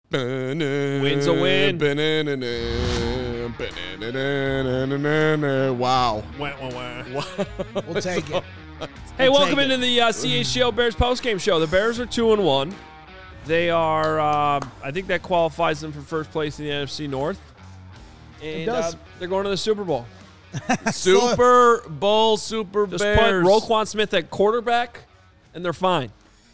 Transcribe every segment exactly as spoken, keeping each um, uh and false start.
Win's a win. Wow. We'll take it. Hey, We'll welcome take into it. the uh, C H G O Bears postgame show. The Bears are two and one. They are, uh, I think that qualifies them for first place in the N F C North. And does. Uh, they're going to the Super Bowl. Super Bowl, Super Just Bears. put Roquan Smith at quarterback, and they're fine.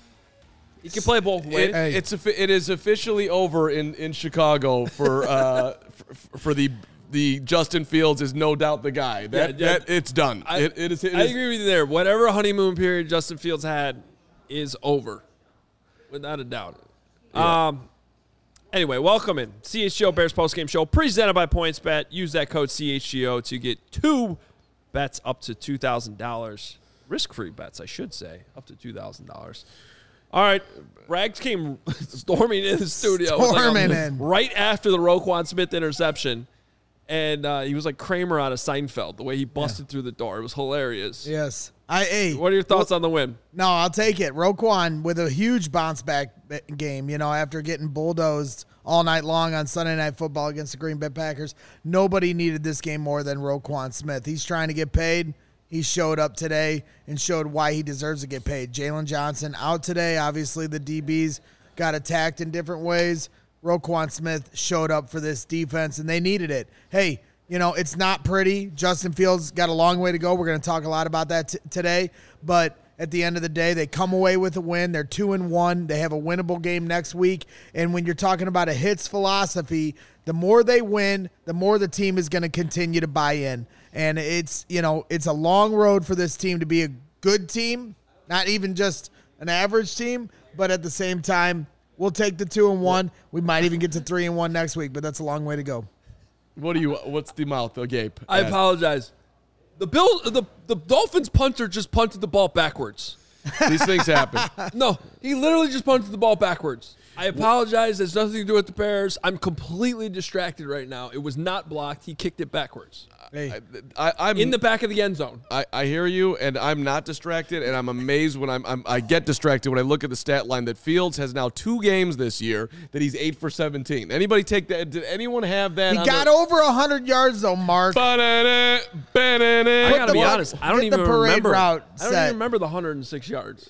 He can play both ways. It, it's a, it is officially over in, in Chicago for uh for, for the the Justin Fields is no doubt the guy. That, Yeah, yeah. that it's done. I, it, it is. It I is agree with you there. Whatever honeymoon period Justin Fields had is over, without a doubt. Yeah. Um. Anyway, welcome in C H G O Bears postgame show presented by PointsBet. Use that code C H G O to get two bets up to two thousand dollars. Risk-free bets, I should say, up to two thousand dollars. All right, Rags came storming in the studio. Storming like a, in. right after the Roquan Smith interception. And uh, he was like Kramer out of Seinfeld, the way he busted yeah. through the door. It was hilarious. Yes. I hey, What are your thoughts well, on the win? No, I'll take it. Roquan with a huge bounce back game, you know, after getting bulldozed all night long on Sunday Night Football against the Green Bay Packers. Nobody needed this game more than Roquan Smith. He's trying to get paid. He showed up today and showed why he deserves to get paid. Jalen Johnson out today. Obviously, the D Bs got attacked in different ways. Roquan Smith showed up for this defense, and they needed it. Hey, you know, it's not pretty. Justin Fields got a long way to go. We're going to talk a lot about that t- today. But at the end of the day, they come away with a win. They're two and one. They have a winnable game next week. And when you're talking about a hits philosophy, the more they win, the more the team is going to continue to buy in. And it's, you know, it's a long road for this team to be a good team, not even just an average team, but at the same time, we'll take the two and one. We might even get to three and one next week, but that's a long way to go. What do you? What's the mouth agape? I at? apologize. The Bill, the the Dolphins punter just punted the ball backwards. These things happen. No, he literally just punted the ball backwards. I apologize. It's nothing to do with the Bears. I'm completely distracted right now. It was not blocked. He kicked it backwards. Hey. I, I, I'm in the back of the end zone. I, I hear you, and I'm not distracted, and I'm amazed when I'm, I'm I get distracted when I look at the stat line that Fields has now two games this year that he's eight for seventeen. Anybody take that? Did anyone have that? He on got the, over one hundred yards, though, Mark. Ba-da-da, ba-da-da. I gotta be the- honest. I don't get the even parade remember. route I don't set. even remember the one hundred six yards.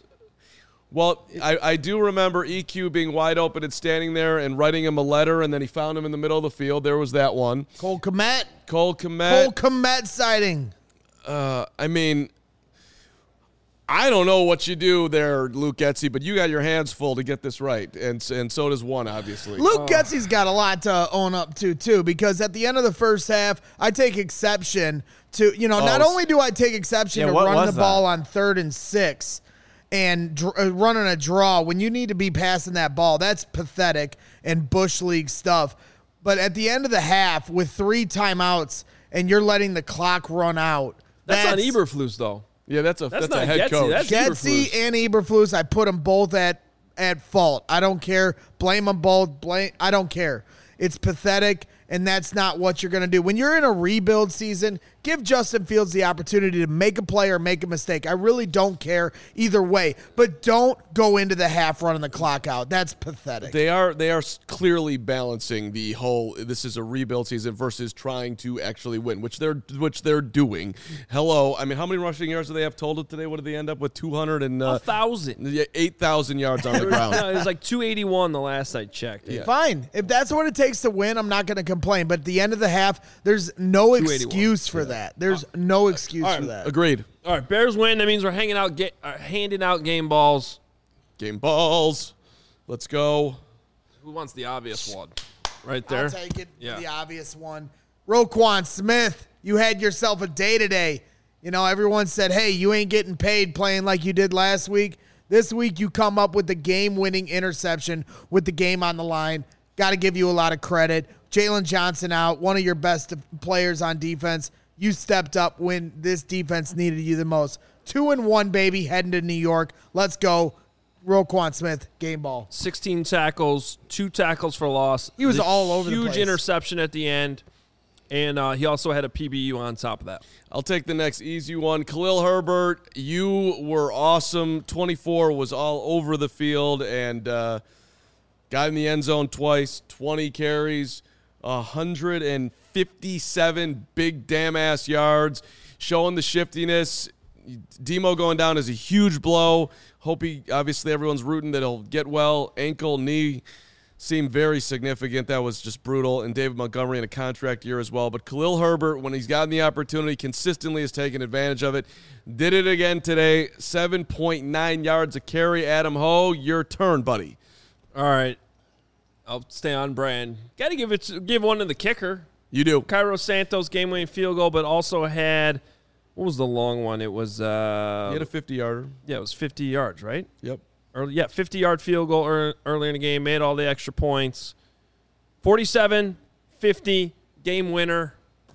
Well, I, I do remember E Q being wide open and standing there and writing him a letter, and then he found him in the middle of the field. There was that one. Cole Kmet. Cole Kmet. Cole Kmet sighting. Uh, I mean, I don't know what you do there, Luke Getsy, but you got your hands full to get this right, and and so does one, obviously. Luke Oh. Getsy's got a lot to own up to, too, because at the end of the first half, I take exception to, you know, Oh, not s- only do I take exception Yeah, to what running the was that? ball on third and six and dr- uh, running a draw when you need to be passing that ball. That's pathetic and Bush League stuff. But at the end of the half, with three timeouts and you're letting the clock run out, That's, on Eberflus, though. Yeah, that's a That's that's, a not head Getsy, coach. that's- Getsy Eberflus. and Eberflus, I put them both at at fault. I don't care. Blame them both. Blame. I don't care. It's pathetic, and that's not what you're going to do. When you're in a rebuild season, give Justin Fields the opportunity to make a play or make a mistake. I really don't care either way, but don't go into the half running the clock out. That's pathetic. They are they are s- clearly balancing the whole. This is a rebuild season versus trying to actually win, which they're which they're doing. Hello, I mean, how many rushing yards do they have total today? What did they end up with? Two hundred and A uh, thousand. yeah, eight thousand yards on the ground. No, it was like two eighty-one the last I checked. Yeah. Fine. If that's what it takes to win, I'm not going to complain. But at the end of the half, there's no two eighty-one. excuse for that. There's no excuse all right. for that. Agreed. All right, Bears win. That means we're hanging out, get, uh, handing out game balls. Game balls. Let's go. Who wants the obvious one? Right there. I'll take it. Yeah. The obvious one. Roquan Smith, you had yourself a day today. You know, everyone said, hey, you ain't getting paid playing like you did last week. This week you come up with the game-winning interception with the game on the line. Got to give you a lot of credit. Jalen Johnson out, one of your best players on defense. You stepped up when this defense needed you the most. Two and one, baby, heading to New York. Let's go. Roquan Smith, game ball. sixteen tackles, two tackles for loss. He was The all over the Huge place. interception at the end. And uh, he also had a P B U on top of that. I'll take the next easy one. Khalil Herbert, you were awesome. twenty-four was all over the field, and uh, got in the end zone twice, twenty carries, one hundred fifty-seven big damn-ass yards, showing the shiftiness. Demo going down is a huge blow. Hope he, obviously everyone's rooting that he'll get well. Ankle, knee seemed very significant. That was just brutal. And David Montgomery in a contract year as well. But Khalil Herbert, when he's gotten the opportunity, consistently has taken advantage of it. Did it again today. seven point nine yards a carry. Adam Ho, your turn, buddy. All right. I'll stay on brand. Got to give it, give one to the kicker. You do. Cairo Santos game-winning field goal, but also had, what was the long one? It was uh, He had a fifty-yarder. Yeah, it was fifty yards, right? Yep. Early, yeah, fifty-yard field goal er, early in the game, made all the extra points. forty-seven fifty, game winner.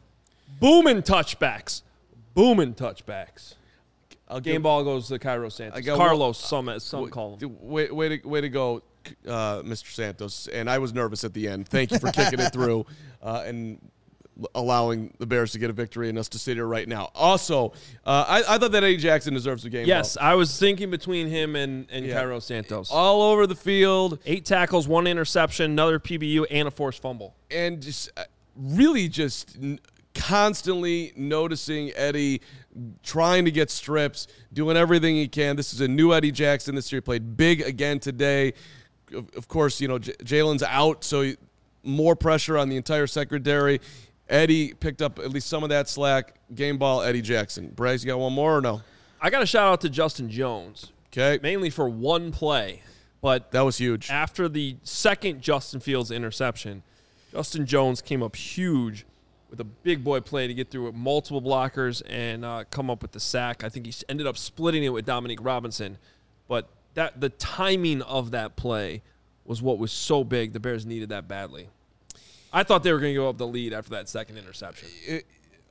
Booming touchbacks. Booming touchbacks. I'll Game give, ball goes to Cairo Santos. I got Carlos, one, some, some call him. Way, way, to, way to go, uh, Mister Santos. And I was nervous at the end. Thank you for kicking it through uh, and allowing the Bears to get a victory and us to sit here right now. Also, uh, I, I thought that Eddie Jackson deserves a game Yes, ball. I was thinking between him and, and Yeah. Cairo Santos. All over the field. Eight tackles, one interception, another P B U, and a forced fumble. And just uh, really just n- constantly noticing Eddie trying to get strips, doing everything he can. This is a new Eddie Jackson this year. He played big again today. Of, of course, you know, J- Jalen's out, so he, more pressure on the entire secondary. Eddie picked up at least some of that slack. Game ball, Eddie Jackson. Bryce, you got one more or no? I got a shout out to Justin Jones, Okay. mainly for one play. But That was huge. after the second Justin Fields interception, Justin Jones came up huge with a big boy play to get through with multiple blockers and uh, come up with the sack. I think he ended up splitting it with Dominique Robinson. But that the timing of that play was what was so big. The Bears needed that badly. I thought they were going to go up the lead after that second interception. It,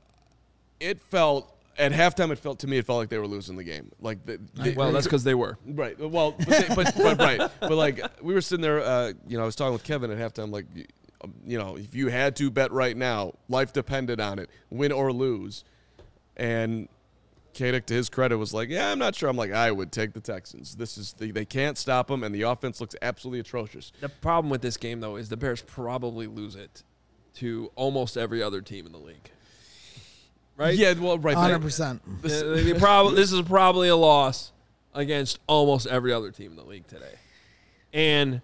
it felt, at halftime, it felt to me, it felt like they were losing the game. Like the, they, Well, that's because they were. Right. Well, but, they, but, but right. But like we were sitting there, uh, you know, I was talking with Kevin at halftime. Like, you know, if you had to bet right now, life depended on it, win or lose. And Kadick, to his credit, was like, "Yeah, I'm not sure." I'm like, "I would take the Texans. This is the, they can't stop them, and the offense looks absolutely atrocious." The problem with this game, though, is the Bears probably lose it to almost every other team in the league. Right? Yeah. Well, right. one hundred percent. This, they prob- this is probably a loss against almost every other team in the league today. And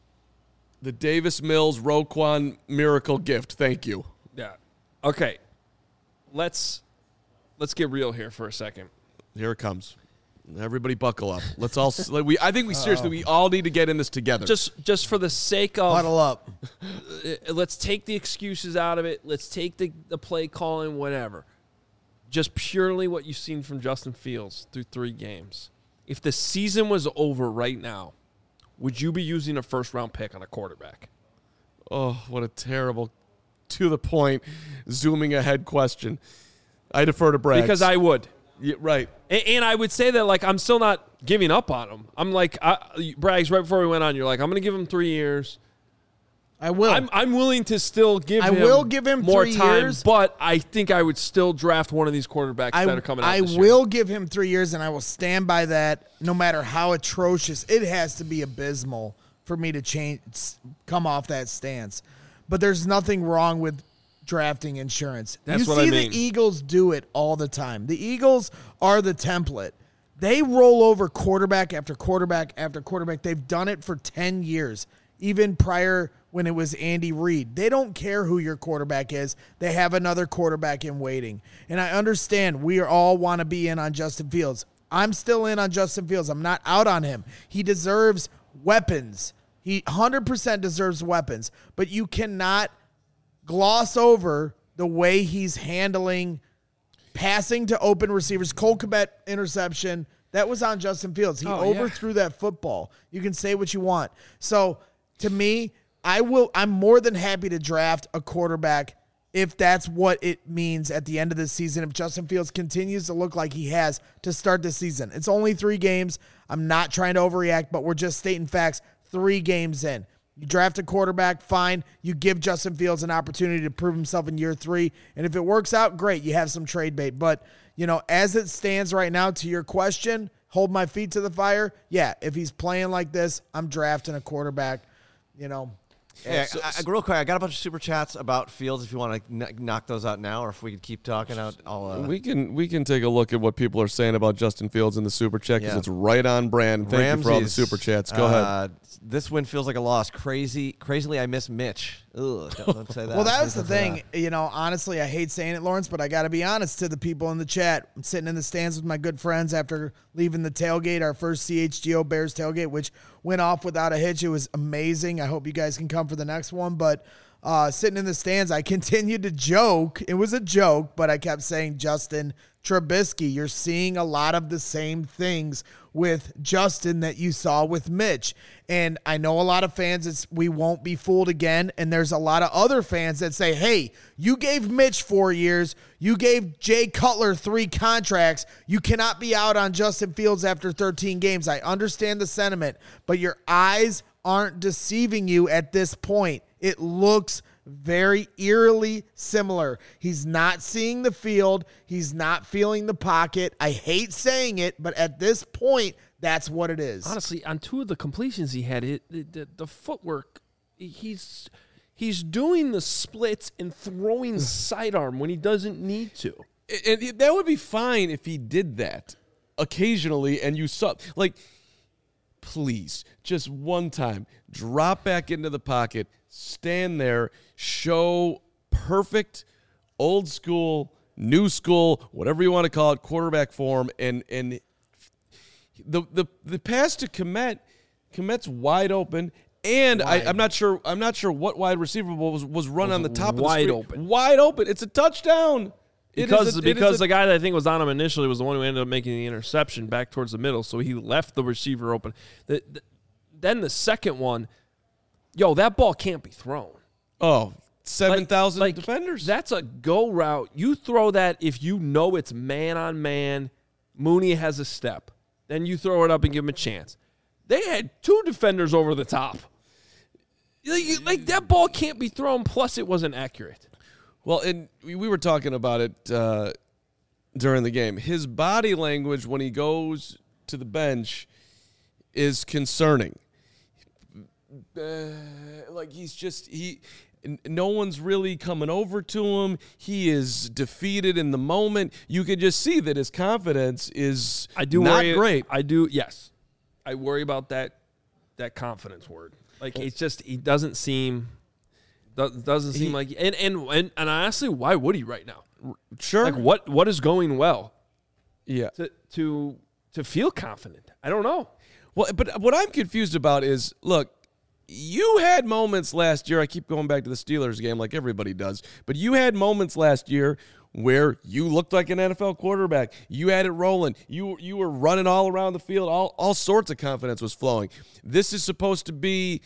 The Davis Mills Roquan miracle gift. Thank you. yeah, okay. Let's let's get real here for a second. Here it comes. Everybody buckle up. Let's all. Like, we. I think we seriously. We all need to get in this together. Just just for the sake of Huddle up. uh, let's take the excuses out of it. Let's take the, the play calling, whatever. Just purely what you've seen from Justin Fields through three games. If the season was over right now, would you be using a first-round pick on a quarterback? Oh, what a terrible, to the point, zooming ahead question. I defer to Braggs. Because I would. Yeah, right. And, and I would say that, like, I'm still not giving up on him. I'm like, I, Braggs, right before we went on, you're like, I'm going to give him three years. I will. I'm, I'm willing to still give I him will give him more three time, years. but I think I would still draft one of these quarterbacks I, that are coming out I this year. will give him three years, and I will stand by that no matter how atrocious. It has to be abysmal for me to change, come off that stance. But there's nothing wrong with drafting insurance. That's you what I see mean. the Eagles do it all the time. The Eagles are the template. They roll over quarterback after quarterback after quarterback. They've done it for ten years, even prior when it was Andy Reid. They don't care who your quarterback is. They have another quarterback in waiting. And I understand we all want to be in on Justin Fields. I'm still in on Justin Fields. I'm not out on him. He deserves weapons. He one hundred percent deserves weapons. But you cannot gloss over the way he's handling passing to open receivers. Cole Kmet interception, that was on Justin Fields. He Oh, yeah. overthrew that football. You can say what you want. So, to me, I will I'm more than happy to draft a quarterback if that's what it means at the end of the season. If Justin Fields continues to look like he has to start the season. It's only three games. I'm not trying to overreact, but we're just stating facts. Three games in. You draft a quarterback, fine. You give Justin Fields an opportunity to prove himself in year three. And if it works out, great. You have some trade bait. But, you know, as it stands right now, to your question, hold my feet to the fire. Yeah, if he's playing like this, I'm drafting a quarterback. you know. Hey, So- I, I, real quick, I got a bunch of super chats about Fields. If you want to n- knock those out now, or if we could keep talking out, I'll. Uh, We can we can take a look at what people are saying about Justin Fields in the super chat because Yeah. it's right on brand. Thank you for all the Ramsey's, super chats. Go uh, ahead. This win feels like a loss. Crazy, crazily, I miss Mitch. Ugh, don't, don't say that. Well, that was Don't the say thing. that. You know, honestly, I hate saying it, Lawrence, but I got to be honest to the people in the chat. I'm sitting in the stands with my good friends after leaving the tailgate, our first C H G O Bears tailgate, which went off without a hitch. It was amazing. I hope you guys can come for the next one. But uh, sitting in the stands, I continued to joke. It was a joke, but I kept saying, Justin Trubisky, you're seeing a lot of the same things with Justin that you saw with Mitch. And I know a lot of fans, it's we won't be fooled again. And there's a lot of other fans that say, hey, you gave Mitch four years. You gave Jay Cutler three contracts. You cannot be out on Justin Fields after thirteen games. I understand the sentiment, but your eyes aren't deceiving you at this point. It looks very eerily similar. He's not seeing the field. He's not feeling the pocket. I hate saying it, but at this point, that's what it is. Honestly, on two of the completions he had, it the, the, the footwork, he's he's doing the splits and throwing sidearm when he doesn't need to. And and that would be fine if he did that occasionally and you saw, like, please, just one time, drop back into the pocket, stand there, show perfect old school, new school, whatever you want to call it, quarterback form, and and the the the pass to Kmet, Kmet's wide open. And I, I'm not sure. I'm not sure what wide receiver was was run Was on the top wide of the screen. open. Wide open. It's a touchdown. It Because is a- it is because a- the guy that I think was on him initially was the one who ended up making the interception back towards the middle, so he left the receiver open. The, the, then the second one, yo, that ball can't be thrown. oh seven thousand Like, defenders. That's a go route. You throw that if you know it's man on man. Mooney has a step. Then you throw it up and give him a chance. They had two defenders over the top. Like, like that ball can't be thrown. Plus, it wasn't accurate. Well, and we we were talking about it uh, during the game. His body language when he goes to the bench is concerning. Uh, like he's just he. n- No one's really coming over to him. He is defeated in the moment. You can just see that his confidence is I do not worry, great. I do. Yes, I worry about that. That confidence word. Like it's just he doesn't seem. do- Doesn't seem He- like and, and and and honestly, why would he right now? Sure. Like what what is going well yeah. to to to feel confident? I don't know. Well, but what I'm confused about is, look, you had moments last year. I keep going back to the Steelers game like everybody does, but you had moments last year where you looked like an N F L quarterback. You had it rolling. You you were running all around the field. All all sorts of confidence was flowing. This is supposed to be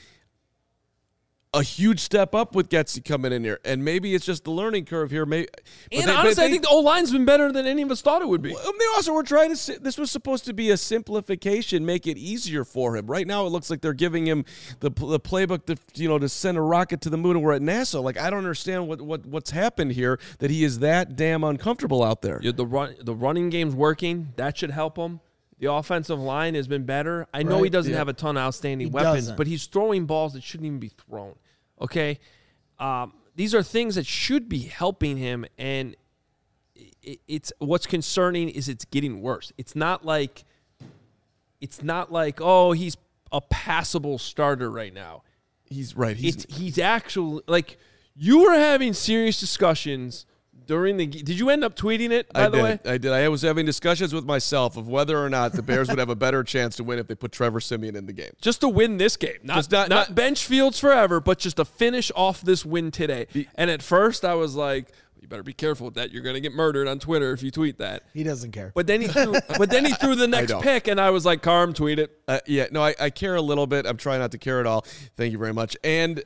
a huge step up with Getsy coming in here, and maybe it's just the learning curve here. Maybe, but And they- but honestly, I they- think the O line's been better than any of us thought it would be. Well, they also were trying to. si- This was supposed to be a simplification, make it easier for him. Right now, it looks like they're giving him the the playbook to you know to send a rocket to the moon. And we're at NASA. Like I don't understand what, what what's happened here. That he is that damn uncomfortable out there. Yeah, the run, the running game's working. That should help him. The offensive line has been better. I know he Right, doesn't yeah. have a ton of outstanding He weapons, doesn't. but he's throwing balls that shouldn't even be thrown. Okay, um, these are things that should be helping him, and it, it's what's concerning is it's getting worse. It's not like it's not like oh he's a passable starter right now. He's right. He's It's he's actually like you were having serious discussions during the. g- Did you end up tweeting it? By I the did. way, I did. I was having discussions with myself of whether or not the Bears would have a better chance to win if they put Trevor Siemian in the game. just to win this game, not Just not- not, not- bench Fields forever, but just to finish off this win today. And at first, I was like, "You better be careful with that. You're going to get murdered on Twitter if you tweet that." He doesn't care. But then he threw, but then he threw the next don't. pick, and I was like, "Carm, tweet it." Uh, yeah, no, I, I care a little bit. I'm trying not to care at all. Thank you very much. And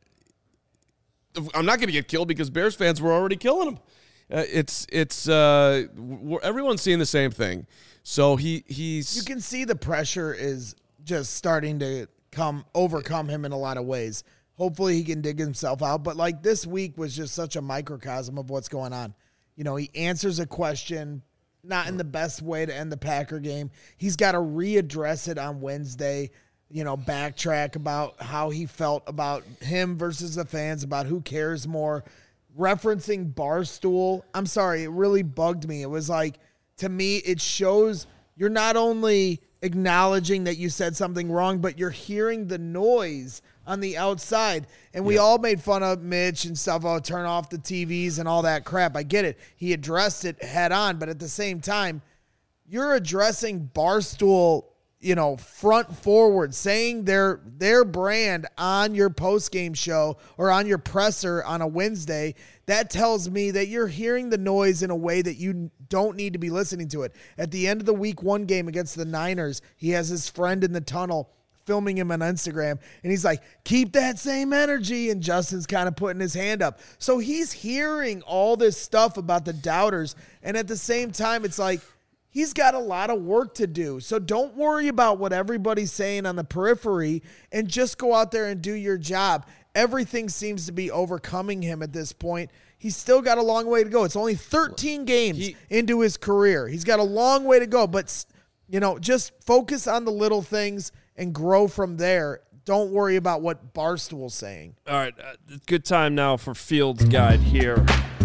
I'm not going to get killed because Bears fans were already killing him. Uh, it's it's uh, we're, everyone's seeing the same thing. So he he's You can see the pressure is just starting to come overcome him in a lot of ways. Hopefully he can dig himself out. But like this week was just such a microcosm of what's going on. You know, he answers a question, not in the best way to end the Packer game. He's got to readdress it on Wednesday. you know, backtrack about how he felt about him versus the fans, about who cares more, referencing Barstool. I'm sorry, it really bugged me. It was like, to me, it shows you're not only acknowledging that you said something wrong, but you're hearing the noise on the outside. And we yeah. all made fun of Mitch and stuff. Oh, turn off the T Vs and all that crap. I get it. He addressed it head on, but at the same time, you're addressing Barstool, you know, front forward, saying their their brand on your post-game show or on your presser on a Wednesday. That tells me that you're hearing the noise in a way that you don't need to be listening to it. At the end of the week one game against the Niners, he has his friend in the tunnel filming him on Instagram, and he's like, keep that same energy, and Justin's kind of putting his hand up. So he's hearing all this stuff about the doubters, and at the same time, it's like, he's got a lot of work to do. So don't worry about what everybody's saying on the periphery and just go out there and do your job. Everything seems to be overcoming him at this point. He's still got a long way to go. It's only thirteen games he, into his career. He's got a long way to go, but, you know, just focus on the little things and grow from there. Don't worry about what Barstool's saying. All right, uh, good time now for Fields Guide here.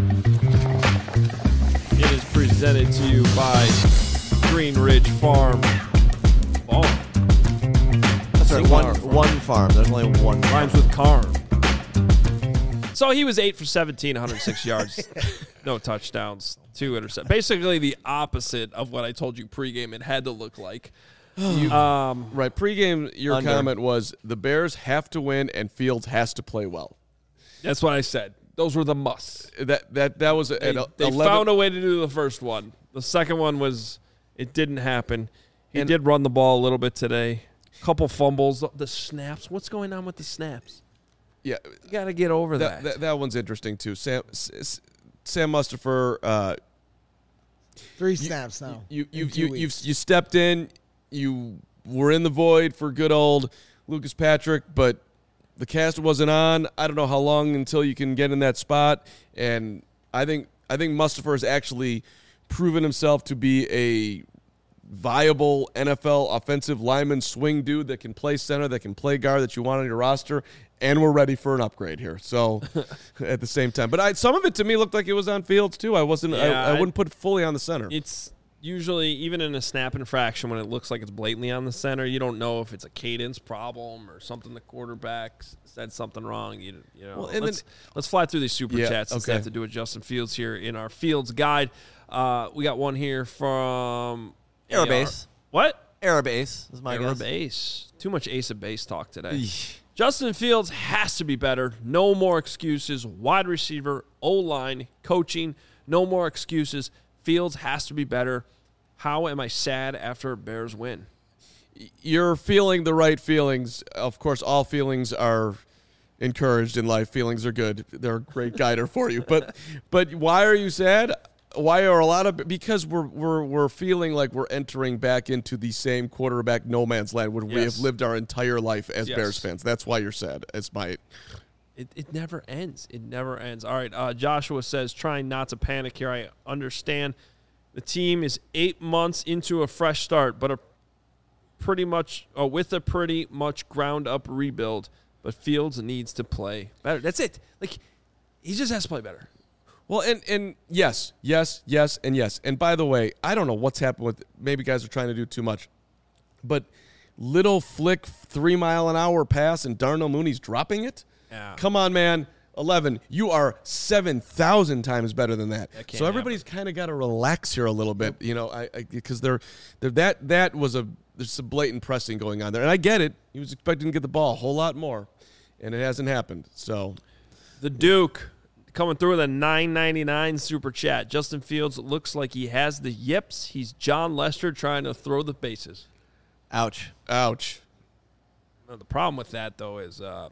It is presented to you by Green Ridge Farm. Oh. That's right, one, one farm. There's only one farm. Rhymes with Carm. So he was eight for seventeen, one hundred six yards, no touchdowns, two interceptions. Basically the opposite of what I told you pregame it had to look like. You, um, right, pregame, your under. comment was the Bears have to win and Fields has to play well. That's what I said. Those were the musts. That that that was They, at they eleven found a way to do the first one. The second one was, it didn't happen. He And- did run the ball a little bit today. Couple fumbles. The snaps. What's going on with the snaps? Yeah, You got to get over that, that. that that one's interesting too. Sam S- Sam Mustipher, uh, Three you- snaps now. You in you two you weeks. you've, you stepped in. You were in the void for good old Lucas Patrick, but the cast wasn't on. I don't know how long until you can get in that spot. And I think I think Mustipher has actually proven himself to be a viable N F L offensive lineman swing dude that can play center, that can play guard, that you want on your roster. And we're ready for an upgrade here. So at the same time, but I, some of it to me looked like it was on Fields too. I wasn't. Yeah, I, I I- wouldn't put it fully on the center. It's usually, even in a snap infraction, when it looks like it's blatantly on the center, you don't know if it's a cadence problem or something the quarterback s- said something wrong. You, you know, Well, and let's, then- let's fly through these super Yeah, chats since they okay. have to do with Justin Fields here in our Fields Guide. Uh, we got one here from Arab A R. Ace. What? Arab Ace is my Arab guess. Ace. Too much Ace of Base talk today. Eesh. Justin Fields has to be better. No more excuses. Wide receiver, O-line, coaching, no more excuses. Fields has to be better. How am I sad after a Bears win? You're feeling the right feelings. Of course, all feelings are encouraged in life. Feelings are good. They're a great guider for you. But but why are you sad? Why are a lot of because we're we're we're feeling like we're entering back into the same quarterback no man's land where we Yes. have lived our entire life as Yes. Bears fans. That's why you're sad. It's my It, it never ends. It never ends. All right, uh, Joshua says, trying not to panic here. I understand the team is eight months into a fresh start, but a pretty much uh, with a pretty much ground up rebuild. But Fields needs to play better. That's it. Like he just has to play better. Well, and, and yes, yes, yes, and yes. And by the way, I don't know what's happened with maybe guys are trying to do too much, but little flick three mile an hour pass and Darnell Mooney's dropping it. Yeah. Come on, man. eleven. You are seven thousand times better than that. That can't So everybody's kind of got to relax here a little bit, you know, I because they're, they're that that was a there's some blatant pressing going on there, and I get it. He was expecting to get the ball a whole lot more, and it hasn't happened. So The Duke coming through with a nine ninety-nine super chat. Justin Fields looks like he has the yips. He's John Lester trying to throw the bases. Ouch. ouch. Now, the problem with that, though, is uh,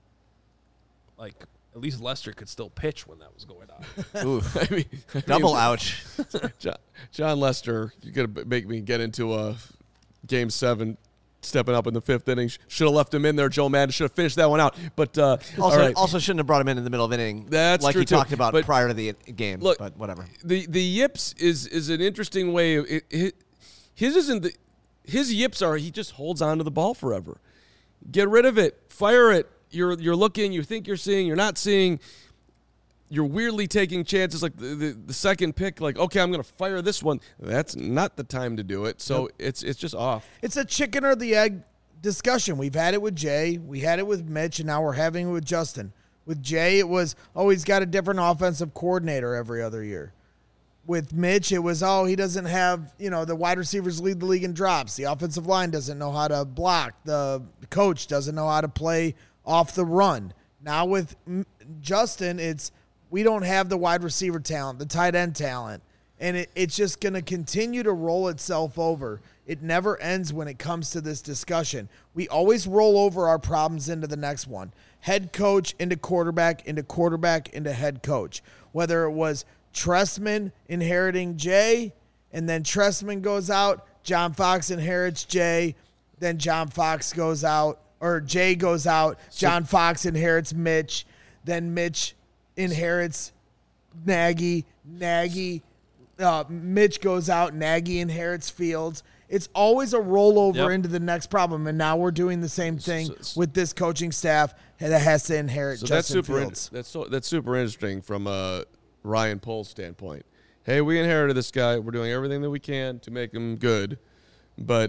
like at least Lester could still pitch when that was going on. Ooh. I mean, I Double mean, ouch. John, John Lester, you're going to make me get into a game seven, stepping up in the fifth inning. Should have left him in there. Joe Madden should have finished that one out. But uh, Also, all right. also shouldn't have brought him in in the middle of inning. That's like true, he too. talked about But prior to the game. look, but whatever. the the yips is is an interesting way. Of, it, it, his isn't the his yips are he just holds on to the ball forever. Get rid of it. Fire it. You're you're looking. You think you're seeing. You're not seeing. You're weirdly taking chances. Like the, the, the second pick, like, okay, I'm going to fire this one. That's not the time to do it. So yep. it's it's just off. It's a chicken or the egg discussion. We've had it with Jay. We had it with Mitch, and now we're having it with Justin. With Jay, it was, oh, he's got a different offensive coordinator every other year. With Mitch, it was, oh, he doesn't have, you know, the wide receivers lead the league in drops. The offensive line doesn't know how to block. The coach doesn't know how to play off the run. Now with Justin, it's, we don't have the wide receiver talent, the tight end talent, and it, it's just going to continue to roll itself over. It never ends when it comes to this discussion. We always roll over our problems into the next one. Head coach into quarterback, into quarterback, into head coach. Whether it was Trestman inheriting Jay, and then Trestman goes out, John Fox inherits Jay, then John Fox goes out, or Jay goes out, John Fox inherits Mitch, then Mitch inherits Nagy, Nagy, uh, Mitch goes out, Nagy inherits Fields. It's always a rollover yep. into the next problem, and now we're doing the same thing so, with this coaching staff that has to inherit so Justin that's super Fields. In, that's so, that's super interesting from a Ryan Poles standpoint. Hey, we inherited this guy. We're doing everything that we can to make him good, but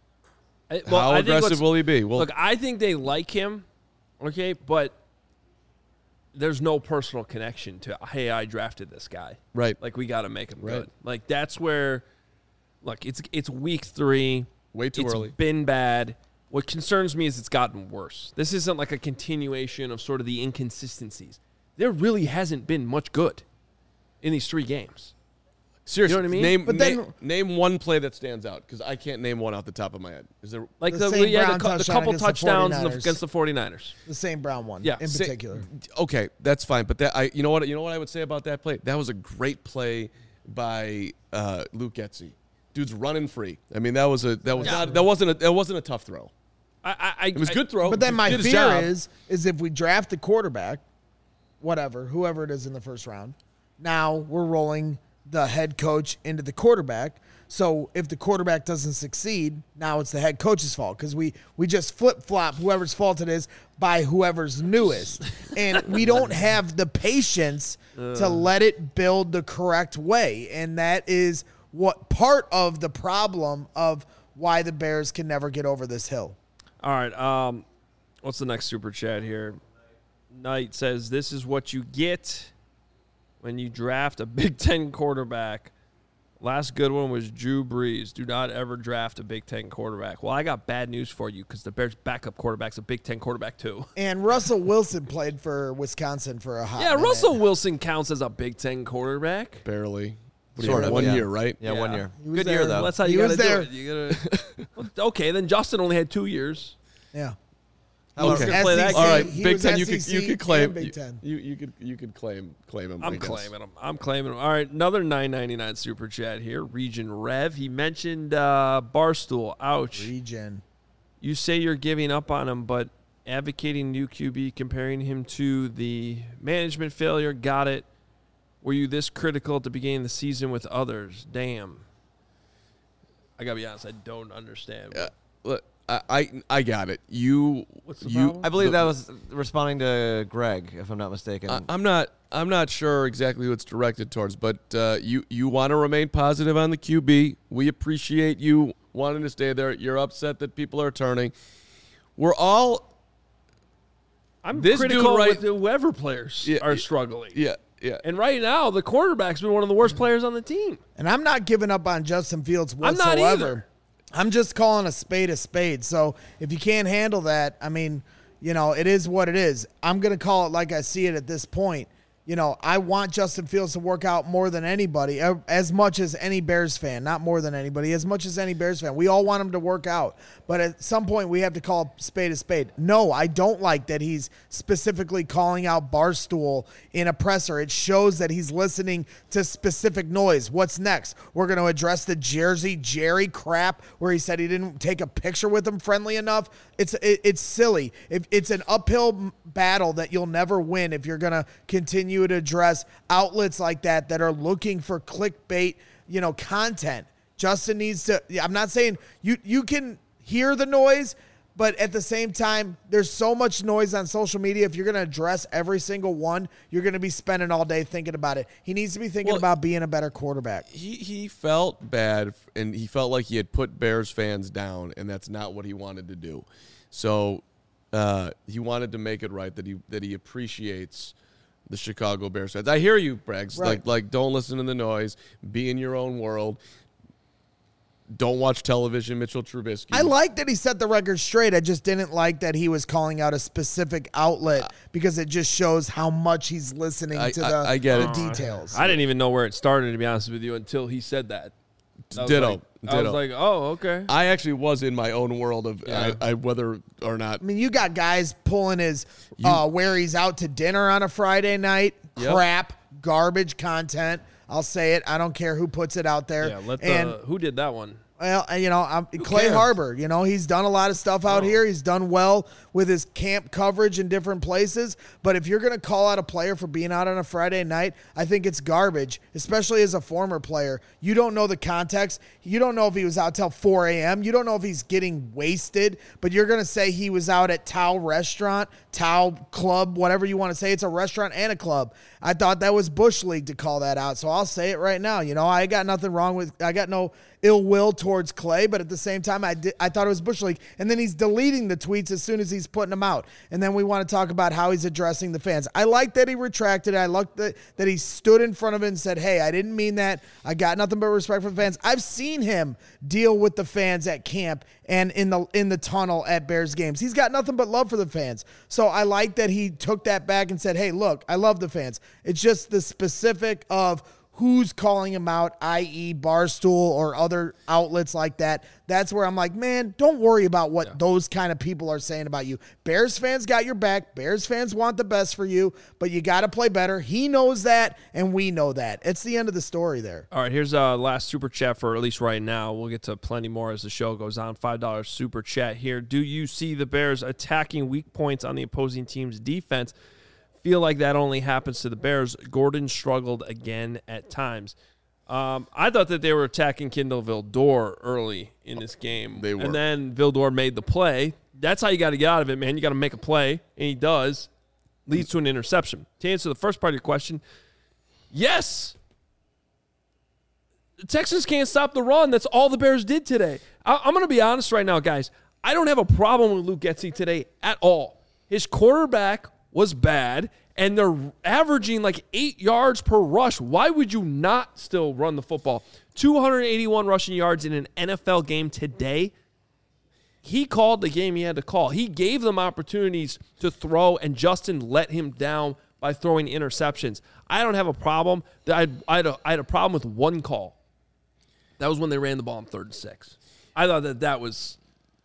I, well, how I aggressive will he be? Well, look, I think they like him, okay, but there's no personal connection to, hey, I drafted this guy. Right. Like, we got to make him right. good. Like, that's where, look, it's it's week three. Way too it's early. It's been bad. What concerns me is it's gotten worse. This isn't like a continuation of sort of the inconsistencies. There really hasn't been much good in these three games. Seriously, you know what I mean? Name, but then, then, name one play that stands out, because I can't name one off the top of my head. Is there like the, the, the, yeah, the, the couple against touchdowns the the, against the 49ers? The same Brown one, yeah. in Say, particular. Okay, that's fine. But that I, you know what, you know what I would say about that play? That was a great play by uh, Luke Getsy. Dude's running free. I mean, that was a that was yeah. not that wasn't a that wasn't a tough throw. I, I, it was a I, good throw. But then he my did fear job. is is if we draft the quarterback, whatever, whoever it is in the first round, now we're rolling the head coach into the quarterback. So if the quarterback doesn't succeed, now it's the head coach's fault, because we, we just flip-flop whoever's fault it is by whoever's newest. And we don't have the patience uh. to let it build the correct way. And that is what part of the problem of why the Bears can never get over this hill. All right. Um, what's the next super chat here? Knight says, this is what you get when you draft a Big Ten quarterback. Last good one was Drew Brees. Do not ever draft a Big Ten quarterback. Well, I got bad news for you, because the Bears' backup quarterback's a Big Ten quarterback too. And Russell Wilson played for Wisconsin for a hot Yeah, minute. Russell Wilson counts as a Big Ten quarterback. Barely. Sort of, one yeah. year, right? Yeah, Yeah. one year. He was Good there. year, though. Well, that's how He you got was to do there. it. You gotta, well, okay, then Justin only had two years. Yeah. Who's Okay. gonna play that S E C, game? All right, he Big was Ten. You S E could C you could claim and Big you, Ten. you you could you could claim claim him. I'm I guess. claiming him. I'm claiming him. All right, another nine ninety-nine super chat here. Region Rev. He mentioned uh, Barstool. Ouch. Region. You say you're giving up on him, but advocating new Q B, comparing him to the management failure. Got it. Were you this critical at the beginning of the season with others? Damn. I gotta be honest. I don't understand. Uh, look, I, I I got it. You What's the you. problem? I believe the- that was responding to Greg, if I'm not mistaken. I, I'm not. I'm not sure exactly who it's directed towards, but uh, you you want to remain positive on the Q B. We appreciate you wanting to stay there. You're upset that people are turning. We're all. I'm This dude critical right- with whoever players Yeah, are yeah, struggling. Yeah, yeah. And right now, the quarterback's been one of the worst players on the team. And I'm not giving up on Justin Fields I'm whatsoever. not either. I'm just calling a spade a spade. So if you can't handle that, I mean, you know, it is what it is. I'm going to call it like I see it at this point. You know, I want Justin Fields to work out more than anybody, uh, as much as any Bears fan, not more than anybody, as much as any Bears fan. We all want him to work out. But at some point, we have to call spade a spade. No, I don't like that he's specifically calling out Barstool in a presser. It shows that he's listening to specific noise. What's next? We're going to address the Jersey Jerry crap where he said he didn't take a picture with him friendly enough. It's it, it's silly. If it's an uphill battle that you'll never win if you're going to continue to address outlets like that that are looking for clickbait, you know, content. Justin needs to, I'm not saying you, you can hear the noise, But at the same time, there's so much noise on social media. If you're going to address every single one, you're going to be spending all day thinking about it. He needs to be thinking Well, about being a better quarterback. He he felt bad, and he felt like he had put Bears fans down, and that's not what he wanted to do. So uh, he wanted to make it right that he that he appreciates the Chicago Bears fans. I hear you, Braggs. Right. Like like don't listen to the noise. Be in your own world. Don't watch television, Mitchell Trubisky. I like that he set the record straight. I just didn't like that he was calling out a specific outlet because it just shows how much he's listening I- to the, I- I get the it. details. I didn't even know where it started, to be honest with you, until he said that. I was Ditto. like- I Ditto. was like, oh, okay. I actually was in my own world of Yeah. I, I, whether or not. I mean, you got guys pulling his uh, where he's out to dinner on a Friday night. Yep. Crap, garbage content. I'll say it. I don't care who puts it out there. Yeah, let the, and who did that one? Well, you know, I'm, Clay cares? Harbor, you know, he's done a lot of stuff out Oh. here. He's done well with his camp coverage in different places. But if you're going to call out a player for being out on a Friday night, I think it's garbage, especially as a former player. You don't know the context. You don't know if he was out till four a.m. You don't know if he's getting wasted. But you're going to say he was out at Tao Restaurant, Tao Club, whatever you want to say. It's a restaurant and a club. I thought that was Bush League to call that out. So I'll say it right now. You know, I got nothing wrong with, I got no ill will towards Clay, but at the same time, I did, I thought it was Bush League. And then he's deleting the tweets as soon as he's putting them out. And then we want to talk about how he's addressing the fans. I like that he retracted it. I like that, that he stood in front of it and said, hey, I didn't mean that. I got nothing but respect for the fans. I've seen him deal with the fans at camp and in the in the tunnel at Bears games. He's got nothing but love for the fans. So I like that he took that back and said, hey, look, I love the fans. It's just the specific of who's calling him out, that is. Barstool or other outlets like that. That's where I'm like, man, don't worry about what yeah. those kind of people are saying about you. Bears fans got your back. Bears fans want the best for you, but you got to play better. He knows that, and we know that. It's the end of the story there. All right, here's a last super chat for at least right now. We'll get to plenty more as the show goes on. five dollars super chat here. Do you see the Bears attacking weak points on the opposing team's defense? Feel like that only happens to the Bears. Gordon struggled again at times. Um, I thought that they were attacking Kindle Vildor early in this game. They were. And then Vildor made the play. That's how you got to get out of it, man. You got to make a play, and he does. Leads to an interception. To answer the first part of your question, yes. The Texans can't stop the run. That's all the Bears did today. I- I'm going to be honest right now, guys. I don't have a problem with Luke Getsy today at all. His quarterback was bad, and they're averaging like eight yards per rush. Why would you not still run the football? two hundred eighty-one rushing yards in an N F L game today. He called the game he had to call. He gave them opportunities to throw, and Justin let him down by throwing interceptions. I don't have a problem. I had, I had, a, I had a problem with one call. That was when they ran the ball on third and six. I thought that that was...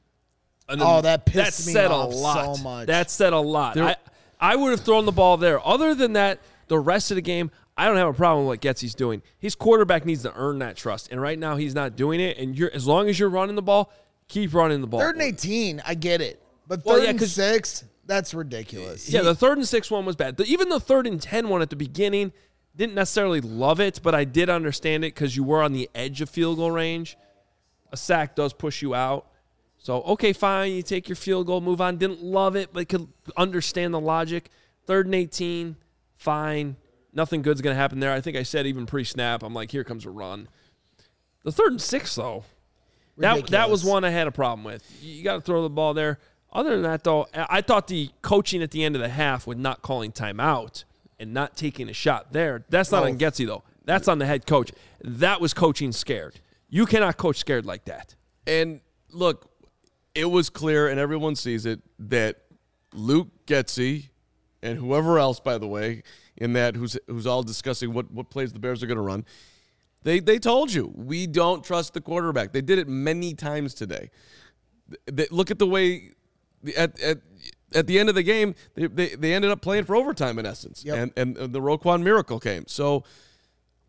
An, oh, that pissed that me said off a lot. so much. That said a lot. There, I, I would have thrown the ball there. Other than that, the rest of the game, I don't have a problem with what Getsy's doing. His quarterback needs to earn that trust, and right now he's not doing it. And you're as long as you're running the ball, keep running the ball. Third and eighteen, I get it, but third Well, yeah, and 'cause- six, that's ridiculous. Yeah, the third and six one was bad. The, even the third and ten one at the beginning, didn't necessarily love it, but I did understand it because you were on the edge of field goal range. A sack does push you out. So, okay, fine, you take your field goal, move on. Didn't love it, but could understand the logic. Third and eighteen, fine. Nothing good's going to happen there. I think I said even pre-snap, I'm like, here comes a run. The third and six, though, that, that was Ridiculous. one I had a problem with. You got to throw the ball there. Other than that, though, I thought the coaching at the end of the half with not calling timeout and not taking a shot there, that's not Oh. on Getsy, though. That's on the head coach. That was coaching scared. You cannot coach scared like that. And look, it was clear, and everyone sees it, that Luke Getsy and whoever else, by the way, in that who's who's all discussing what, what plays the Bears are going to run, they they told you, we don't trust the quarterback. They did it many times today. They, look at the way at at at the end of the game, they they, they ended up playing for overtime in essence, Yep. and, and the Roquan miracle came. So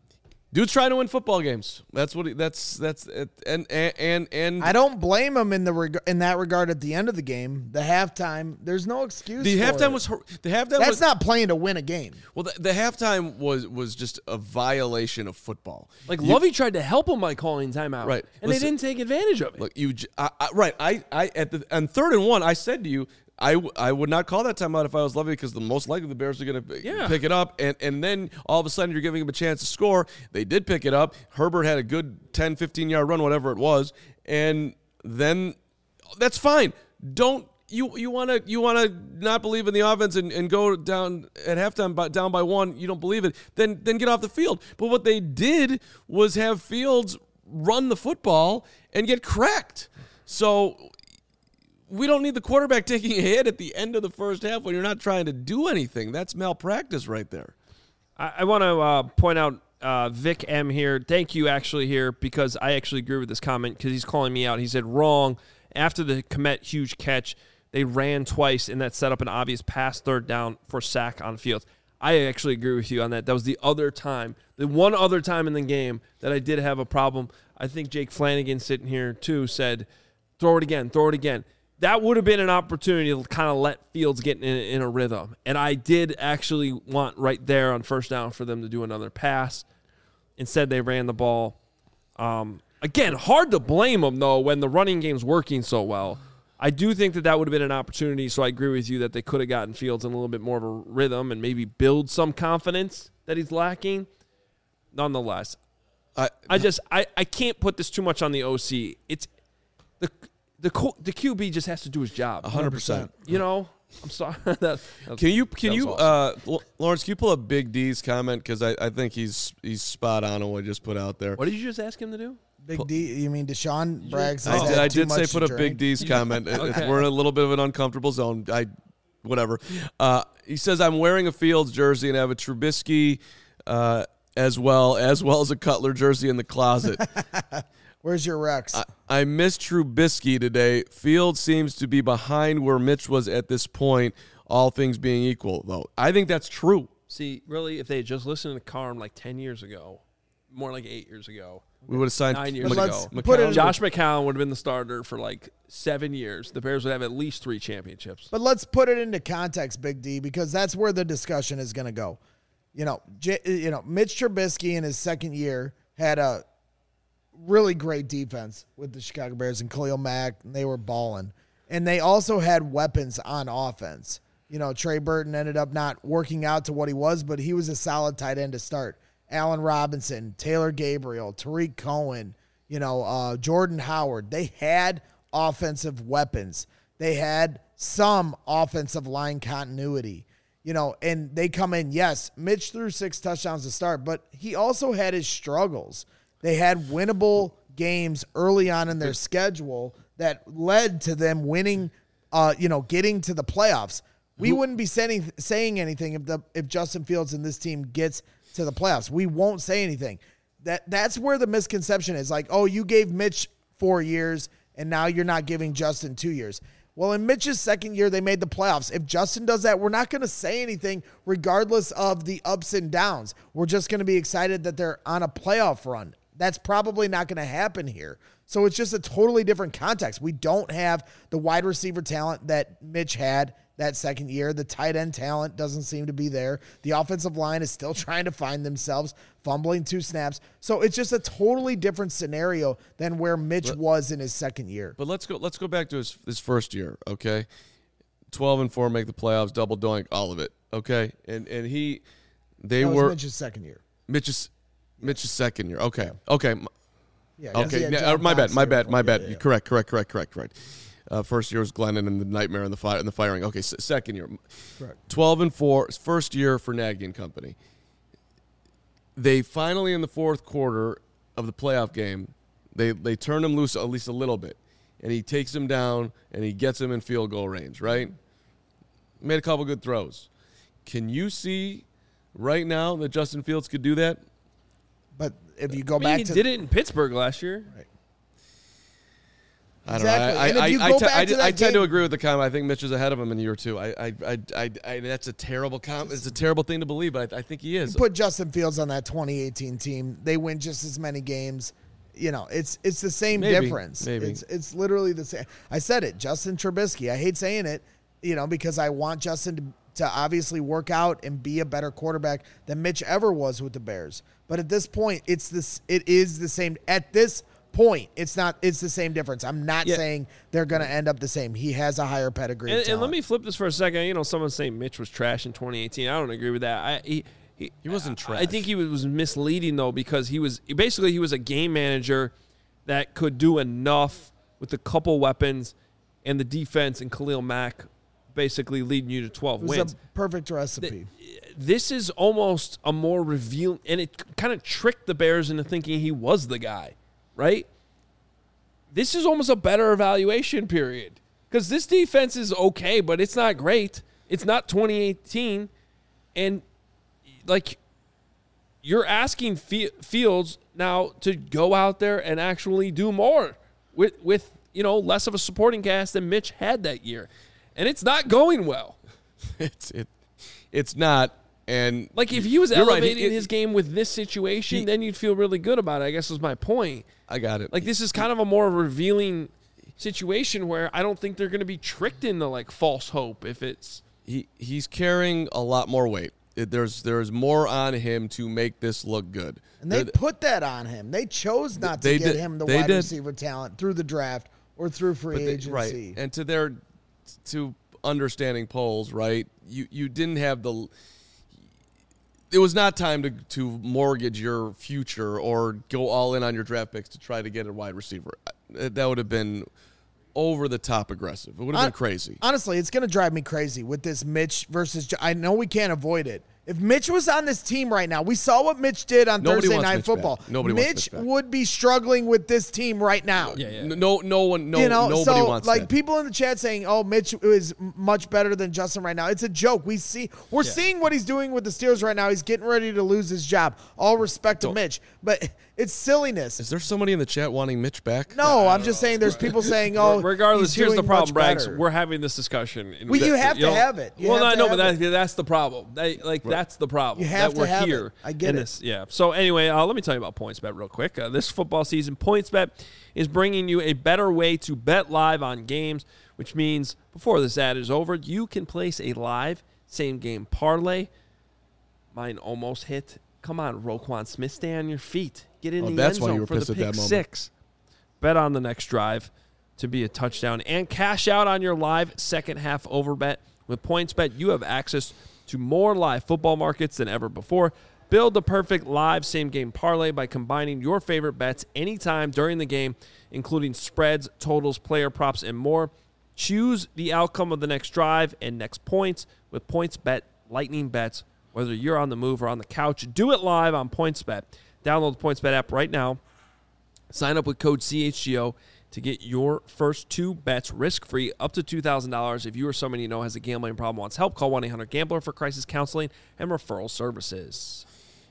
Dude's trying to win football games. That's what he, that's that's it. and and and, and I don't blame him in the reg- in that regard. At the end of the game, the halftime, there's no excuse. the for halftime it. was hor- the halftime That's was not playing to win a game. well the, the halftime was was just a violation of football. Like, You- Lovey tried to help him by calling timeout. Right. And Listen, they didn't take advantage of it. Look, you j- I, I, right. I, I at the on third and one, I said to you, I, w- I would not call that timeout if I was Lovey because the most likely the Bears are going to Yeah. pick it up, and and then all of a sudden you're giving them a chance to score. They did pick it up. Herbert had a good ten, fifteen yard run, whatever it was, and then that's fine. Don't you you want to you want to not believe in the offense and, and go down at halftime by, down by one? You don't believe it? Then then get off the field. But what they did was have Fields run the football and get cracked. So we don't need the quarterback taking a hit at the end of the first half when you're not trying to do anything. That's malpractice right there. I, I want to uh, point out uh, Vic M here. Thank you, actually, here, because I actually agree with this comment because he's calling me out. He said, wrong. After the Kmet huge catch, they ran twice, and that set up an obvious pass third down for sack on Fields. I actually agree with you on that. That was the other time, the one other time in the game that I did have a problem. I think Jake Flanagan sitting here, too, said, throw it again, throw it again. That would have been an opportunity to kind of let Fields get in, in a rhythm. And I did actually want right there on first down for them to do another pass. Instead, they ran the ball. Um, again, hard to blame them, though, when the running game's working so well. I do think that that would have been an opportunity, so I agree with you that they could have gotten Fields in a little bit more of a rhythm and maybe build some confidence that he's lacking. Nonetheless, I, I just I, I can't put this too much on the O C. It's the the co- the Q B just has to do his job. one hundred percent. You know, I'm sorry. that, that was- Can you can that was you awesome. uh, L- Lawrence? Can you pull up Big D's comment because I, I think he's he's spot on on what I just put out there. What did you just ask him to do? Big D, you mean Deshaun Braggs? I has did, had I too did say much put to a drink? Big D's comment. It- it's- Okay. We're in a little bit of an uncomfortable zone. I whatever. Uh, he says I'm wearing a Fields jersey and I have a Trubisky uh, as well as well as a Cutler jersey in the closet. Where's your Rex? I, I missed Trubisky today. Fields seems to be behind where Mitch was at this point, all things being equal, though. I think that's true. See, really, if they had just listened to Carm like ten years ago, more like eight years ago, We would have signed nine years But ago, let's put it in- Josh McCown would have been the starter for like seven years. The Bears would have at least three championships. But let's put it into context, Big D, because that's where the discussion is going to go. You know, J- you know, Mitch Trubisky in his second year had a really great defense with the Chicago Bears and Khalil Mack, and they were balling. And they also had weapons on offense. You know, Trey Burton ended up not working out to what he was, but he was a solid tight end to start. Allen Robinson, Taylor Gabriel, Tariq Cohen, you know, uh, Jordan Howard. They had offensive weapons. They had some offensive line continuity, you know, and they come in. Yes, Mitch threw six touchdowns to start, but he also had his struggles. They had winnable games early on in their schedule that led to them winning, uh, you know, getting to the playoffs. We wouldn't be saying, saying anything if the if Justin Fields and this team gets to the playoffs. We won't say anything. That that's where the misconception is. Like, oh, you gave Mitch four years and now you're not giving Justin two years. Well, in Mitch's second year, they made the playoffs. If Justin does that, we're not going to say anything regardless of the ups and downs. We're just going to be excited that they're on a playoff run. That's probably not going to happen here. So it's just a totally different context. We don't have the wide receiver talent that Mitch had that second year. The tight end talent doesn't seem to be there. The offensive line is still trying to find themselves, fumbling two snaps. So it's just a totally different scenario than where Mitch was in his second year. But let's go. Let's go back to his his first year. Okay, twelve and four, make the playoffs, double doink, all of it. Okay, and and he, they That was were Mitch's second year. Mitch's Mitch's second year. Okay, okay, Yeah, 'cause he okay. had Yeah, John uh, my bad, Fox my the year bad, my before. bad. Yeah, yeah. Correct, correct, correct, correct, correct. Uh, first year was Glennon and the nightmare and the fire and the firing. Okay, s- second year, Correct. twelve and four, first year for Nagy and company. They finally in the fourth quarter of the playoff game, they they turn him loose at least a little bit, and he takes him down and he gets him in field goal range. Right, made a couple good throws. Can you see right now that Justin Fields could do that? But if you go I mean, back he to did it in Pittsburgh last year. I don't Exactly. know. I, And if I, you I, go I, back I, to I, that I tend to game- agree with the comment. I think Mitch is ahead of him in year two. I, I, I, I, I that's a terrible com- It's a terrible thing to believe, but I, I think he is. Put Justin Fields on that twenty eighteen team. They win just as many games. You know, it's it's the same Maybe, difference. maybe. It's it's literally the same. I said it, Justin Trubisky. I hate saying it, you know, because I want Justin to, to obviously work out and be a better quarterback than Mitch ever was with the Bears. But at this point, it's this. It is the same. At this point, it's not. It's the same difference. I'm not Yeah. saying they're going to end up the same. He has a higher pedigree. of And, and let talent. me flip this for a second. You know, someone's saying Mitch was trash in twenty eighteen. I don't agree with that. I, he, he, He wasn't trash. I think he was misleading, though, because he was basically he was a game manager that could do enough with a couple weapons and the defense and Khalil Mack basically leading you to twelve It was wins. a perfect recipe. This is almost a more revealing, and it kind of tricked the Bears into thinking he was the guy, right? This is almost a better evaluation period because this defense is okay, but it's not great. It's not twenty eighteen, and like you're asking Fe- Fields now to go out there and actually do more with with you know less of a supporting cast than Mitch had that year, and it's not going well. it's it, it's not. And Like, if he was You're right. elevating It- his game with this situation, he- then you'd feel really good about it, I guess was my point. I got it. Like, this is kind of a more revealing situation where I don't think they're going to be tricked into, like, false hope if it's... he he's carrying a lot more weight. It, there's there's more on him to make this look good. And they There- put that on him. They chose not to They get did- him the they wide did. receiver talent through the draft or through free but they- agency. right, and to their to understanding polls, right? You you didn't have the. It was not time to, to mortgage your future or go all in on your draft picks to try to get a wide receiver. That would have been over the top aggressive. It would have Hon- been crazy. Honestly, it's going to drive me crazy with this Mitch versus. Jo- I know we can't avoid it. If Mitch was on this team right now, we saw what Mitch did on Nobody Thursday wants Night Mitch Football. back. Nobody wants Mitch Mitch back. would be struggling with this team right now. Yeah, yeah. No, no one, no, you know, nobody so wants like that. people in the chat saying, "Oh, Mitch is much better than Justin right now." It's a joke. We see, we're Yeah. seeing what he's doing with the Steelers right now. He's getting ready to lose his job. All respect to Don't- Mitch, but it's silliness. Is there somebody in the chat wanting Mitch back? No, I'm just saying. There's people saying, "Oh, Regardless, he's here's the doing problem, much Braggs. better. We're having this discussion. and Well, you that- have to know- have it. You well, have no, to no, have but that, that's the problem. That, like, that's the problem. You have that to we're have it. here. I get in it. This, yeah. So anyway, uh, let me tell you about PointsBet real quick. Uh, this football season, PointsBet is bringing you a better way to bet live on games, which means before this ad is over, you can place a live same-game parlay. Mine almost hit. Come on, Roquan Smith, stay on your feet. Get in Oh, the that's end why zone you were for pissed the at pick that moment. six. Bet on the next drive to be a touchdown and cash out on your live second half over bet. With PointsBet, you have access to more live football markets than ever before. Build the perfect live same-game parlay by combining your favorite bets anytime during the game, including spreads, totals, player props, and more. Choose the outcome of the next drive and next points with PointsBet Lightning Bets. Whether you're on the move or on the couch, do it live on PointsBet. Download the PointsBet app right now. Sign up with code C H G O to get your first two bets risk-free up to two thousand dollars. If you or someone you know has a gambling problem wants help, call one eight hundred gambler for crisis counseling and referral services.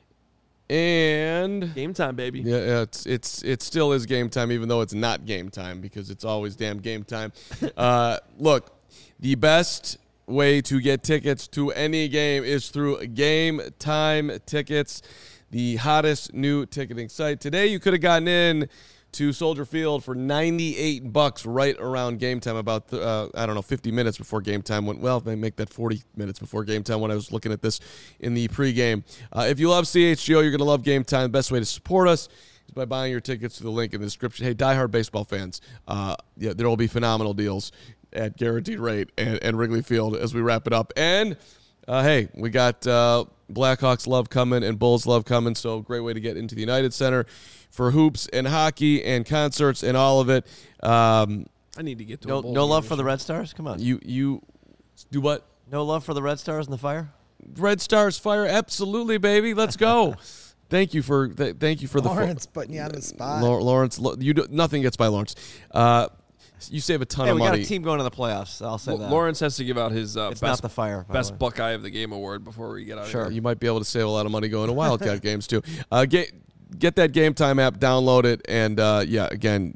And Game time, baby. yeah, yeah, it's it's it still is game time, even though it's not game time because it's always damn game time. uh, look, the best way to get tickets to any game is through Game Time Tickets, the hottest new ticketing site. Today, you could have gotten in to Soldier Field for ninety-eight bucks right around game time, about uh, I don't know, fifty minutes before game time. Went well, they make that forty minutes before game time when I was looking at this in the pregame. Uh, if you love C H G O, you're going to love Game Time. The best way to support us is by buying your tickets through the link in the description. Hey, diehard baseball fans, uh, yeah, there will be phenomenal deals at guaranteed rate and, and Wrigley Field as we wrap it up. And uh, hey, we got uh, Blackhawks love coming and Bulls love coming, so great way to get into the United Center for hoops and hockey and concerts and all of it. Um, I need to get to No, a Bulls no game love this for the year. Red Stars? Come on. you you do what? No love for the Red Stars and the Fire? Red Stars fire, absolutely, baby. Let's go. Thank you for th- thank you for the Lawrence putting you on the spot. Lau- Lawrence, lo- you do, nothing gets by Lawrence. Uh, you save a ton Hey, of we got money. a team going to the playoffs. I'll say L- that. Lawrence has to give out his uh, it's best, not the Fire. by the best way. Buckeye of the Game award before we get out Sure. of here. You might be able to save a lot of money going to Wildcat games too. Uh, get get that Game Time app, download it, and uh, yeah, again,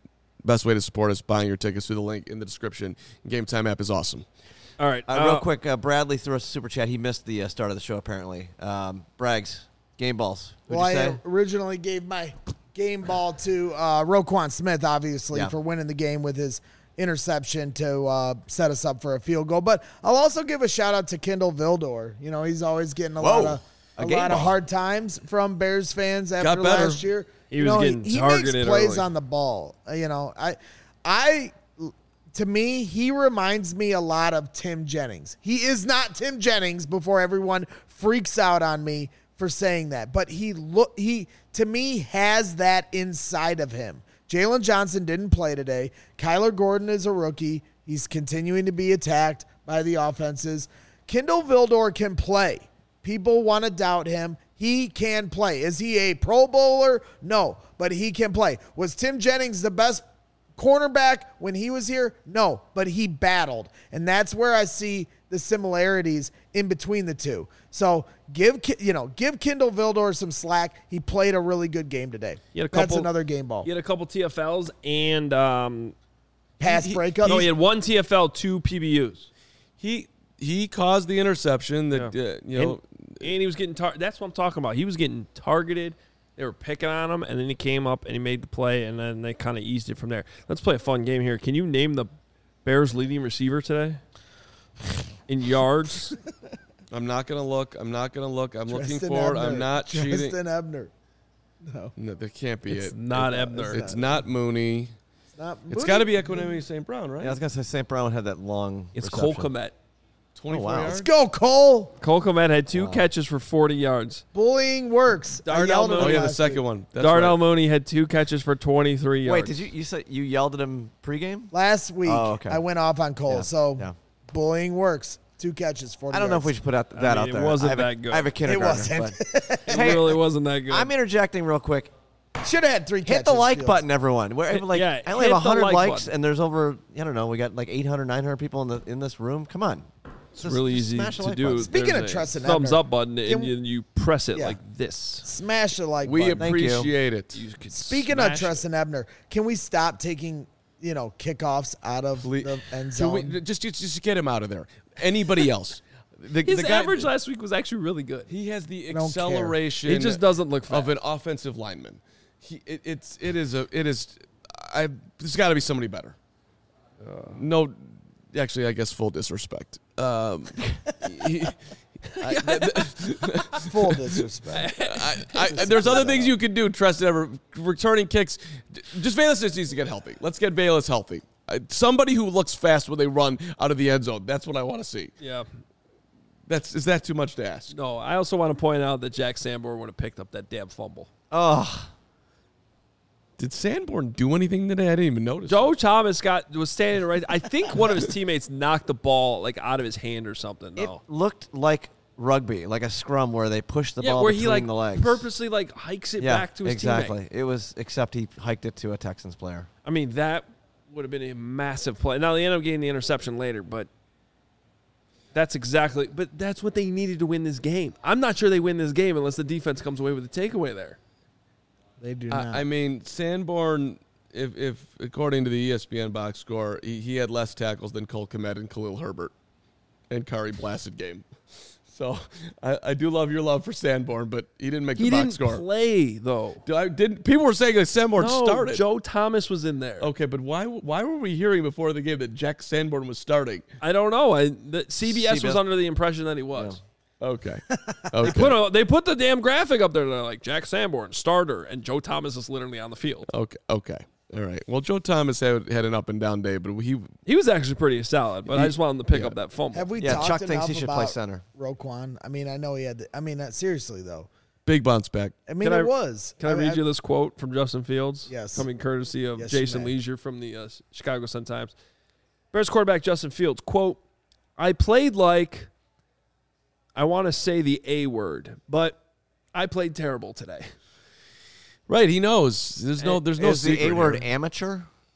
best way to support us, buying your tickets through the link in the description. Game Time app is awesome. All right. Uh, uh, real quick, uh, Bradley threw us a super chat. He missed the uh, start of the show, apparently. Um, Braggs, game balls. Who'd Well, you say? I originally gave my game ball to uh, Roquan Smith, obviously, Yeah. for winning the game with his interception to uh, set us up for a field goal. But I'll also give a shout out to Kendall Vildor. You know, he's always getting a Whoa, lot of a a, game lot of ball. hard times from Bears fans after Got better. last year. He You was know, getting he, he targeted makes plays early. on the ball. Uh, You know, I, I, to me, he reminds me a lot of Tim Jennings. He is not Tim Jennings before everyone freaks out on me for saying that, but he look he to me has that inside of him. Jalen Johnson didn't play today. Kyler Gordon is a rookie. He's continuing to be attacked by the offenses. Kendall Vildor can play. People want to doubt him. He can play. Is he a Pro Bowler? No, but he can play. Was Tim Jennings the best cornerback when he was here? No, but he battled. And that's where I see the similarities in between the two. So give Ki- you know, give Kendall Vildor some slack. He played a really good game today. He had a That's couple- another game ball. He had a couple T F Ls and um, Pass he- breakup. No, he had one T F L, two P B Us. He he caused the interception that Yeah. uh, you know. and, and he was getting tar- that's what I'm talking about. He was getting targeted. They were picking on him, and then he came up and he made the play, and then they kind of eased it from there. Let's play a fun game here. Can you name the Bears' leading receiver today in yards? I'm not gonna look. I'm not gonna look. I'm looking Tristan forward. Ebner. I'm not cheating. Tristan Ebner. No, No, that can't be It's it. not It's not. Ebner. It's not Mooney. it's not. It's got to be Equanimity Saint Brown, right? Yeah, I was gonna say Saint Brown had that long. It's reception. Cole Kmet. twenty-four Oh, wow. yards. Let's go, Cole. Cole Kmet had two catches for forty yards. Bullying works. I Darnell yelled at Mooney. Oh him yeah, the last second week. one. That's Darnell right. Mooney had two catches for twenty-three yards. Wait, did you you said you yelled at him pregame? Last week, Oh, okay. I went off on Cole. Yeah, So yeah. bullying works. Two catches, forty I don't know if we yards. should put out, that I mean, out it there. wasn't I have a- that good. I have a kindergartner. wasn't. but- It Hey, really wasn't that good. I'm interjecting real quick. Should have had three catches. Hit the like Fields. button, everyone. We're Hit- like, yeah, I only hit have the one hundred like likes, button. and there's over, I don't know, we got like eight hundred, nine hundred people in the in this room. Come on. It's really easy smash the to like do. button. Speaking There's of a Tristan thumbs Ebner, up button, and can- you, you press it Yeah. like this. Smash the like We button. Thank you. appreciate it. You could Speaking smash of Tristan Ebner, can we stop taking, you know, kickoffs out of Ple- the end Can zone? we- just, just just get him out of there. Anybody else? The, His the guy- average last week was actually really good. He has the don't care. acceleration. He just doesn't look of fast. an offensive lineman. He, it, it's it is a it is. I there's got to be somebody better. No, actually, I guess full disrespect. Um, he- I- Full disrespect. I, I, there's other things you can do. Trust ever returning kicks. Just Bayless just needs to get healthy. Let's get Bayless healthy. Uh, Somebody who looks fast when they run out of the end zone. That's what I want to see. Yeah. That's is that too much to ask? No, I also want to point out that Jack Sanborn would have picked up that damn fumble. Oh, Did Sanborn do anything today? I didn't even notice. Joe Thomas got was standing right. I think one of his teammates knocked the ball like out of his hand or something. it No. looked like rugby, like a scrum where they push the Yeah, ball where between he like the legs. purposely like hikes it yeah, back to his exactly. teammate. It was, except he hiked it to a Texans player. I mean, that would have been a massive play. Now they end up getting the interception later, but that's exactly. But that's what they needed to win this game. I'm not sure they win this game unless the defense comes away with a takeaway there. They do not. I, I mean, Sanborn, if, if according to the E S P N box score, he, he had less tackles than Cole Kmet and Khalil Herbert and Kari Blasted game. So I, I do love your love for Sanborn, but he didn't make He the didn't box score. play though. Do I, didn't people were saying that Sanborn No, started? Joe Thomas was in there. Okay, but why why were we hearing before the game that Jack Sanborn was starting? I don't know. I the C B S was C B S under the impression that he was. Okay, okay, Put a, they put the damn graphic up there. They're like Jack Sanborn starter, and Joe Thomas is literally on the field. okay, okay. All right. Well, Joe Thomas had, had an up and down day, but he He was actually pretty solid, but I just wanted him to pick Yeah. up that fumble. Have we Yeah, talked Chuck enough thinks he should about play center. Roquan? I mean, I know he had. The, I mean, uh, seriously though. big bounce back. I mean, Can it I- was. Can I read you this quote from Justin Fields? Yes. Coming courtesy of Yes, you Jason may. Leisure from the uh, Chicago Sun-Times. Bears quarterback Justin Fields, quote, I played like, I want to say the A word, but I played terrible today. Right, he knows. There's no there's no Is the secret A word here. amateur?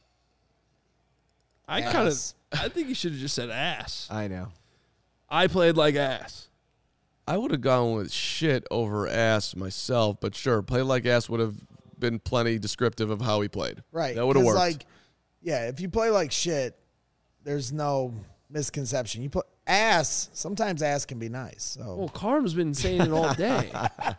I kind of, Ass. I think he should have just said ass. I know. I played like ass. I would have gone with shit over ass myself, but sure, play like ass would have been plenty descriptive of how he played. Right. That would have 'cause, worked. Like, yeah, if you play like shit, there's no misconception. You put ass. Sometimes ass can be nice. So Well, Carm's been saying it all day.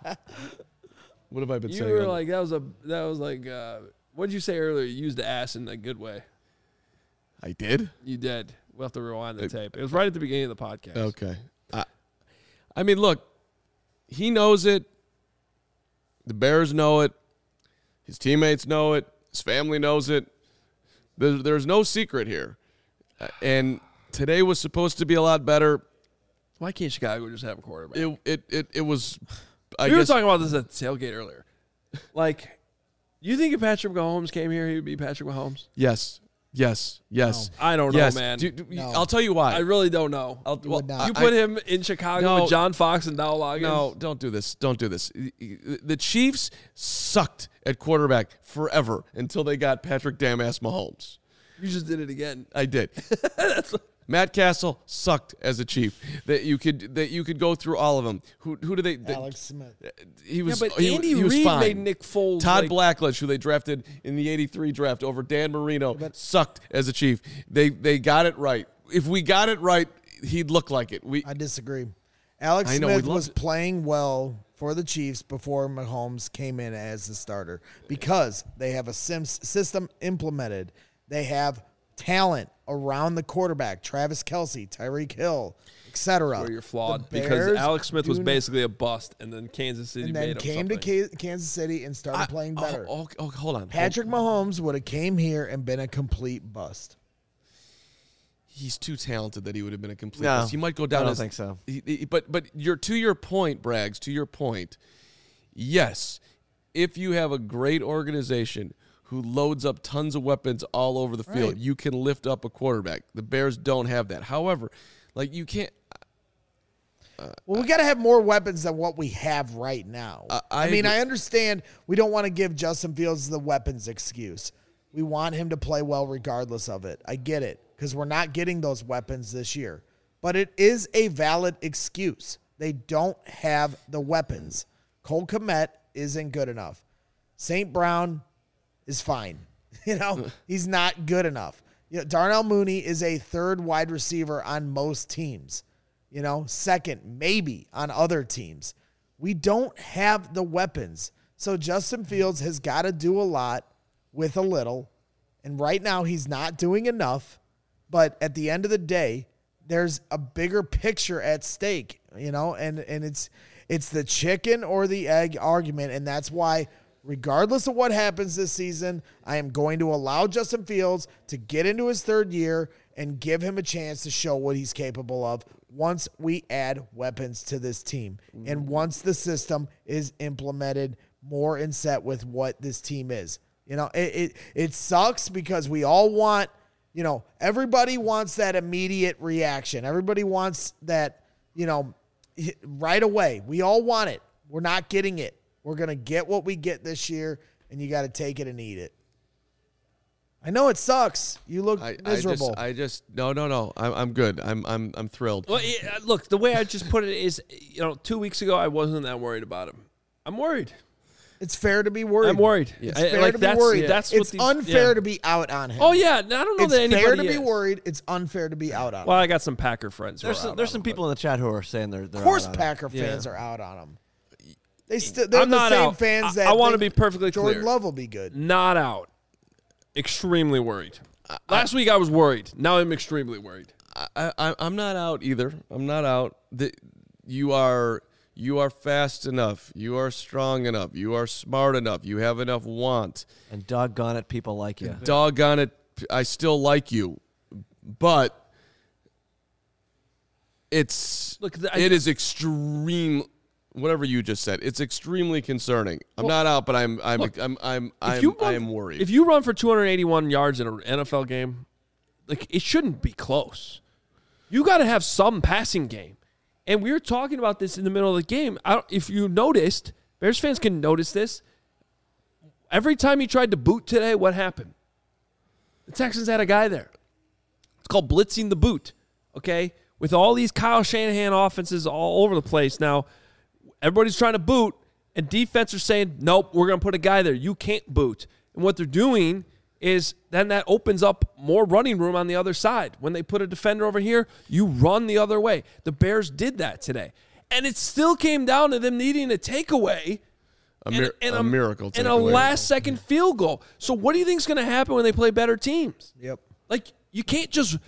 What have I been You saying? were on- like that was a that was like uh, what did you say earlier? You used the ass in a good way. I did? You did. We'll have to rewind the tape. It was right at the beginning of the podcast. Okay. I, I mean, look, he knows it. The Bears know it. His teammates know it. His family knows it. There, there's no secret here. Uh, And today was supposed to be a lot better. Why can't Chicago just have a quarterback? It it it, it was. I we were guess talking about this at the tailgate earlier. Like, you think if Patrick Mahomes came here, he would be Patrick Mahomes? yes, yes, yes. I don't yes. know, man. Do- do- No. I'll tell you why. I really don't know. I'll, You would not. You I- put him in Chicago No. with John Fox and Dow Loggins? No, don't do this. Don't do this. The Chiefs sucked at quarterback forever until they got Patrick Damn-ass Mahomes. You just did it again. I did. Matt Castle sucked as a Chief. That you could that you could go through all of them. Who who do they? they- Alex Smith. He was. yeah, but he, Andy he was Reid fine. made Nick Foles. Todd like, Blackledge, who they drafted in the eighty-three draft over Dan Marino, sucked as a Chief. They they got it right. If we got it right, he'd look like it. We I disagree. Alex I know, Smith we'd love was to- playing well for the Chiefs before Mahomes came in as the starter because they have a sim- system implemented. They have talent around the quarterback, Travis Kelce, Tyreek Hill, et cetera. where you're flawed The because Bears Alex Smith was do- basically a bust, and then Kansas City and made then him came something. to Ka- Kansas City and started I- playing oh, better. Oh, oh, hold on. Patrick Hold- Mahomes would have came here and been a complete bust. He's too talented that he would have been a complete. No, bust. He might go down. I don't as, think so. he- he- but but you're to your point, Braggs. To your point, yes. If you have a great organization who loads up tons of weapons all over the field, Right. you can lift up a quarterback. The Bears don't have that. However, like you can't. Well, we got to have more weapons than what we have right now. I- I, I mean, agree. I understand we don't want to give Justin Fields the weapons excuse. We want him to play well regardless of it. I get it because we're not getting those weapons this year. But it is a valid excuse. They don't have the weapons. Cole Kmet isn't good enough. Saint Brown is fine. You know, he's not good enough. You know, Darnell Mooney is a third wide receiver on most teams. You know, second, maybe on other teams. We don't have the weapons. So Justin Fields has got to do a lot with a little. And right now he's not doing enough. But at the end of the day, there's a bigger picture at stake, you know, and, and it's it's the chicken or the egg argument. And that's why, regardless of what happens this season, I am going to allow Justin Fields to get into his third year and give him a chance to show what he's capable of once we add weapons to this team and once the system is implemented more in set with what this team is. You know, it it, it sucks because we all want, you know, everybody wants that immediate reaction. Everybody wants that, you know, right away. We all want it. We're not getting it. We're going to get what we get this year, and you got to take it and eat it. I know it sucks. You look I, miserable. I just, I just, no, no, no. I'm, I'm good. I'm, I'm, I'm thrilled. Well, yeah, look, the way I just put it is, you know, two weeks ago I wasn't that worried about him. I'm worried. it's fair to be worried. I'm worried. It's I- fair like, to be that's, worried. That's it's what these, unfair yeah. to be out on him. Oh yeah, I don't know it's that anybody fair to be is. worried. It's unfair to be out on Well, him. I got some Packer friends. Who There's are some, out there's on some him, people in the chat who are saying they're. they're Of course, out on it. Packer fans Yeah. are out on him. They still but they're I'm the not same out. fans I- that I want to think be perfectly Jordan clear. Love will be good. Not out. Extremely worried. Last week I was worried. Now I'm extremely worried. I, I, I'm not out either. I'm not out. The, you are you are fast enough. You are strong enough. You are smart enough. You have enough want. And doggone it, people like you. Doggone it, I still like you, but it's Look, the- I- it is extreme. Whatever you just said, it's extremely concerning. I'm Well, not out, but I'm I'm look, I'm I'm If I'm, you I run- am worried. If you run for two hundred eighty-one yards in an N F L game, like it shouldn't be close. You got to have some passing game. And we were talking about this in the middle of the game. I don't, if you noticed, Bears fans can notice this. Every time he tried to boot today, what happened? The Texans had a guy there. It's called blitzing the boot, okay? With all these Kyle Shanahan offenses all over the place now, everybody's trying to boot, and defense are saying, nope, we're going to put a guy there. You can't boot. And what they're doing is then that opens up more running room on the other side. When they put a defender over here, you run the other way. The Bears did that today. And it still came down to them needing a takeaway. A, mir- and, and a, a miracle and a takeaway. last-second field goal. So what do you think is going to happen when they play better teams? Yep. Like, you can't just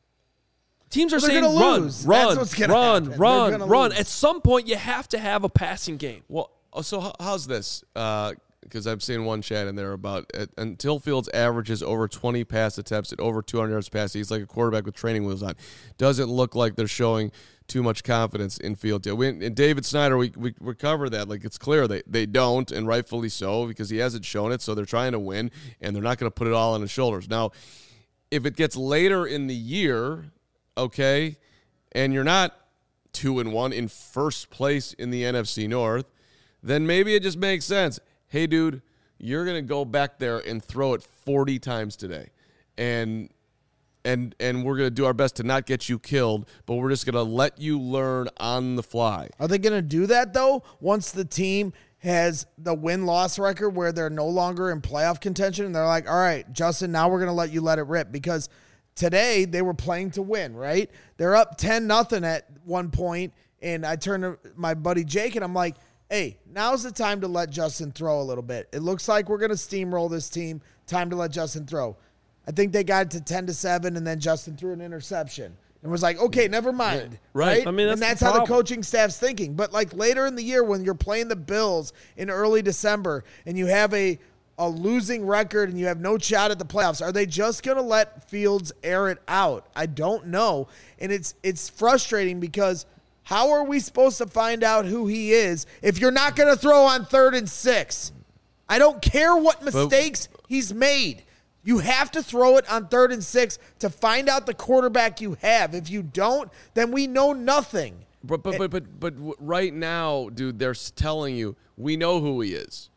– teams are They're saying gonna run, lose. run, That's what's gonna run, happen. run, They're gonna run. lose. At some point, you have to have a passing game. Well, oh, so how- how's this? Because I've seen one chat in there about uh, until Fields averages over twenty pass attempts at over two hundred yards passing, he's like a quarterback with training wheels on. Doesn't look like they're showing too much confidence in Fields. Yeah, we, and David Snyder, we, we we cover that. Like, it's clear they, they don't, and rightfully so, because he hasn't shown it, so they're trying to win, and they're not going to put it all on his shoulders. Now, if it gets later in the year, okay, and you're not two and one in first place in the N F C North, then maybe it just makes sense. Hey, dude, you're going to go back there and throw it forty times today. And and and we're going to do our best to not get you killed, but we're just going to let you learn on the fly. Are they going to do that, though, once the team has the win-loss record where they're no longer in playoff contention? And they're like, all right, Justin, now we're going to let you let it rip. Because today they were playing to win, right? They're up ten nothing at one point, and I turned to my buddy Jake, and I'm like, hey, now's the time to let Justin throw a little bit. It looks like we're going to steamroll this team. Time to let Justin throw. I think they got it to ten to seven, and then Justin threw an interception. And was like, okay, never mind. Right. Right? I mean, that's and that's the how the problem. coaching staff's thinking. But like later in the year when you're playing the Bills in early December and you have a, a losing record and you have no shot at the playoffs, are they just going to let Fields air it out? I don't know. And it's it's frustrating because how are we supposed to find out who he is if you're not going to throw on third and six? I don't care what mistakes he's made. You have to throw it on third and six to find out the quarterback you have. If you don't, then we know nothing. But but but but but w- right now, dude, they're s- telling you we know who he is.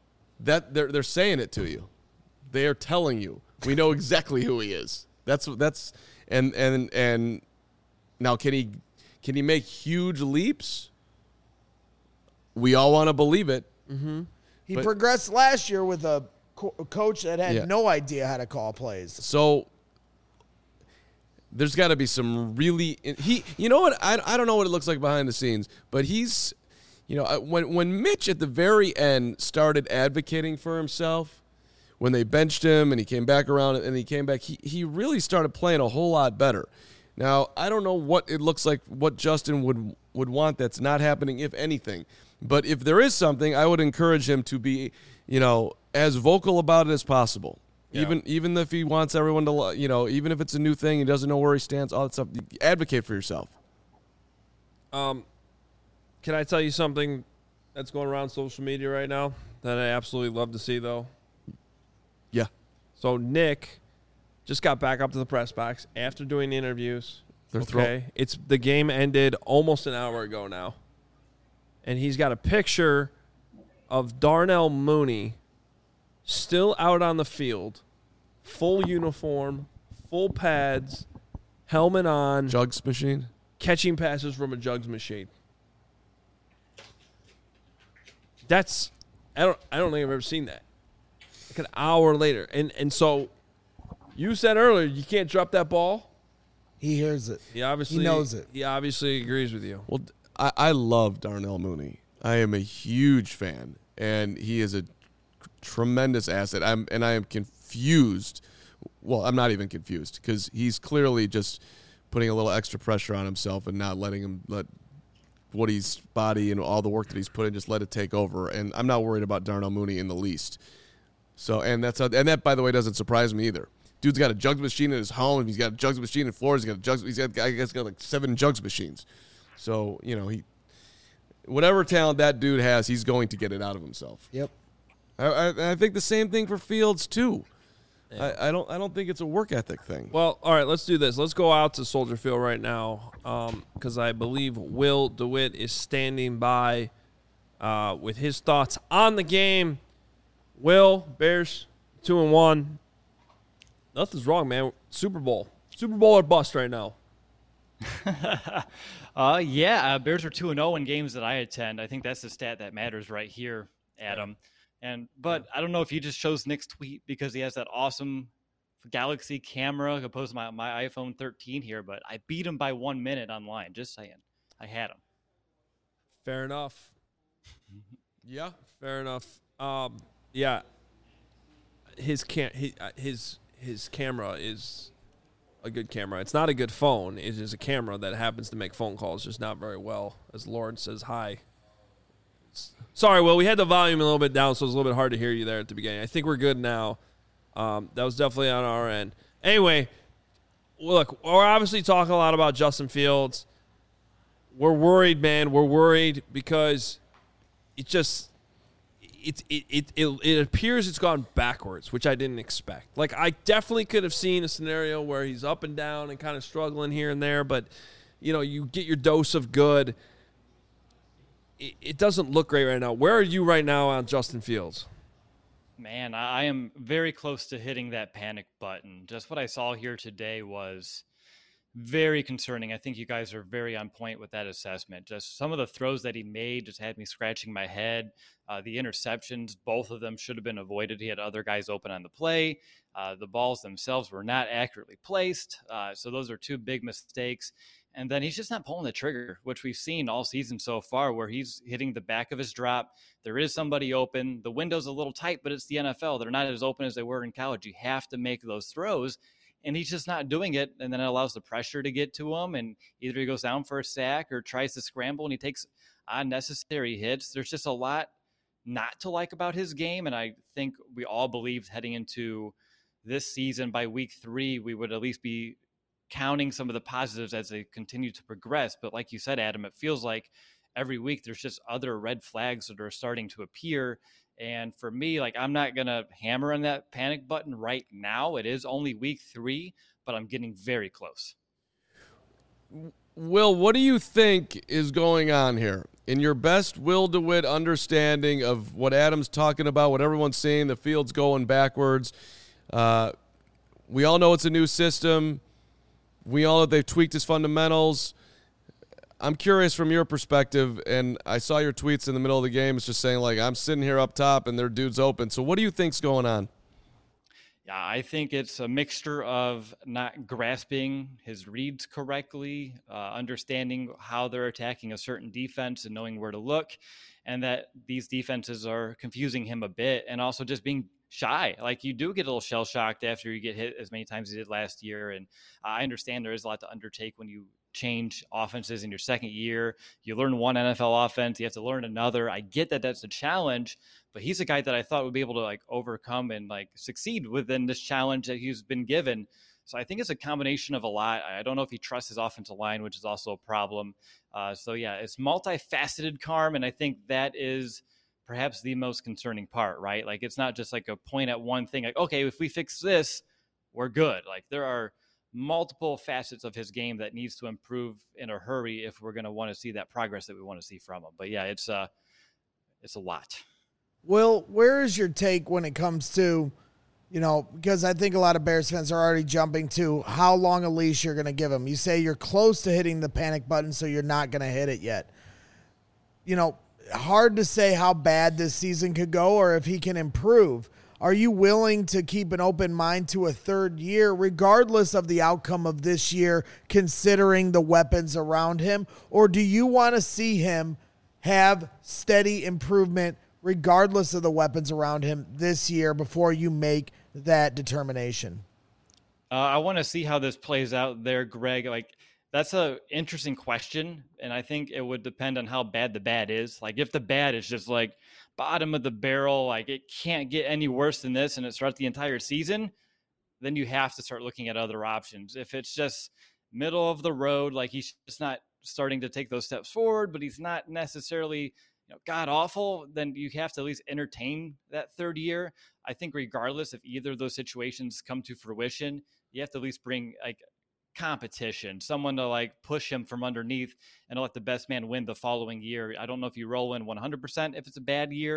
That they're they're saying it to you. They are telling you we know exactly who he is. That's that's and and and now can he can he make huge leaps? We all want to believe it. He But- progressed last year with a co- coach that had Yeah. no idea how to call plays. So there's got to be some really he. You know what? I, I don't know what it looks like behind the scenes, but he's, you know, I- when when Mitch at the very end started advocating for himself, when they benched him and he came back around and he came back, he he really started playing a whole lot better. Now I don't know what it looks like, what Justin would would want that's not happening, if anything. But if there is something, I would encourage him to be, you know, as vocal about it as possible. Yeah. Even even if he wants everyone to, lo- you know, even if it's a new thing, he doesn't know where he stands, all that stuff. Advocate for yourself. Um, can I tell you something that's going around social media right now that I absolutely love to see, though? Yeah. So Nick just got back up to the press box after doing the interviews. They're okay, throw- it's the game ended almost an hour ago now, and he's got a picture of Darnell Mooney still out on the field, full uniform, full pads, helmet on, Jugs machine. catching passes from a jugs machine. That's I don't I don't think I've ever seen that. Like an hour later. And and so you said earlier you can't drop that ball. He hears it. He obviously He knows it. He obviously agrees with you. Well, I, I love Darnell Mooney. I am a huge fan, and he is a tremendous asset. I'm and I am confused. Well, I'm not even confused because he's clearly just putting a little extra pressure on himself and not letting him let what he's body and all the work that he's put in just let it take over. And I'm not worried about Darnell Mooney in the least. So, and that's and that, by the way, doesn't surprise me either. Dude's got a jugs machine in his home. He's got a jugs machine in Florida. He's got a jugs. He's got, I guess, got like seven jugs machines. So, you know, he, whatever talent that dude has, he's going to get it out of himself. Yep. I, I, I think the same thing for Fields too. I, I don't. I don't think it's a work ethic thing. Well, all right, let's do this. Let's go out to Soldier Field right now because I believe Will DeWitt is standing by uh, with his thoughts on the game. Will, Bears, two and one. Nothing's wrong, man. Super Bowl. Super Bowl or bust right now. uh, yeah, uh, Bears are two and oh in games that I attend. I think that's the stat that matters right here, Adam. And but I don't know if he just chose Nick's tweet because he has that awesome Galaxy camera opposed to my, my iPhone thirteen here, but I beat him by one minute online. Just saying. I had him. Fair enough. Yeah. Fair enough. Um, yeah. His can his, his his camera is a good camera. It's not a good phone. It is a camera that happens to make phone calls just not very well. As Lauren says hi. Sorry, Will. We had the volume a little bit down, so it was a little bit hard to hear you there at the beginning. I think we're good now. Um, that was definitely on our end. Anyway, look, we're obviously talking a lot about Justin Fields. We're worried, man. We're worried because it just it it, it it it appears it's gone backwards, which I didn't expect. Like, I definitely could have seen a scenario where he's up and down and kind of struggling here and there, but you know, you get your dose of good. It, it doesn't look great right now. Where are you right now on Justin Fields? Man, I am very close to hitting that panic button. Just what I saw here today was very concerning. I think you guys are very on point with that assessment. Just some of the throws that he made just had me scratching my head. Uh, the interceptions, both of them should have been avoided. He had other guys open on the play. Uh, the balls themselves were not accurately placed. Uh, so those are two big mistakes. And then he's just not pulling the trigger, which we've seen all season so far, where he's hitting the back of his drop. There is somebody open. The window's a little tight, but it's the N F L. They're not as open as they were in college. You have to make those throws. And he's just not doing it, and then it allows the pressure to get to him, and either he goes down for a sack or tries to scramble, and he takes unnecessary hits. There's just a lot not to like about his game, and I think we all believed heading into this season by week three, we would at least be counting some of the positives as they continue to progress. But like you said, Adam, it feels like every week there's just other red flags that are starting to appear. And for me, like, I'm not going to hammer on that panic button right now. It is only week three, but I'm getting very close. Will, what do you think is going on here? In your best Will DeWitt understanding of what Adam's talking about, what everyone's saying, the field's going backwards. Uh, we all know it's a new system. We all know they've tweaked his fundamentals. I'm curious from your perspective, and I saw your tweets in the middle of the game. It's just saying, like, I'm sitting here up top and their dude's open. So what do you think's going on? Yeah, I think it's a mixture of not grasping his reads correctly, uh, understanding how they're attacking a certain defense and knowing where to look, and that these defenses are confusing him a bit, and also just being shy. Like, you do get a little shell-shocked after you get hit as many times as you did last year, and I understand there is a lot to undertake when you change offenses in your second year. You learn one N F L offense, you have to learn another. I get that that's a challenge, but he's a guy that I thought would be able to like overcome and like succeed within this challenge that he's been given. So I think it's a combination of a lot. I don't know if he trusts his offensive line, which is also a problem. Uh, so yeah, it's multifaceted, Carm, and I think that is perhaps the most concerning part, right? Like, it's not just like a point at one thing, like, okay, if we fix this, we're good. Like, there are multiple facets of his game that needs to improve in a hurry if we're going to want to see that progress that we want to see from him. But yeah, it's uh it's a lot. Will, where is your take when it comes to, you know, because I think a lot of Bears fans are already jumping to how long a leash you're going to give him. You say you're close to hitting the panic button, so you're not going to hit it yet. You know, hard to say how bad this season could go or if he can improve. Are you willing to keep an open mind to a third year, regardless of the outcome of this year, considering the weapons around him? Or do you want to see him have steady improvement, regardless of the weapons around him this year, before you make that determination? Uh, I want to see how this plays out there, Greg. Like, that's a interesting question, and I think it would depend on how bad the bad is. Like, if the bad is just like bottom of the barrel, like it can't get any worse than this, and it starts the entire season, then you have to start looking at other options. If it's just middle of the road, like he's just not starting to take those steps forward, but he's not necessarily, you know, god awful, then you have to at least entertain that third year. I think regardless if either of those situations come to fruition, you have to at least bring like competition, someone to like push him from underneath and let the best man win the following year. I don't know if you roll in one hundred percent if it's a bad year,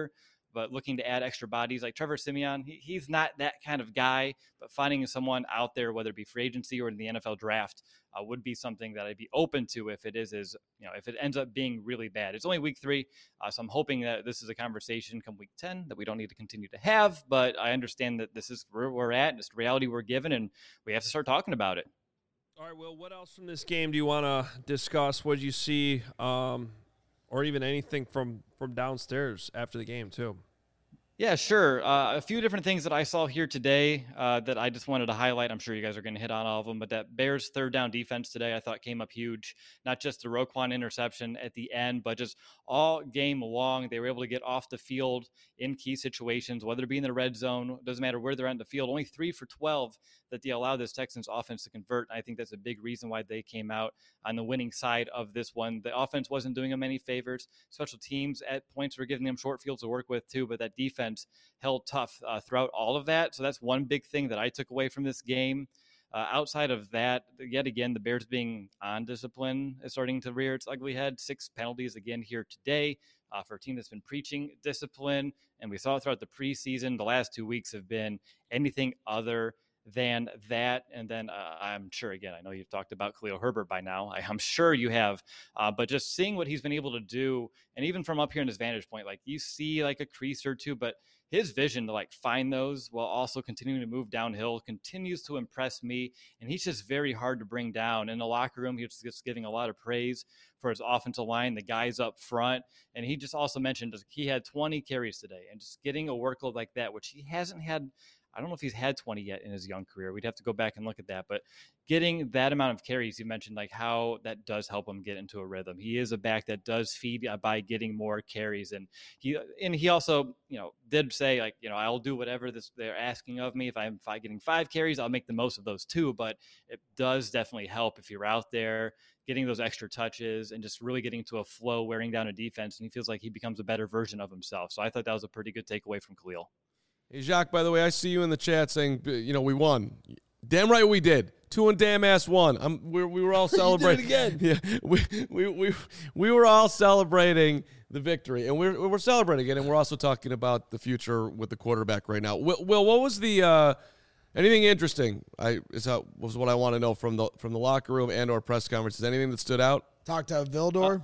but looking to add extra bodies like Trevor Siemian, he, he's not that kind of guy, but finding someone out there, whether it be free agency or in the N F L draft, uh, would be something that I'd be open to if it is, is, you know, if it ends up being really bad. It's only week three, uh, so I'm hoping that this is a conversation come week ten that we don't need to continue to have, but I understand that this is where we're at, it's the reality we're given, and we have to start talking about it. All right, Will, what else from this game do you want to discuss? What did you see, um, or even anything from, from downstairs after the game, too? Yeah, sure. Uh, a few different things that I saw here today uh, that I just wanted to highlight. I'm sure you guys are going to hit on all of them, but that Bears third down defense today I thought came up huge. Not just the Roquan interception at the end, but just all game long. They were able to get off the field in key situations, whether it be in the red zone, doesn't matter where they're at in the field. Only three for twelve that they allowed this Texans offense to convert. And I think that's a big reason why they came out on the winning side of this one. The offense wasn't doing them any favors. Special teams at points were giving them short fields to work with too, but that defense held tough uh, throughout all of that. So that's one big thing that I took away from this game. Uh, outside of that, yet again, the Bears being on discipline is starting to rear its ugly head. Six penalties again here today uh, for a team that's been preaching discipline. And we saw it throughout the preseason. The last two weeks have been anything other than that. And then uh, I'm sure, again, I know you've talked about Khalil Herbert by now. I, I'm sure you have. Uh, but just seeing what he's been able to do, and even from up here in his vantage point, like you see like a crease or two, but his vision to like find those while also continuing to move downhill continues to impress me. And he's just very hard to bring down. In the locker room, he was just giving a lot of praise for his offensive line, the guys up front. And he just also mentioned he had twenty carries today, and just getting a workload like that, which he hasn't had. I don't know if he's had twenty yet in his young career. We'd have to go back and look at that. But getting that amount of carries, you mentioned like how that does help him get into a rhythm. He is a back that does feed by getting more carries. And he and he also, you know, did say like, you know, I'll do whatever this they're asking of me. If I'm if getting five carries, I'll make the most of those too. But it does definitely help if you're out there getting those extra touches and just really getting to a flow, wearing down a defense. And he feels like he becomes a better version of himself. So I thought that was a pretty good takeaway from Khalil. Hey, Jacques, by the way, I see you in the chat saying, you know, we won. Damn right we did. Two and damn ass one. I'm, we we were all celebrating. You did it again. Yeah, we, we, we, we were all celebrating the victory, and we're, we're celebrating it, and we're also talking about the future with the quarterback right now. Will, Will what was the uh, – anything interesting I is how, was what I want to know from the from the locker room and or press conferences. Anything that stood out? Talk to Vildor. Uh,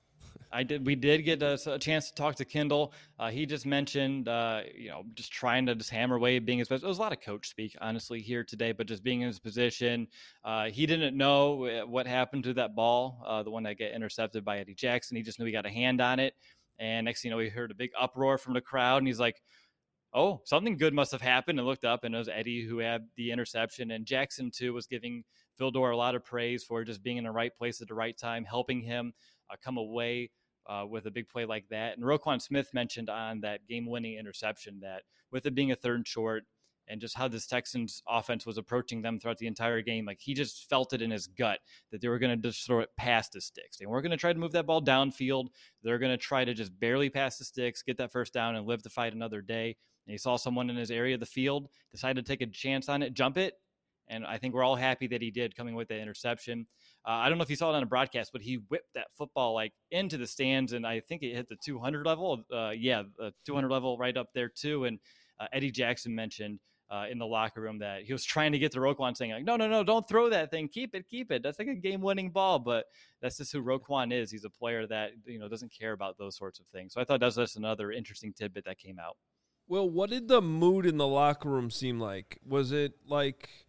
I did. We did get a, a chance to talk to Kendall. Uh, he just mentioned, uh, you know, just trying to just hammer away, being his best. There was a lot of coach speak, honestly, here today, but just being in his position. Uh, he didn't know what happened to that ball, uh, the one that got intercepted by Eddie Jackson. He just knew he got a hand on it. And next thing you know, he heard a big uproar from the crowd, and he's like, oh, something good must have happened, and looked up, and it was Eddie who had the interception. And Jackson, too, was giving Vildor a lot of praise for just being in the right place at the right time, helping him uh, come away Uh, with a big play like that. And Roquan Smith mentioned on that game-winning interception that with it being a third and short and just how this Texans offense was approaching them throughout the entire game, like he just felt it in his gut that they were going to just throw it past the sticks. They weren't going to try to move that ball downfield. They're going to try to just barely pass the sticks, get that first down, and live to fight another day. And he saw someone in his area of the field, decided to take a chance on it, jump it, and I think we're all happy that he did, coming with the interception. Uh, I don't know if you saw it on a broadcast, but he whipped that football like into the stands, and I think it hit the two hundred level. Uh, yeah, the two hundred level right up there too. And uh, Eddie Jackson mentioned uh, in the locker room that he was trying to get to Roquan, saying like, no, no, no, don't throw that thing. Keep it, keep it. That's like a game-winning ball. But that's just who Roquan is. He's a player that, you know, doesn't care about those sorts of things. So I thought that was just another interesting tidbit that came out. Well, what did the mood in the locker room seem like? Was it like –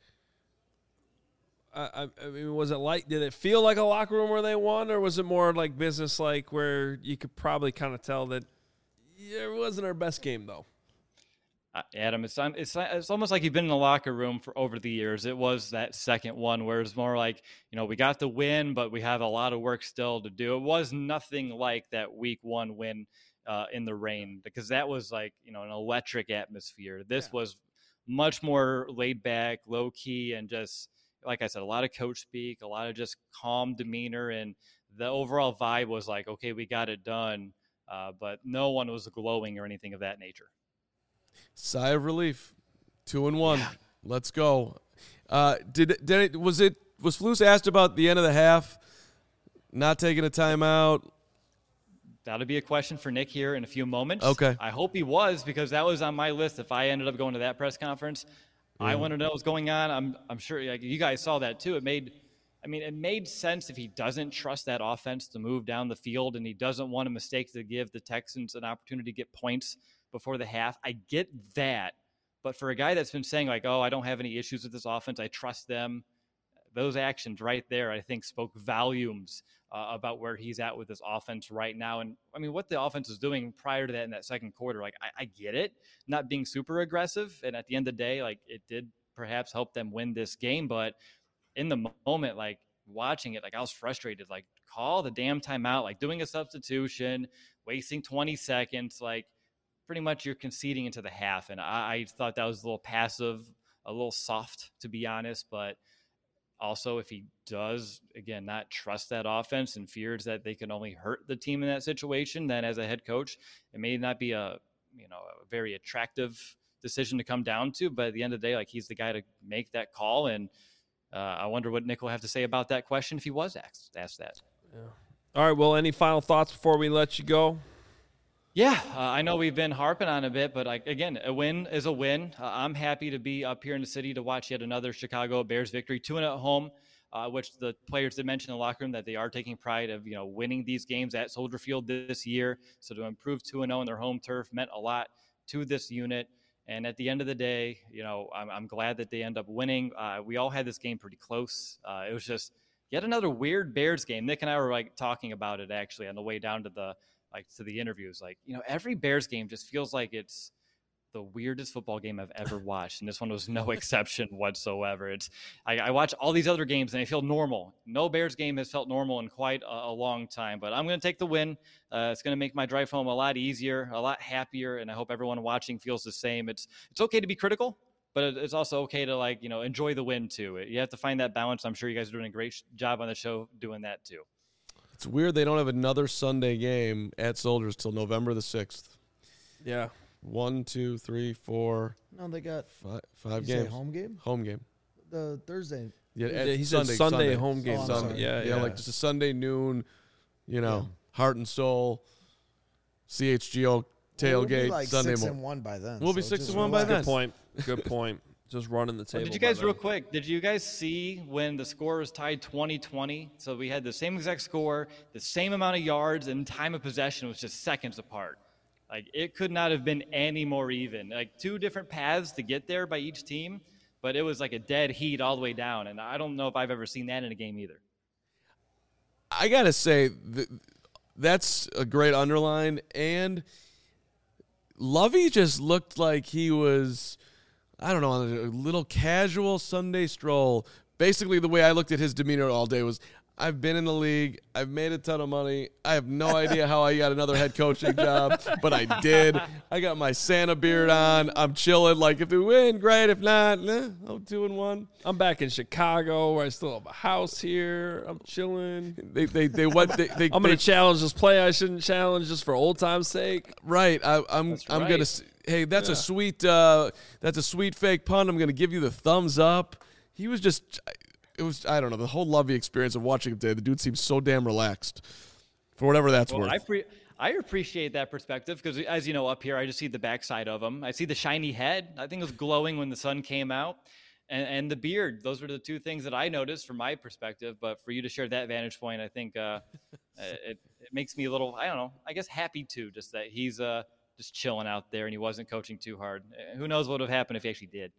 I, I mean, was it like, did it feel like a locker room where they won, or was it more like business like where you could probably kind of tell that yeah, it wasn't our best game, though? Uh, Adam, it's, it's it's almost like you've been in the locker room for over the years. It was that second one where it's more like, you know, we got the win, but we have a lot of work still to do. It was nothing like that week one win uh, in the rain, because that was like, you know, an electric atmosphere. This yeah. was much more laid back, low key, and just, like I said, a lot of coach speak, a lot of just calm demeanor, and the overall vibe was like, okay, we got it done, uh, but no one was glowing or anything of that nature. Sigh of relief. Two and one. Yeah. Let's go. Uh, did did it was it was Flus asked about the end of the half, not taking a timeout? that'll be a question for Nick here in a few moments. Okay. I hope he was, because that was on my list. If I ended up going to that press conference, yeah. I want to know what's going on. I'm I'm sure like, you guys saw that too. It made, I mean, it made sense if he doesn't trust that offense to move down the field and he doesn't want a mistake to give the Texans an opportunity to get points before the half. I get that. But for a guy that's been saying like, oh, I don't have any issues with this offense, I trust them, those actions right there, I think, spoke volumes uh, about where he's at with this offense right now. And I mean, what the offense was doing prior to that in that second quarter, like, I, I get it, not being super aggressive. And at the end of the day, like, it did perhaps help them win this game. But in the moment, like, watching it, like, I was frustrated, like, call the damn timeout, like, doing a substitution, wasting twenty seconds, like, pretty much you're conceding into the half. And I, I thought that was a little passive, a little soft, to be honest. But also, if he does, again, not trust that offense and fears that they can only hurt the team in that situation, then as a head coach, it may not be a, you know, a very attractive decision to come down to. But at the end of the day, like, he's the guy to make that call. And uh, I wonder what Nick will have to say about that question if he was asked, asked that. Yeah. All right. Well, any final thoughts before we let you go? Yeah, uh, I know we've been harping on a bit, but like, again, a win is a win. Uh, I'm happy to be up here in the city to watch yet another Chicago Bears victory, two and at home, uh, which the players did mention in the locker room that they are taking pride of, you know, winning these games at Soldier Field this year. So to improve two and oh in their home turf meant a lot to this unit. And at the end of the day, you know, I'm, I'm glad that they end up winning. Uh, we all had this game pretty close. Uh, it was just yet another weird Bears game. Nick and I were like talking about it actually on the way down to the like to the interviews. Like, you know, every Bears game just feels like it's the weirdest football game I've ever watched. And this one was no exception whatsoever. It's I, I watch all these other games and they feel normal. No Bears game has felt normal in quite a, a long time, but I'm going to take the win. Uh, it's going to make my drive home a lot easier, a lot happier. And I hope everyone watching feels the same. It's, it's okay to be critical, but it's also okay to, like, you know, enjoy the win too. You have to find that balance. I'm sure you guys are doing a great job on the show doing that too. It's weird they don't have another Sunday game at Soldiers till November the sixth. Yeah. One, two, three, four. No, they got five, five did you say games. home game. Home game. The Thursday. Yeah, Yeah, at he said Sunday, Sunday, Sunday home game. Oh, I'm Sunday. sorry. Yeah, yeah, yeah. like just a Sunday noon. You know, heart and soul. C H G O tailgate We'll be like Sunday six morning. and one by then. We'll be so six just and one by relax. Good point. Good point. Just running the table. Well, did you guys, by real then. quick, did you guys see when the score was tied twenty twenty? So we had the same exact score, the same amount of yards, and time of possession was just seconds apart. Like, it could not have been any more even. Like, two different paths to get there by each team, but it was like a dead heat all the way down. And I don't know if I've ever seen that in a game either. I gotta say th- that's a great underline, and Lovey just looked like he was, I don't know, on a little casual Sunday stroll. Basically, the way I looked at his demeanor all day was, I've been in the league. I've made a ton of money. I have no idea how I got another head coaching job, but I did. I got my Santa beard on. I'm chilling. Like, if we win, great. If not, nah, I'm two and one. I'm back in Chicago where I still have a house here. I'm chilling. They, they, they, what? They, they, I'm they, going to challenge this play I shouldn't challenge just for old time's sake. Right. I, I'm. That's I'm right. gonna. s- Hey, that's Yeah. a sweet. Uh, that's a sweet fake pun. I'm gonna give you the thumbs up. He was just. It was. I don't know. The whole Lovey experience of watching him today. The dude seems so damn relaxed. For whatever that's Well, worth. I pre- I appreciate that perspective because, as you know, up here, I just see the backside of him. I see the shiny head. I think it was glowing when the sun came out. And, and the beard. Those were the two things that I noticed from my perspective. But for you to share that vantage point, I think uh, it, it makes me a little, I don't know, I guess happy too, just that he's uh, just chilling out there and he wasn't coaching too hard. Uh, Who knows what would have happened if he actually did.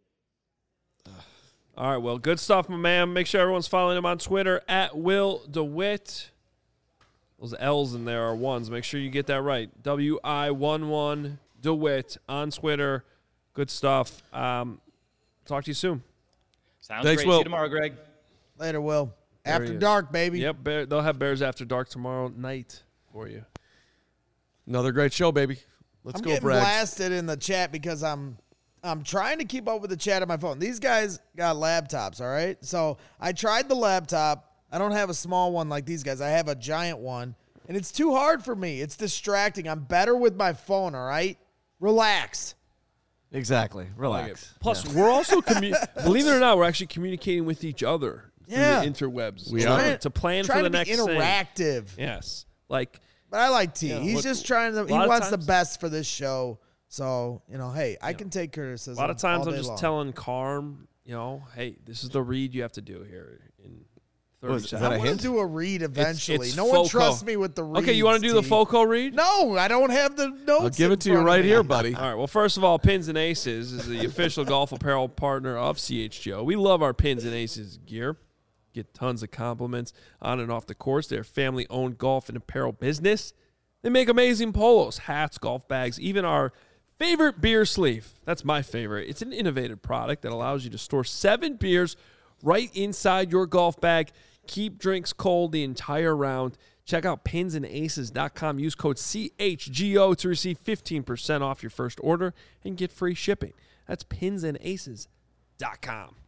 All right, well, good stuff, my man. Make sure everyone's following him on Twitter, at Will DeWitt. Those L's in there are ones. Make sure you get that right. W I one one DeWitt on Twitter. Good stuff. Um, talk to you soon. Sounds Thanks, great. Will. See you tomorrow, Greg. Later, Will. he After is. dark, baby. Yep, Bear, they'll have Bears After Dark tomorrow night for you. Another great show, baby. Let's I'm go, getting Braggs. blasted in the chat because I'm I'm trying to keep up with the chat on my phone. These guys got laptops, all right? So I tried the laptop. I don't have a small one like these guys. I have a giant one, and it's too hard for me. It's distracting. I'm better with my phone, all right? Relax. Exactly. Relax. Plus, Yeah. we're also, commu- believe it or not, we're actually communicating with each other through Yeah. the interwebs. We to, are. to plan Trying for the to next be thing. interactive. Yes. Like, But I like T. Yeah, He's what- just trying to. He lot of wants the times- best for this show. So you know, hey, I Yeah. can take criticism. A lot of times all I'm day just long. telling Carm, you know, hey, this is the read you have to do here in thirty Was- is seconds. that I a want to hint? do a read eventually. it's no one Foco. trusts me with the read. Okay, you want to do the Foco read? No, I don't have the notes. I'll give in it to you front of right me. here, buddy. All right. Well, first of all, Pins and Aces is the official golf apparel partner of C H G O. We love our Pins and Aces gear. Get tons of compliments on and off the course. They're a family-owned golf and apparel business. They make amazing polos, hats, golf bags, even our favorite beer sleeve. That's my favorite. It's an innovative product that allows you to store seven beers right inside your golf bag. Keep drinks cold the entire round. Check out pins and aces dot com. Use code C H G O to receive fifteen percent off your first order and get free shipping. That's pins and aces dot com.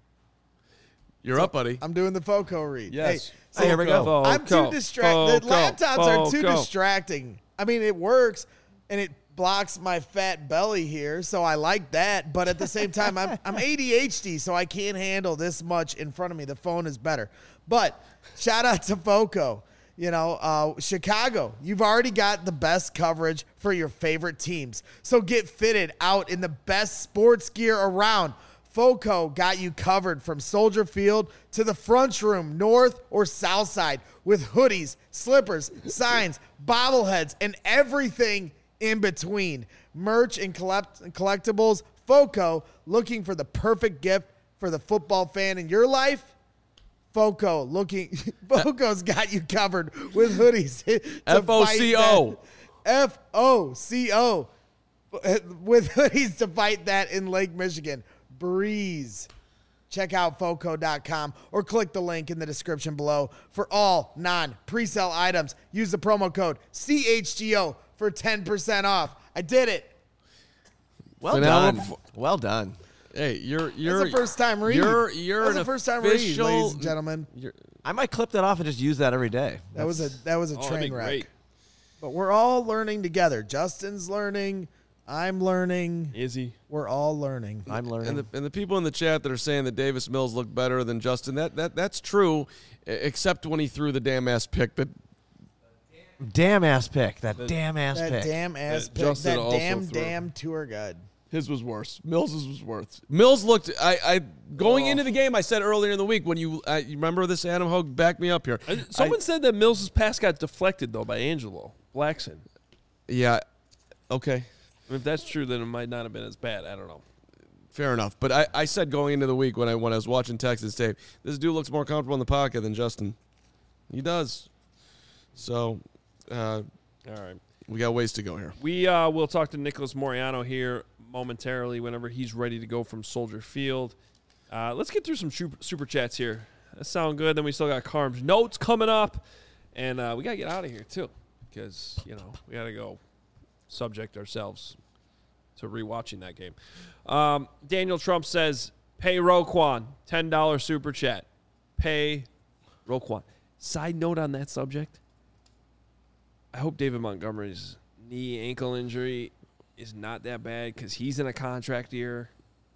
You're up, buddy. I'm doing the Foco read. Yes. Hey, so Hey, here we go. I'm too distracted. The laptops are too Foco. distracting. I mean, it works, and it blocks my fat belly here, so I like that. But at the same time, I'm, I'm A D H D, so I can't handle this much in front of me. The phone is better. But shout out to Foco. You know, uh, Chicago, you've already got the best coverage for your favorite teams. So get fitted out in the best sports gear around. Foco got you covered from Soldier Field to the front room, north or south side, with hoodies, slippers, signs, bobbleheads, and everything in between. Merch and collect- collectibles. Foco, looking for the perfect gift for the football fan in your life? Foco, looking. Foco's got you covered with hoodies. to F O C O. fight that- F O C O. With hoodies to fight that in Lake Michigan. Breeze. Check out foco dot com or click the link in the description below for all non-presale items. Use the promo code C H G O for ten percent off. I did it. Well Phenomenal. done. Well done. Hey, you're you're That's a first time read. You're you're That's an a first time read, official, ladies and gentlemen. You're, I might clip that off and just use that every day. That was a that was a Oh, that'd be train wreck. great. But we're all learning together. Justin's learning. I'm learning. Izzy. We're all learning. I'm learning. and the and the people in the chat that are saying that Davis Mills looked better than Justin, that that that's true, e- except when he threw the damn ass pick that damn ass pick. That damn ass That pick. damn ass That pick. Justin That also damn threw. damn tour guide. his was worse. Mills's was worse. Mills looked. I, I going into the game, I said earlier in the week when you, I, you remember this. Adam Hogue, back me up here. Uh, Someone I- said that Mills' pass got deflected, though, by Angelo Blackson. yeah, okay. If that's true, then it might not have been as bad. I don't know. Fair enough. But I, I said going into the week when I when I was watching Texas tape, this dude looks more comfortable in the pocket than Justin. He does. So, uh, All right. we got ways to go here. We uh, will talk to Nicholas Moriano here momentarily whenever he's ready to go from Soldier Field. Uh, let's get through some super, super chats here. That sound good. Then we still got Carm's notes coming up. And uh, we got to get out of here, too, because, you know, we got to go subject ourselves to rewatching that game. Um, Daniel Trump says, pay Roquan, ten dollars super chat. Pay Roquan. Side note on that subject, I hope David Montgomery's knee ankle injury is not that bad because he's in a contract year.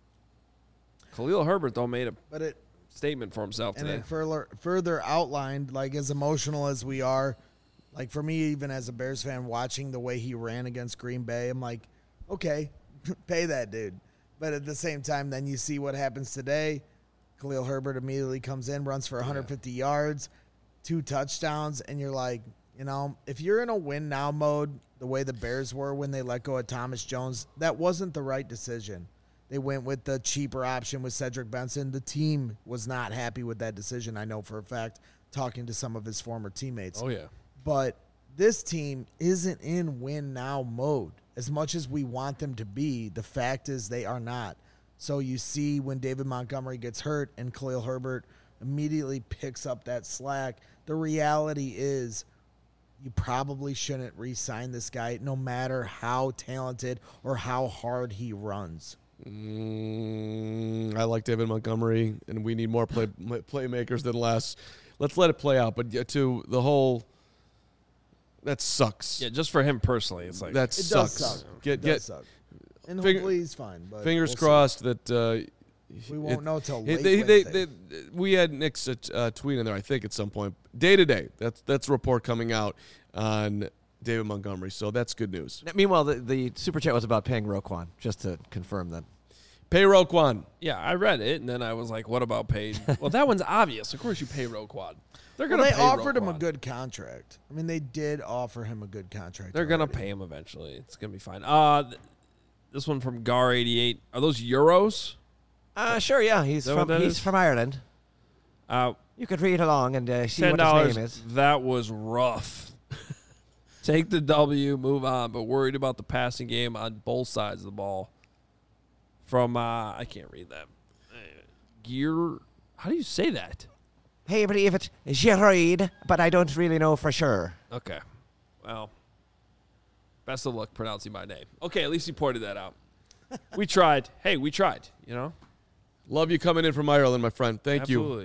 Khalil Herbert, though, made a But it statement for himself and today. it further further outlined, like as emotional as we are, like for me, even as a Bears fan, watching the way he ran against Green Bay, I'm like, okay, pay that dude. But at the same time, then you see what happens today. Khalil Herbert immediately comes in, runs for one hundred fifty yards, two touchdowns, and you're like, you know, if you're in a win now mode, the way the Bears were when they let go of Thomas Jones, that wasn't the right decision. They went with the cheaper option with Cedric Benson. The team was not happy with that decision, I know for a fact, talking to some of his former teammates. Oh, yeah. But this team isn't in win now mode. As much as we want them to be, the fact is they are not. So you see when David Montgomery gets hurt and Khalil Herbert immediately picks up that slack, the reality is you probably shouldn't re-sign this guy no matter how talented or how hard he runs. Mm, I like David Montgomery, and we need more play playmakers than less. Let's let it play out. But yeah, to the whole, that sucks. Yeah, just for him personally, it's like that It sucks. does suck. Get It get does suck. And finger- hopefully he's fine. But fingers we'll see. crossed that uh, We won't it- know till it- late they, they, Wednesday. they, we had Nick's uh, tweet in there, I think, at some point. Day to day, that's that's a report coming out on David Montgomery. So that's good news. Now, meanwhile, the, the super chat was about paying Roquan, just to confirm that. Pay Roquan. Yeah, I read it, and then I was like, what about paid? Well, that one's obvious. Of course you pay Roquan. They're Well, going to they pay offered him a Roquan. good contract. I mean, they did offer him a good contract. They're going to already. pay him eventually. It's going to be fine. Uh, th- this one from Gar eighty-eight. Are those euros? Uh, sure, yeah. He's that what from that he's is? from Ireland. Uh, You could read along and uh, see ten what dollars. his name is. That was rough. Take the W, move on, but worried about the passing game on both sides of the ball. From, uh, I can't read that. Uh, Gear, how do you say that? Hey, I believe it Gerard, but I don't really know for sure. Okay. Well, best of luck pronouncing my name. Okay, at least you pointed that out. We tried. Hey, we tried, you know? Love you coming in from Ireland, my friend. Thank you. Absolutely.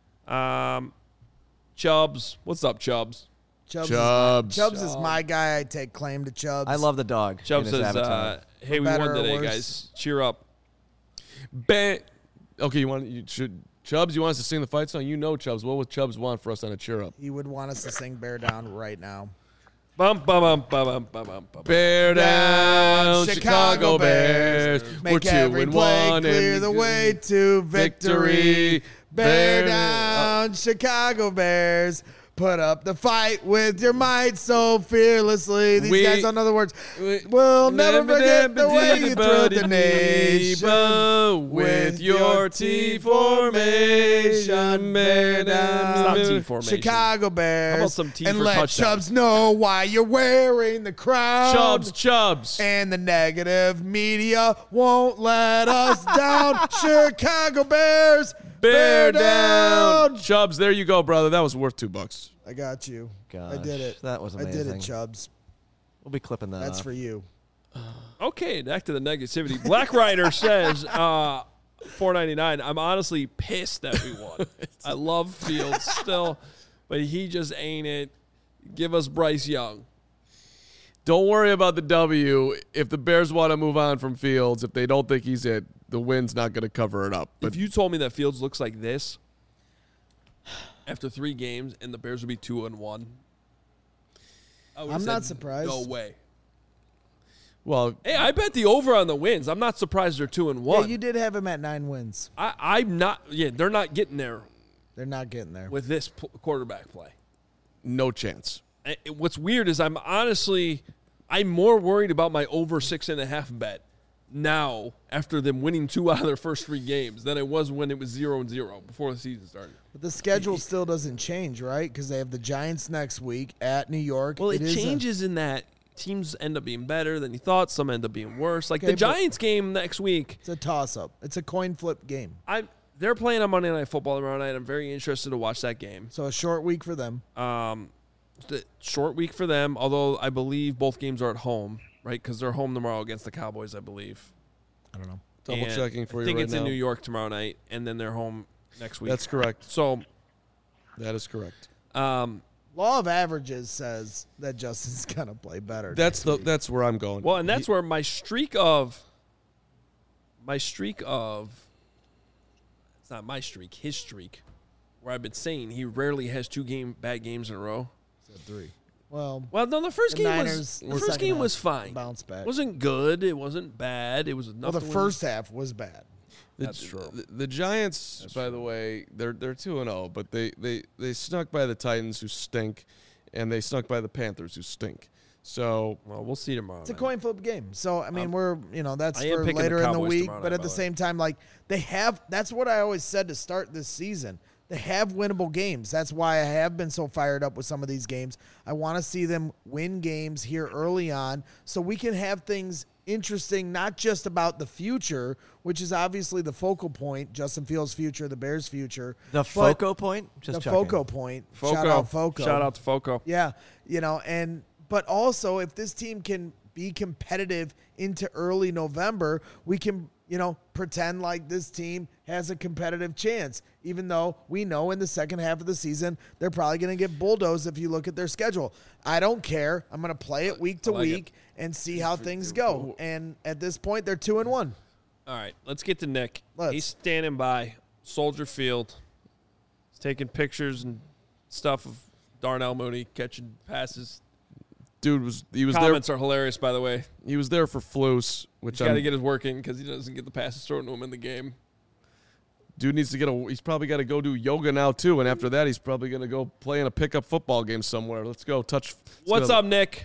Um, Chubbs. What's up, Chubbs? Chubbs, Chubbs. Is my, Chubbs is my guy. I take claim to Chubbs. I love the dog. Chubbs in his says, avatar. uh, hey, we better won or today, worse. guys. Cheer up. Ba- okay, you want you should Chubbs, you want us to sing the fight song? You know Chubbs. What would Chubbs want for us on a cheer up? He would want us to sing "Bear Down" right now. Bum, bum, bum, bum, bum, bum, bum, bum. Bear down, Down, Chicago Bears. We're Make two every and play one clear and the way to victory. victory. Bear Bear down, Chicago Bears. Put up the fight with your might so fearlessly. These We- guys don't know the words. we- We'll never Never forget the never way did you it, thrilled but the it nation need, with your T formation. Bear down. Stop T formation. Chicago Bears. How about some T and for let touchdown? Chubbs know why you're wearing the crown. Chubbs, Chubbs. And the negative media won't let us down. Chicago Bears. Bear down. Chubbs, there you go, brother. That was worth two bucks. I got you. I Gosh, did it. that was I did amazing. it, Chubbs. We'll be clipping that That's off. for you. Okay, back to the negativity. Black Rider says, uh, four ninety-nine. I'm honestly pissed that we won. I love Fields still, but he just ain't it. Give us Bryce Young. Don't worry about the W. If the Bears want to move on from Fields, if they don't think he's it, the win's not going to cover it up. But If you told me that Fields looks like this after three games and the Bears would be two and one, I would've I'm not said, surprised. No way. well, Hey, I bet the over on the wins. I'm not surprised they're two and Yeah, one. you did have him at nine wins. I, I'm not. Yeah, they're not getting there They're not getting there. with this p- quarterback play. no chance. I- What's weird is I'm honestly, I'm more worried about my over six and a half bet now after them winning two out of their first three games than it was when it was zero and zero before the season started. But the schedule still doesn't change, right? Because they have the Giants next week at New York. Well, it, is a- changes in that teams end up being better than you thought. Some end up being worse. Like Okay, the but- Giants game next week, it's a toss-up. It's a coin flip game. I they're playing on Monday Night Football tomorrow night. I'm very interested to watch that game. So a short week for them. Um, the short week for them, although I believe both games are at home, right? Because they're home tomorrow against the Cowboys, I believe. I don't know. Double And checking for I you think right it's now. in New York tomorrow night, and then they're home next week. That's correct. So, That is correct. um, Law of averages says that Justin's gonna play better. That's the that's where I'm going. well, and that's where my streak of my streak of it's not my streak, his streak, where I've been saying he rarely has two game bad games in a row. three. Well, Well, no, the first the game Niners, was the the first second game half was fine. bounce back. It wasn't good. It wasn't bad. It was enough. well, the to win. first half was bad. The, That's true. The, the Giants, That's by true. the way, they're they're two and zero, but they they they snuck by the Titans, who stink, and they snuck by the Panthers, who stink. So Well, we'll see tomorrow. It's a night. coin flip game. So I mean, Um, we're you know that's I am for picking the later in the Cowboys week. tomorrow But night, at by the the way. same time, like they have. That's what I always said to start this season. They have winnable games. That's why I have been so fired up with some of these games. I want to see them win games here early on, so we can have things interesting, not just about the future, which is obviously the focal point. Justin Fields' future, the Bears' future. The but Foco point? Just the checking. focal point. Foco. Shout out Foco. Shout out to Foco. Yeah, you know, and but also if this team can be competitive into early November, we can, you know, pretend like this team has a competitive chance, even though we know in the second half of the season they're probably going to get bulldozed if you look at their schedule. I don't care. I'm going to play it week to I like week and see how things go. And at this point, they're two and one. All right, let's get to Nick. Let's. He's standing by Soldier Field. He's taking pictures and stuff of Darnell Mooney catching passes. dude was he was Comments there. are hilarious, by the way. He was there for Flus, which He's got to I'm, get his work in because he doesn't get the passes thrown to him in the game. dude needs to get a. He's probably got to go do yoga now too, and after that, he's probably gonna go play in a pickup football game somewhere. Let's go touch. let's What's go. up, Nick?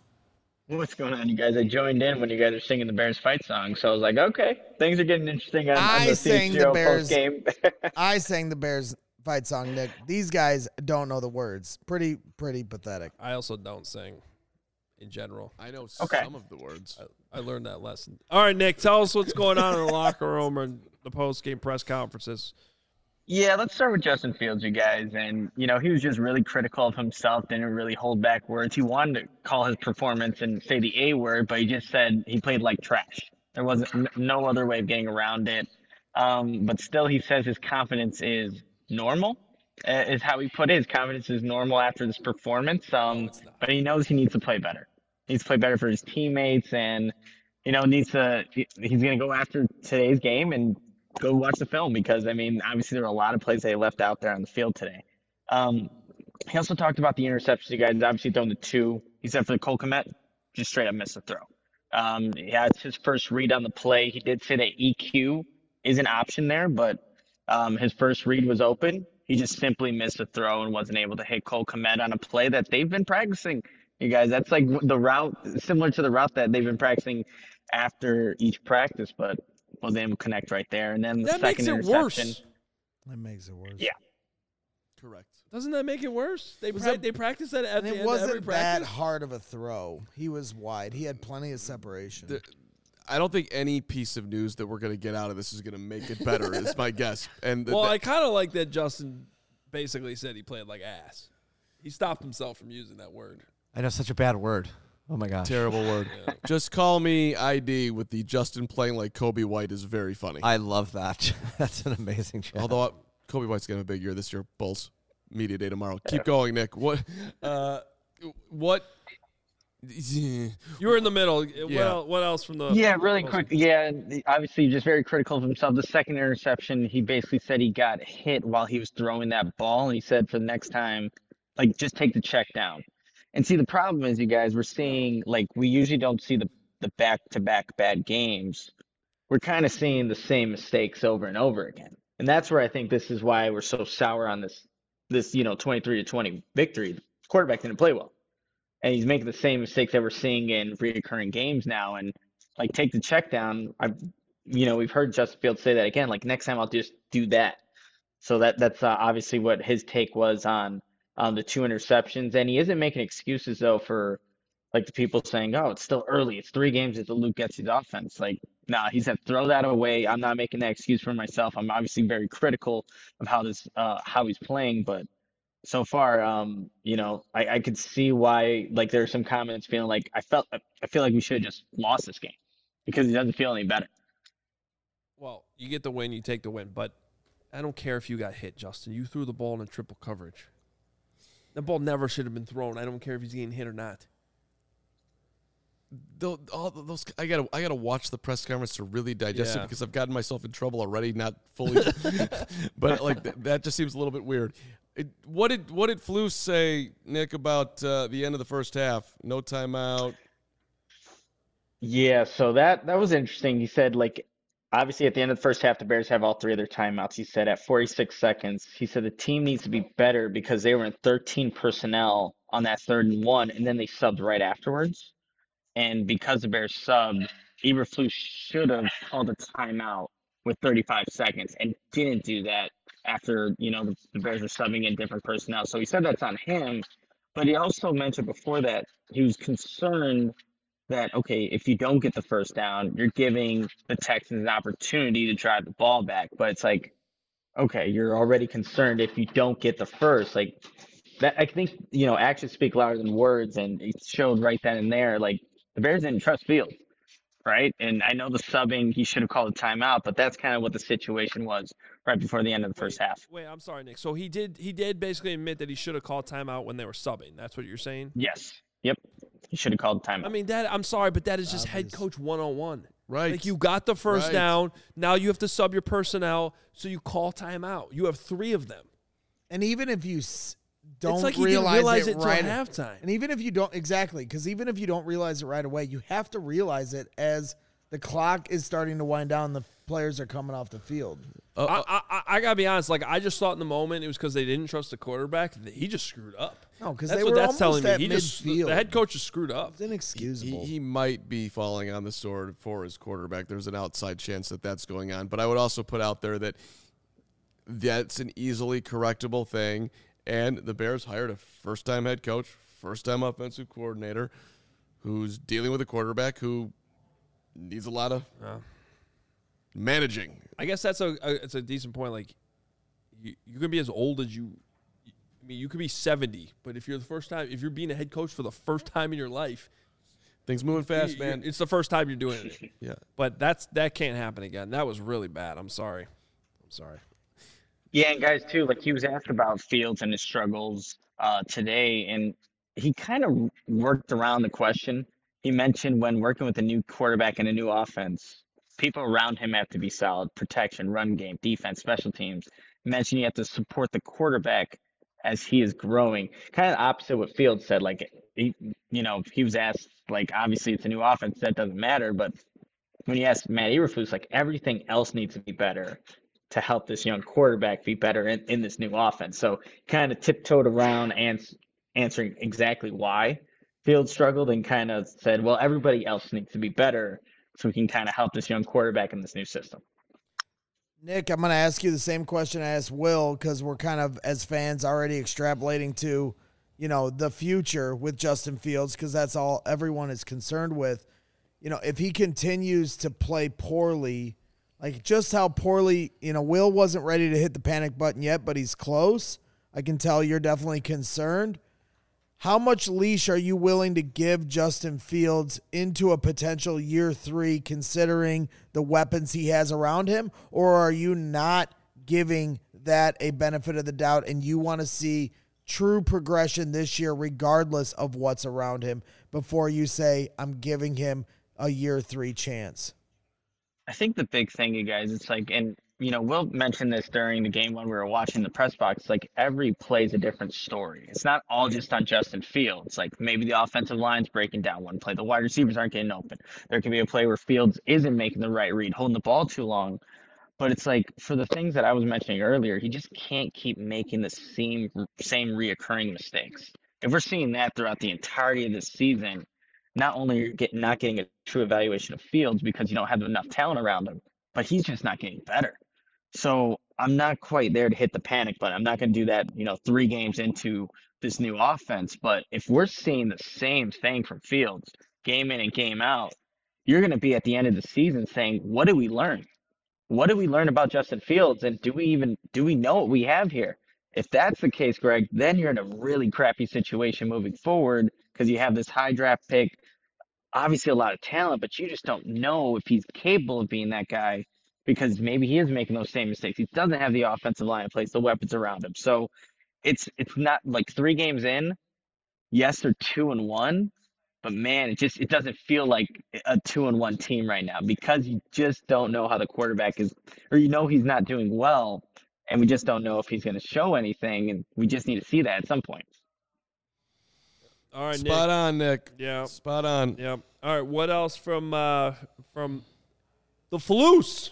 What's going on, you guys? I joined in when you guys are singing the Bears fight song, so I was like, okay, things are getting interesting on, on I the sang C H G the O Bears. post-game. I sang the Bears fight song, Nick. These guys don't know the words. Pretty, pretty pathetic. I also don't sing in general. I know Okay. some of the words. I, I learned that lesson. All right, Nick, tell us what's going on in the locker room or in the post-game press conferences. Yeah, let's start with Justin Fields, you guys. And, you know, he was just really critical of himself, didn't really hold back words. He wanted to call his performance and say the A word, but he just said he played like trash. There wasn't n- no other way of getting around it. Um, but still, he says his confidence is normal, uh, is how he put it. His confidence is normal after this performance. Um, but he knows he needs to play better. He needs to play better for his teammates and, you know, needs to, he- he's going to go after today's game and go watch the film because, I mean, obviously there were a lot of plays they left out there on the field today. Um, he also talked about the interceptions. You guys obviously thrown the two. He said for the Cole Kmet, just straight up missed the throw. Um, yeah, it's his first read on the play. He did say that E Q is an option there, but um, his first read was open. He just simply missed the throw and wasn't able to hit Cole Kmet on a play that they've been practicing. You guys, that's like the route, similar to the route that they've been practicing after each practice, but was able to connect right there. And then the That makes second it interception. worse. That makes it worse. Yeah. Correct. Doesn't that make it worse? They Was pra- that- they practice that at And the it end of every wasn't that practice. hard of a throw. He was wide. He had plenty of separation. The- I don't think any piece of news that we're going to get out of this is going to make it better, is my guess. And th- Well, th- I kind of like that Justin basically said he played like ass. He stopped himself from using that word. I know, such a bad word. Oh my gosh. terrible word. Just call me I D with the Justin playing like Kobe White is very funny. I love that. That's an amazing chat. Although uh, Kobe White's going to have a big year this year. Bulls media day tomorrow. Keep going, Nick. What? Uh, what? You were in the middle. What, Yeah. el- what else from the? Yeah, really Wilson? quick. Yeah, the- obviously just very critical of himself. The second interception, he basically said he got hit while he was throwing that ball, and he said for the next time, like, just take the check down. And see, the problem is, you guys, we're seeing, like, we usually don't see the the back-to-back bad games. We're kind of seeing the same mistakes over and over again, and that's where I think this is why we're so sour on this this you know twenty-three to twenty victory. The quarterback didn't play well. And he's making the same mistakes that we're seeing in recurring games now. And like, take the check down. I've, you know, we've heard Justin Fields say that again. Like, next time I'll just do that. So that that's uh, obviously what his take was on on the two interceptions. And he isn't making excuses though for like the people saying, "Oh, it's still early. It's three games into Luke Getsy's offense." Like, nah, he said, throw that away. I'm not making that excuse for myself. I'm obviously very critical of how this uh, how he's playing, but. So far, um, you know, I, I could see why, like, there are some comments feeling like I felt, I feel like we should have just lost this game because he doesn't feel any better. Well, you get the win, you take the win. But I don't care if you got hit, Justin. You threw the ball in triple coverage. The ball never should have been thrown. I don't care if he's getting hit or not. Tho- all those I gotta I gotta watch the press conference to really digest Yeah. it because I've gotten myself in trouble already, not fully, but like th- that just seems a little bit weird. It, what did what did Flus say, Nick, about uh, the end of the first half? No timeout. Yeah, so that that was interesting. He said, like, obviously at the end of the first half, the Bears have all three of their timeouts. He said at forty-six seconds, he said the team needs to be better because they were in thirteen personnel on that third and one, and then they subbed right afterwards. And because the Bears subbed, Eberflus should have called a timeout with thirty-five seconds and didn't do that after, you know, the, the Bears were subbing in different personnel. So he said that's on him. But he also mentioned before that he was concerned that, okay, if you don't get the first down, you're giving the Texans an opportunity to drive the ball back. But it's like, okay, you're already concerned if you don't get the first. Like, that, I think, you know, actions speak louder than words. And it showed right then and there, like, the Bears didn't trust Fields, right? And I know the subbing, he should have called a timeout, but that's kind of what the situation was right before the end of the first half. Wait, I'm sorry, Nick. So he did he did basically admit that he should have called timeout when they were subbing. That's what you're saying? Yes. Yep. He should have called a timeout. I mean, that I'm sorry, but that is just head Obvious. coach one oh one. Right. Like, you got the first Right. down. Now you have to sub your personnel, so you call timeout. You have three of them. And even if you s- don't it's like he realize, didn't realize it, it until right halftime. And even if you don't exactly, because even if you don't realize it right away, you have to realize it as the clock is starting to wind down. The players are coming off the field. Uh, uh, I, I, I gotta be honest. Like I just thought in the moment it was because they didn't trust the quarterback. He just screwed up. No, because That's they what were that's telling almost me. at He just midfield. the head coach just screwed up. It's inexcusable. he, he might be falling on the sword for his quarterback. There's an outside chance that that's going on. But I would also put out there that that's an easily correctable thing. And the Bears hired a first-time head coach, first-time offensive coordinator, who's dealing with a quarterback who needs a lot of Yeah. managing. I guess that's a, a it's a decent point. Like you, you can be as old as you. I mean, you could be seventy, but if you're the first time, if you're being a head coach for the first time in your life, Things moving fast, you- man. it's the first time you're doing it. Yeah. But that's that can't happen again. That was really bad. I'm sorry. I'm sorry. Yeah, and guys too, like he was asked about Fields and his struggles uh, today, and he kind of worked around the question. He mentioned when working with a new quarterback and a new offense, people around him have to be solid: protection, run game, defense, special teams. He mentioned you have to support the quarterback as he is growing. Kind of opposite what Fields said. Like he, you know, he was asked, like obviously it's a new offense, that doesn't matter, but when he asked Matt Eberflus, like everything else needs to be better to help this young quarterback be better in, in this new offense. So kind of tiptoed around and answering exactly why Fields struggled and kind of said, well, everybody else needs to be better so we can kind of help this young quarterback in this new system. Nick, I'm going to ask you the same question I asked Will, because we're kind of, as fans, already extrapolating to, you know, the future with Justin Fields, because that's all everyone is concerned with. You know, if he continues to play poorly, like just how poorly, you know, Will wasn't ready to hit the panic button yet, but he's close. I can tell you're definitely concerned. How much leash are you willing to give Justin Fields into a potential year three, considering the weapons he has around him? Or are you not giving that a benefit of the doubt and you want to see true progression this year regardless of what's around him before you say, I'm giving him a year three chance? I think the big thing, you guys, it's like, and you know, Will mentioned this during the game when we were watching the press box, like every play is a different story. It's not all just on Justin Fields. Like maybe the offensive line's breaking down one play. The wide receivers aren't getting open. There can be a play where Fields isn't making the right read, holding the ball too long. But it's like for the things that I was mentioning earlier, he just can't keep making the same, same reoccurring mistakes. If we're seeing that throughout the entirety of this season, not only are you get, not getting a true evaluation of Fields because you don't have enough talent around him, but he's just not getting better. So I'm not quite there to hit the panic button. I'm not going to do that, you know, three games into this new offense. But if we're seeing the same thing from Fields, game in and game out, you're going to be at the end of the season saying, what did we learn? What did we learn about Justin Fields? And do we even, do we know what we have here? If that's the case, Greg, then you're in a really crappy situation moving forward because you have this high draft pick, obviously a lot of talent, but you just don't know if he's capable of being that guy because maybe he is making those same mistakes. He doesn't have the offensive line in place, the weapons around him. So it's it's not like three games in, yes, they're two and one, but man, it just it doesn't feel like a two and one team right now because you just don't know how the quarterback is, or you know he's not doing well, and we just don't know if he's going to show anything, and we just need to see that at some point. All right, Spot Nick. on, Nick. Yeah. Spot on. Yep. All right. What else from uh, from the Flus?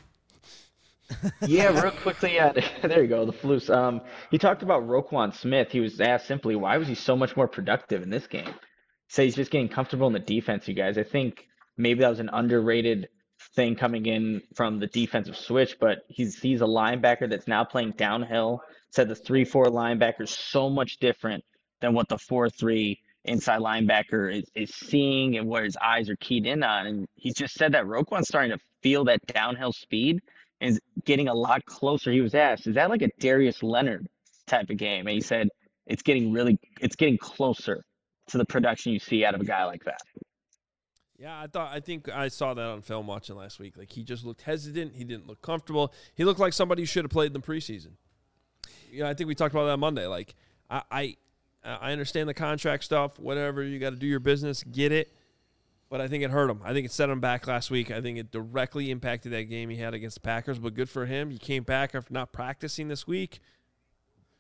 Yeah, real quickly, uh, there you go, the Flus. Um, he talked about Roquan Smith. He was asked simply, why was he so much more productive in this game? He said he's just getting comfortable in the defense, you guys. I think maybe that was an underrated thing coming in from the defensive switch, but he's he's a linebacker that's now playing downhill. Said the three four linebacker is so much different than what the four three inside linebacker is, is seeing and where his eyes are keyed in on. And he just said that Roquan's starting to feel that downhill speed and is getting a lot closer. He was asked, is that like a Darius Leonard type of game? And he said, it's getting really, it's getting closer to the production you see out of a guy like that. Yeah, I thought I think I saw that on film watching last week. Like he just looked hesitant. He didn't look comfortable. He looked like somebody who should have played in the preseason. You know, I think we talked about that Monday. Like I, I, I understand the contract stuff. Whatever, you got to do your business, get it. But I think it hurt him. I think it set him back last week. I think it directly impacted that game he had against the Packers. But good for him. He came back after not practicing this week.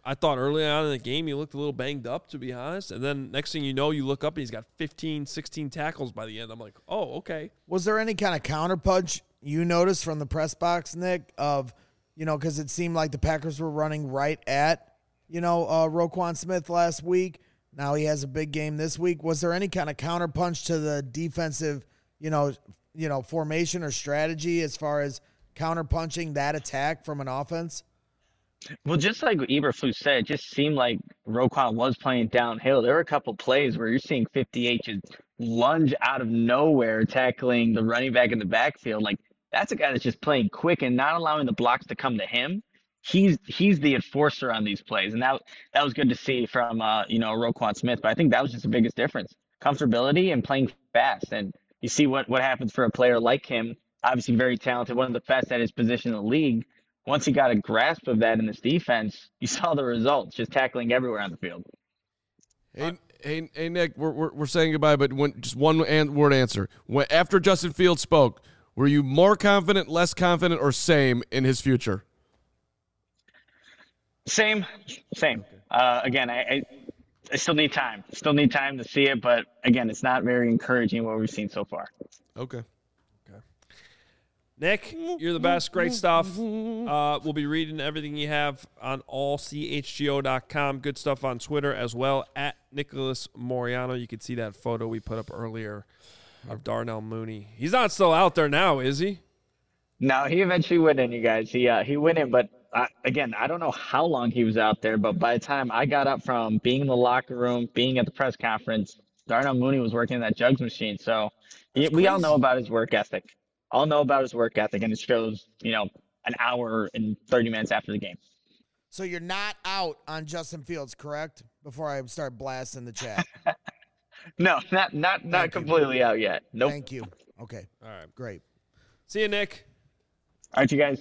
I thought early on in the game he looked a little banged up, to be honest. And then next thing you know, you look up and he's got fifteen, sixteen tackles by the end. I'm like, oh, okay. Was there any kind of counterpunch you noticed from the press box, Nick, of, you know, because it seemed like the Packers were running right at, you know, uh, Roquan Smith last week. Now he has a big game this week. Was there any kind of counterpunch to the defensive, you know, you know, formation or strategy as far as counterpunching that attack from an offense? Well, just like Eberflus said, it just seemed like Roquan was playing downhill. There were a couple plays where you're seeing fifty-eight just lunge out of nowhere, tackling the running back in the backfield. Like, that's a guy that's just playing quick and not allowing the blocks to come to him. He's he's the enforcer on these plays, and that that was good to see from uh, you know Roquan Smith. But I think that was just the biggest difference: comfortability and playing fast. And you see what what happens for a player like him. Obviously, very talented, one of the best at his position in the league. Once he got a grasp of that in this defense, you saw the results, just tackling everywhere on the field. Hey, hey, hey Nick, we're, we're we're saying goodbye, but when, just one an- word answer. When, after Justin Fields spoke, were you more confident, less confident, or same in his future? Same, same. Uh, again, I, I I still need time. Still need time to see it, but again, it's not very encouraging what we've seen so far. Okay. Nick, you're the best. Great stuff. Uh, we'll be reading everything you have on all c h g o dot com. Good stuff on Twitter as well, at Nicholas Moriano. You can see that photo we put up earlier of Darnell Mooney. He's not still out there now, is he? No, he eventually went in, you guys. He uh, he went in, but I, again, I don't know how long he was out there, but by the time I got up from being in the locker room, being at the press conference, Darnell Mooney was working that jugs machine. So he, we all know about his work ethic. All know about his work ethic, and it shows, you know, an hour and thirty minutes after the game. So you're not out on Justin Fields, correct? Before I start blasting the chat. No, not not not Thank completely you. out yet. Nope. Thank you. Okay. All right. Great. See you, Nick. All right, you guys.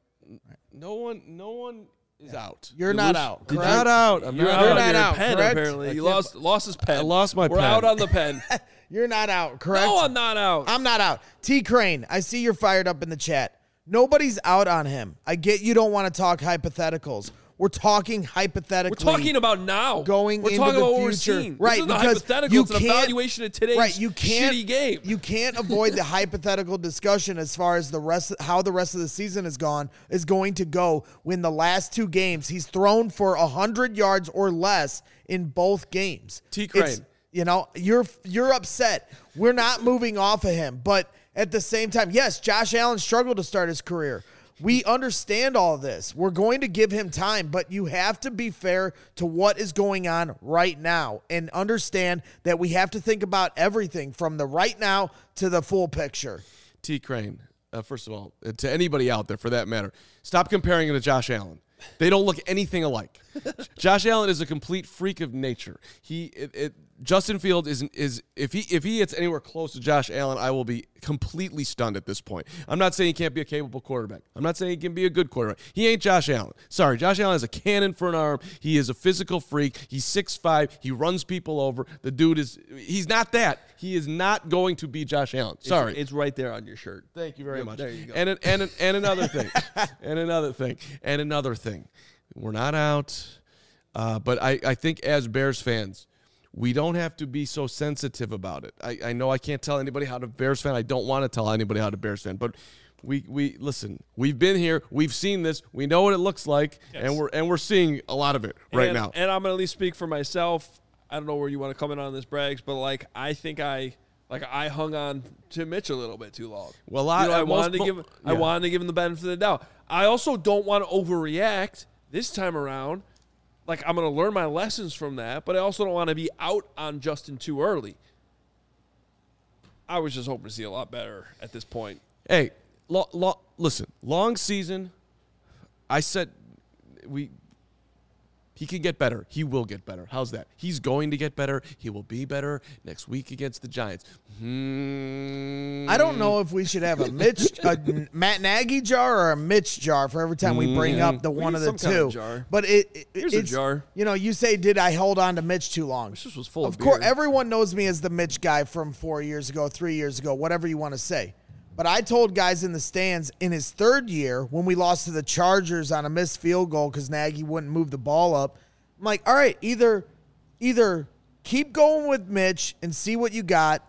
No one, no one is out. You're You not lose- out, You're correct? not out. I'm You're not out You're on not your out, pen, correct? apparently. I He can't- lost lost his pen. I lost my We're pen. out on the pen. You're not out, correct? No, I'm not out. I'm not out. T Crane, I see you're fired up in the chat. Nobody's out on him. I get you don't want to talk hypotheticals. We're talking hypothetically. We're talking about now. Going We're into talking the about what future. we're seeing. Right, This isn't a because hypothetical. you It's an can't- evaluation of today's right, you can't, shitty game. You can't avoid the hypothetical discussion as far as the rest, how the rest of the season is gone is going to go. When the last two games he's thrown for a hundred yards or less in both games. T. Crane. It's- You know, you're you're upset. We're not moving off of him, but at the same time, yes, Josh Allen struggled to start his career. We understand all of this. We're going to give him time, but you have to be fair to what is going on right now and understand that we have to think about everything from the right now to the full picture. T. Crane, uh, first of all, uh, to anybody out there for that matter, stop comparing him to Josh Allen. They don't look anything alike. Josh Allen is a complete freak of nature. He, it, it, Justin Fields is is if he if he gets anywhere close to Josh Allen, I will be completely stunned at this point. I'm not saying he can't be a capable quarterback. I'm not saying he can be a good quarterback. He ain't Josh Allen. Sorry, Josh Allen has a cannon for an arm. He is a physical freak. He's six five. He runs people over. The dude is he's not that. He is not going to be Josh Allen. Sorry. It's, it's right there on your shirt. Thank you very Yep, much. there you go. And an- and an- and another thing, and another thing, and another thing. We're not out, uh, but I, I think as Bears fans, we don't have to be so sensitive about it. I, I know I can't tell anybody how to Bears fan. I don't want to tell anybody how to Bears fan, but we we listen. We've been here. We've seen this. We know what it looks like, Yes. and we're and we're seeing a lot of it right and, now. And I'm going to at least speak for myself. I don't know where you want to comment on this, Braggs, but like I think I like I hung on to Mitch a little bit too long. Well, I- you know, I most- wanted to mo- give I yeah. wanted to give him the benefit of the doubt. I also don't want to overreact this time around. Like I'm going to learn my lessons from that, but I also don't want to be out on Justin too early. I was just hoping to see a lot better at this point. Hey, lo, lo, listen, long season. I said we. He can get better. He will get better. How's that? He's going to get better. He will be better next week against the Giants. Hmm. I don't know if we should have a Mitch, a Matt Nagy jar or a Mitch jar for every time we bring up the We one need of the some kind two. of jar. But it, it Here's a it's, jar. You know, you say, did I hold on to Mitch too long? This was full of, Of course, beer. everyone knows me as the Mitch guy from four years ago, three years ago, whatever you want to say. But I told guys in the stands in his third year when we lost to the Chargers on a missed field goal because Nagy wouldn't move the ball up, I'm like, all right, either either keep going with Mitch and see what you got,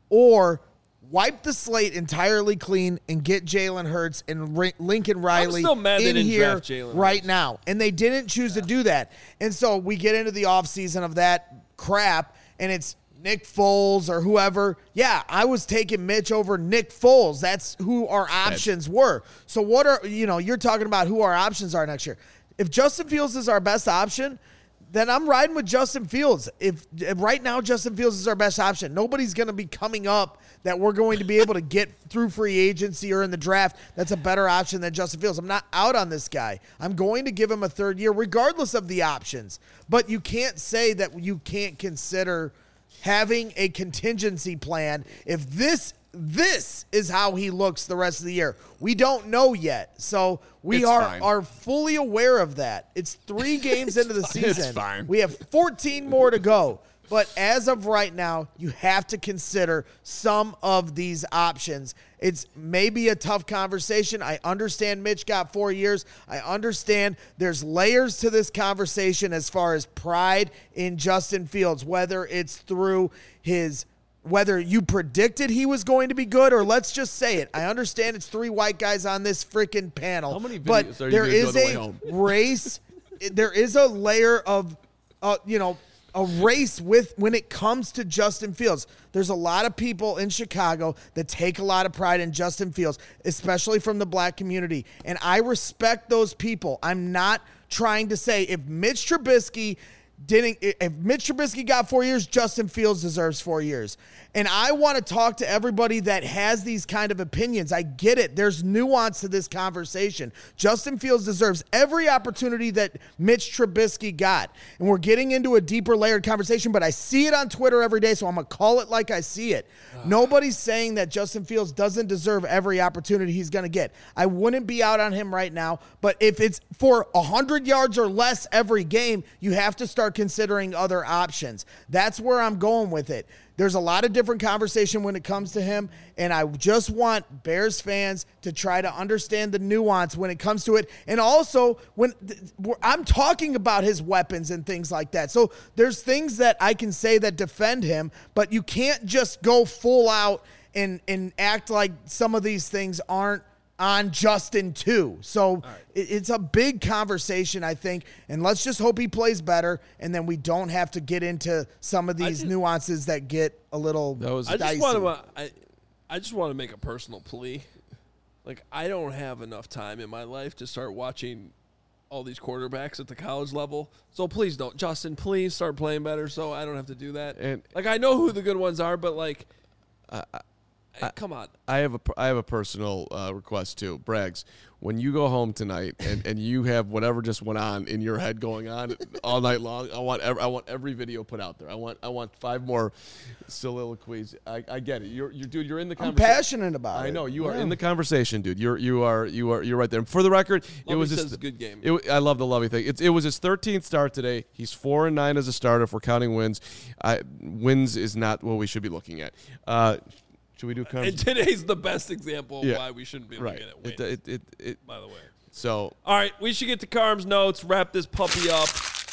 or wipe the slate entirely clean and get Jalen Hurts and R- Lincoln Riley still mad they in didn't here draft Jalen right Hurts. now. And they didn't choose to do that. And so we get into the offseason of that crap, and it's Nick Foles or whoever. Yeah, I was taking Mitch over Nick Foles. That's who our options were. So what are, you know, you're talking about who our options are next year. If Justin Fields is our best option, then I'm riding with Justin Fields. If, if right now Justin Fields is our best option, nobody's going to be coming up that we're going to be able to get through free agency or in the draft that's a better option than Justin Fields. I'm not out on this guy. I'm going to give him a third year regardless of the options. But you can't say that you can't consider having a contingency plan if this this is how he looks the rest of the year. We don't know yet. So we It's are, fine. are fully aware of that. It's three games into the season. It's fine. We have fourteen more to go. But as of right now, you have to consider some of these options. It's maybe a tough conversation. I understand Mitch got four years. I understand there's layers to this conversation as far as pride in Justin Fields, whether it's through his whether you predicted he was going to be good, or let's just say it. I understand it's three white guys on this freaking panel. How many but videos are you there gonna do is on the way a home? race. There is a layer of, uh, you know, a race with when it comes to Justin Fields. There's a lot of people in Chicago that take a lot of pride in Justin Fields, especially from the black community. And I respect those people. I'm not trying to say if Mitch Trubisky didn't, if Mitch Trubisky got four years, Justin Fields deserves four years. And I want to talk to everybody that has these kind of opinions. I get it. There's nuance to this conversation. Justin Fields deserves every opportunity that Mitch Trubisky got. And we're getting into a deeper layered conversation, but I see it on Twitter every day, so I'm going to call it like I see it. Nobody's saying that Justin Fields doesn't deserve every opportunity he's going to get. I wouldn't be out on him right now, but if it's for one hundred yards or less every game, you have to start considering other options. That's where I'm going with it. There's a lot of different conversation when it comes to him, and I just want Bears fans to try to understand the nuance when it comes to it. And also, when th- I'm talking about his weapons and things like that. So there's things that I can say that defend him, but you can't just go full out and, and act like some of these things aren't on Justin too. So right. it, it's a big conversation, I think, and let's just hope he plays better, and then we don't have to get into some of these just, nuances that get a little That was I dicey. just want to. I, I just want to make a personal plea. Like, I don't have enough time in my life to start watching all these quarterbacks at the college level. So please don't, Justin. Please start playing better, so I don't have to do that. And like, I know who the good ones are, but like, I, I, come on. I have a I have a personal uh, request too, Braggs. When you go home tonight and, and you have whatever just went on in your head going on all night long, I want every, I want every video put out there. I want I want five more soliloquies. I, I get it. You're you dude. You're in the I'm conversation. passionate about I it. know you are Yeah. in the conversation, dude. You're you are you are you're right there. And for the record, it Lovey was says his, it's a good game. It, I love the Lovey thing. It, it was his thirteenth start today. He's four and nine as a starter. If we're counting wins, I, wins is not what we should be looking at. Uh, Should we do And conversation? today's the best example of Yeah. why we shouldn't be Right. looking at wins, It, it, it, it, by the way. so All right, we should get to Carm's notes, wrap this puppy up.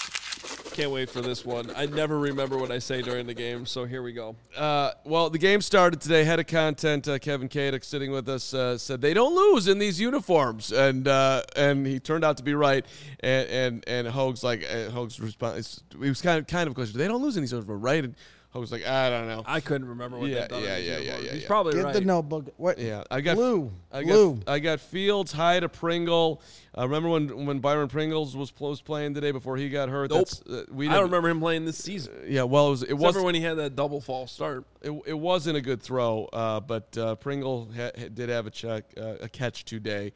Can't wait for this one. I never remember what I say during the game, so here we go. Uh, well, the game started today. Head of content, uh, Kevin Kadek, sitting with us, uh, said they don't lose in these uniforms, and uh, and he turned out to be right. And and and Hogue's like uh, Hogue's response. He was kind of kind of question. They don't lose in these uniforms, right? And Hogue's like, I don't know. I couldn't remember what Yeah, they've done. yeah, in these yeah, yeah, uniforms. yeah, He's yeah. probably Get right. the notebook. What? Yeah, I got Blue. I Blue. got I got Fields, Hyde, to Pringle. Uh, remember when when Byron Pringles was close playing today before he got hurt? Nope. That's, uh, we I don't didn't- remember him playing this season. Yeah, well, it was it Except was for when he had that double false start. It, it wasn't a good throw, uh, but uh, Pringle ha- ha- did have a check, uh, a catch today.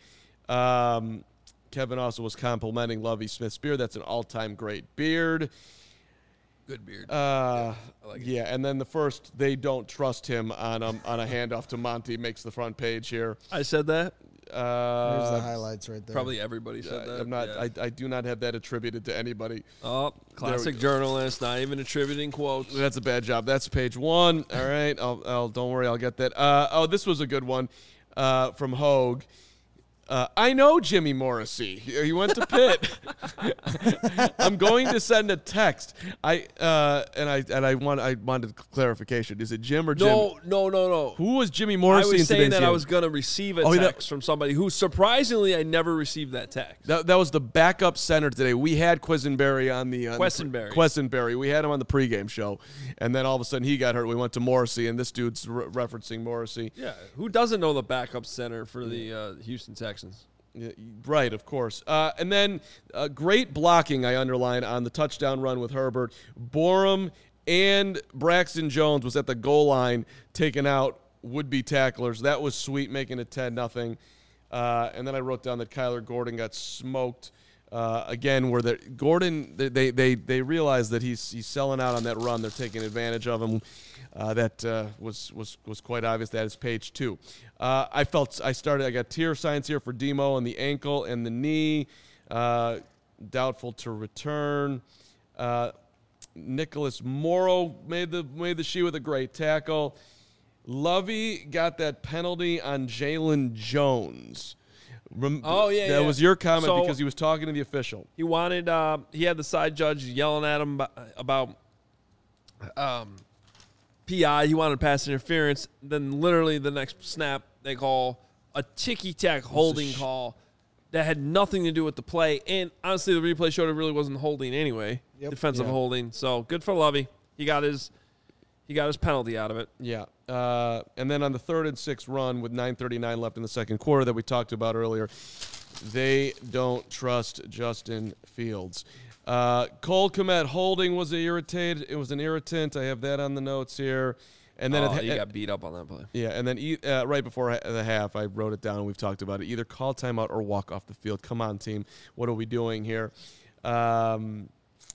Um, Kevin also was complimenting Lovie Smith's beard. That's an all-time great beard. Good beard. Uh, I like it. yeah, and then the first they don't trust him on a, on a handoff to Monty makes the front page here. I said that. Uh, There's the highlights right there. Probably everybody said I- that. I'm not. Yeah. I, I do not have that attributed to anybody. oh, classic go. journalist, not even attributing quotes. That's a bad job. That's page one. All right. I'll, I'll don't worry. I'll get that. Uh, oh, this was a good one. uh, from Hogue. Uh, I know Jimmy Morrissey. He went to Pitt. I'm going to send a text. I uh, and I and I want I wanted clarification. Is it Jim or Jim? No, no, no, no. Who was Jimmy I Morrissey? was in saying today's that game? I was going to receive a Oh, that- text from somebody who, surprisingly, I never received that text. That, that was the backup center today. We had Quisenberry on the uh, Questenberry. Questenberry. We had him on the pregame show, and then all of a sudden he got hurt. We went to Morrissey, and this dude's re- referencing Morrissey. Yeah, who doesn't know the backup center for the uh, Houston Texans? Yeah, right, of course. Uh, and then uh, great blocking, I underline, on the touchdown run with Herbert. Borum and Braxton Jones was at the goal line taking out would-be tacklers. That was sweet, making it ten nothing. Uh, and then I wrote down that Kyler Gordon got smoked. Uh, again, where the Gordon, they they they realize that he's he's selling out on that run. They're taking advantage of him. Uh, that uh, was was was quite obvious. That is page two. Uh, I felt I started. I got tear signs here for Demo and the ankle and the knee. Uh, doubtful to return. Uh, Nicholas Morrow made the made the sheet with a great tackle. Lovey got that penalty on Jalen Jones. Rem- Oh, yeah, that yeah. was your comment So- because he was talking to the official. He wanted. Uh, he had the side judge yelling at him about, about um, P I. He wanted pass interference. Then, literally, the next snap, they call a ticky-tack holding sh- call that had nothing to do with the play. And honestly, the replay showed it really wasn't holding anyway. Yep. Defensive Yeah. holding. So good for Lovey. He got his. He got his penalty out of it. Yeah. Uh, and then on the third and sixth run with nine thirty-nine left in the second quarter that we talked about earlier, they don't trust Justin Fields. Uh, Cole Kmet holding was irritated. It was an irritant. I have that on the notes here. And then oh, at, he at- got beat up on that play. yeah, and then e- uh, right before ha- the half, I wrote it down and we've talked about it. Either call timeout or walk off the field. Come on, team. What are we doing here? Um,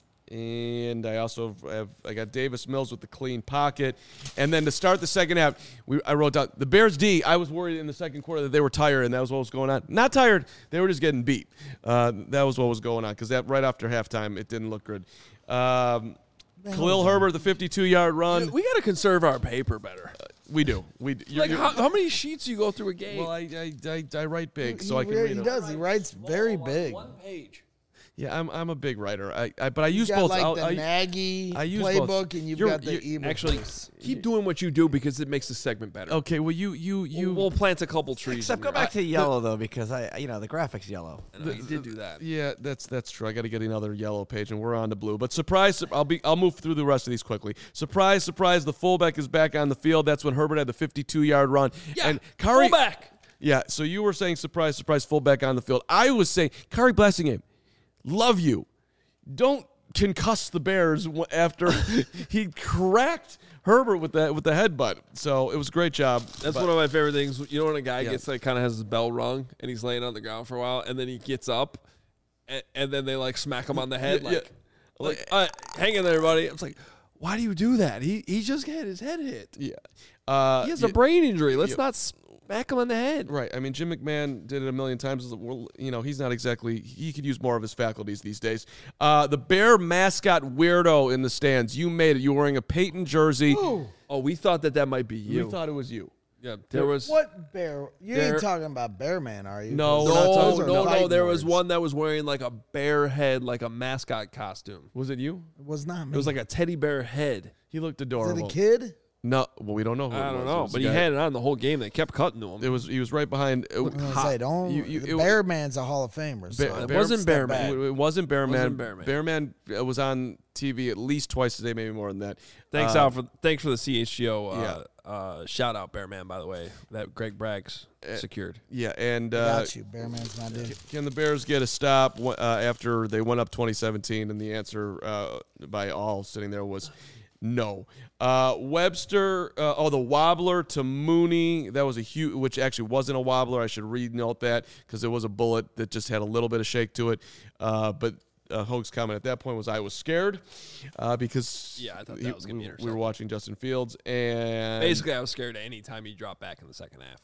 and I also have I got Davis Mills with the clean pocket. And then to start the second half, we I wrote down the Bears D. I was worried in the second quarter that they were tired, and that was what was going on. Not tired. They were just getting beat. Uh, that was what was going on because that right after halftime, it didn't look good. Um, Khalil Herbert, the fifty-two-yard run. We got to conserve our paper better. We do. We d- you're- Like, you're- how, how many sheets do you go through a game? Well, I, I, I, I write big, so he, I can re- read he them. does. He writes very big. One page. Yeah, I'm I'm a big writer. I, I but I You use got both. like I'll- the I- Nagy I use both. playbook, and you've You're- got the you're- ebook. Actually, voice. keep doing what you do because it makes the segment better. Okay, well you you you We'll, we'll plant a couple trees. Except in go there. back to yellow though, because I, you know, the graphic's yellow. I know, you did do that. yeah, that's that's true. I got to get another yellow page, and we're on to blue. But surprise, I'll be I'll move through the rest of these quickly. Surprise, surprise, the fullback is back on the field. That's when Herbert had the fifty-two-yard run. Yeah, and Kari, fullback. Yeah, so you were saying surprise, surprise, fullback on the field. I was saying Kari Blassingham, love you. Don't concuss the Bears w- after he cracked Herbert with the with the headbutt. So it was a great job. That's But- one of my favorite things. You know when a guy Yeah. gets like kind of has his bell rung and he's laying on the ground for a while, and then he gets up, and, and then they like smack him on the head, Yeah, like, like, uh, hang in there, everybody. I was like, why do you do that? He he just had his head hit. Yeah. Uh, He has yeah, a brain injury. Let's yeah. not smack him on the head. Right. I mean, Jim McMahon did it a million times. Well, you know, he's not exactly, he could use more of his faculties these days. Uh, the Bear mascot weirdo in the stands. You made it. You were wearing a Peyton jersey. Oh, we thought that that might be you. We thought it was you. yeah, there was. What bear? You There- ain't talking about Bearman, are you? No, Those- we're not No, talking those are no, no. fighting There was words. one that was wearing like a bear head, like a mascot costume. Was it you? It was not me. It was like a teddy bear head. He looked Is adorable. it a kid? No, well, we don't know who I it don't was. It know, was but a he guy- had it on the whole game. They kept cutting to him. It was, he was right behind. uh, I was gonna hot- say, don't. you- you- the it- Bearman's a Hall of Famer. So Bear- it Bear- wasn't step Bearman. back. It, it wasn't Bearman. Wasn't Bearman. Bearman uh, was on T V at least twice a day, maybe more than that. Thanks Uh, out for thanks for the C H G O uh, uh, shout out, Bearman. By the way, that Greg Bragg's secured. Yeah, and uh, Got you. Bearman's my dude. can the Bears get a stop uh, after they went up twenty seventeen? And the answer uh, by all sitting there was no. Uh, Webster, uh, oh, the wobbler to Mooney. That was a huge, which actually wasn't a wobbler. I should re-note that because it was a bullet that just had a little bit of shake to it. Uh, but uh, Hoge's comment at that point was, I was scared uh, because Yeah, I thought he- that was gonna be we, we were intercepted. watching Justin Fields. And Basically, I was scared any time he dropped back in the second half.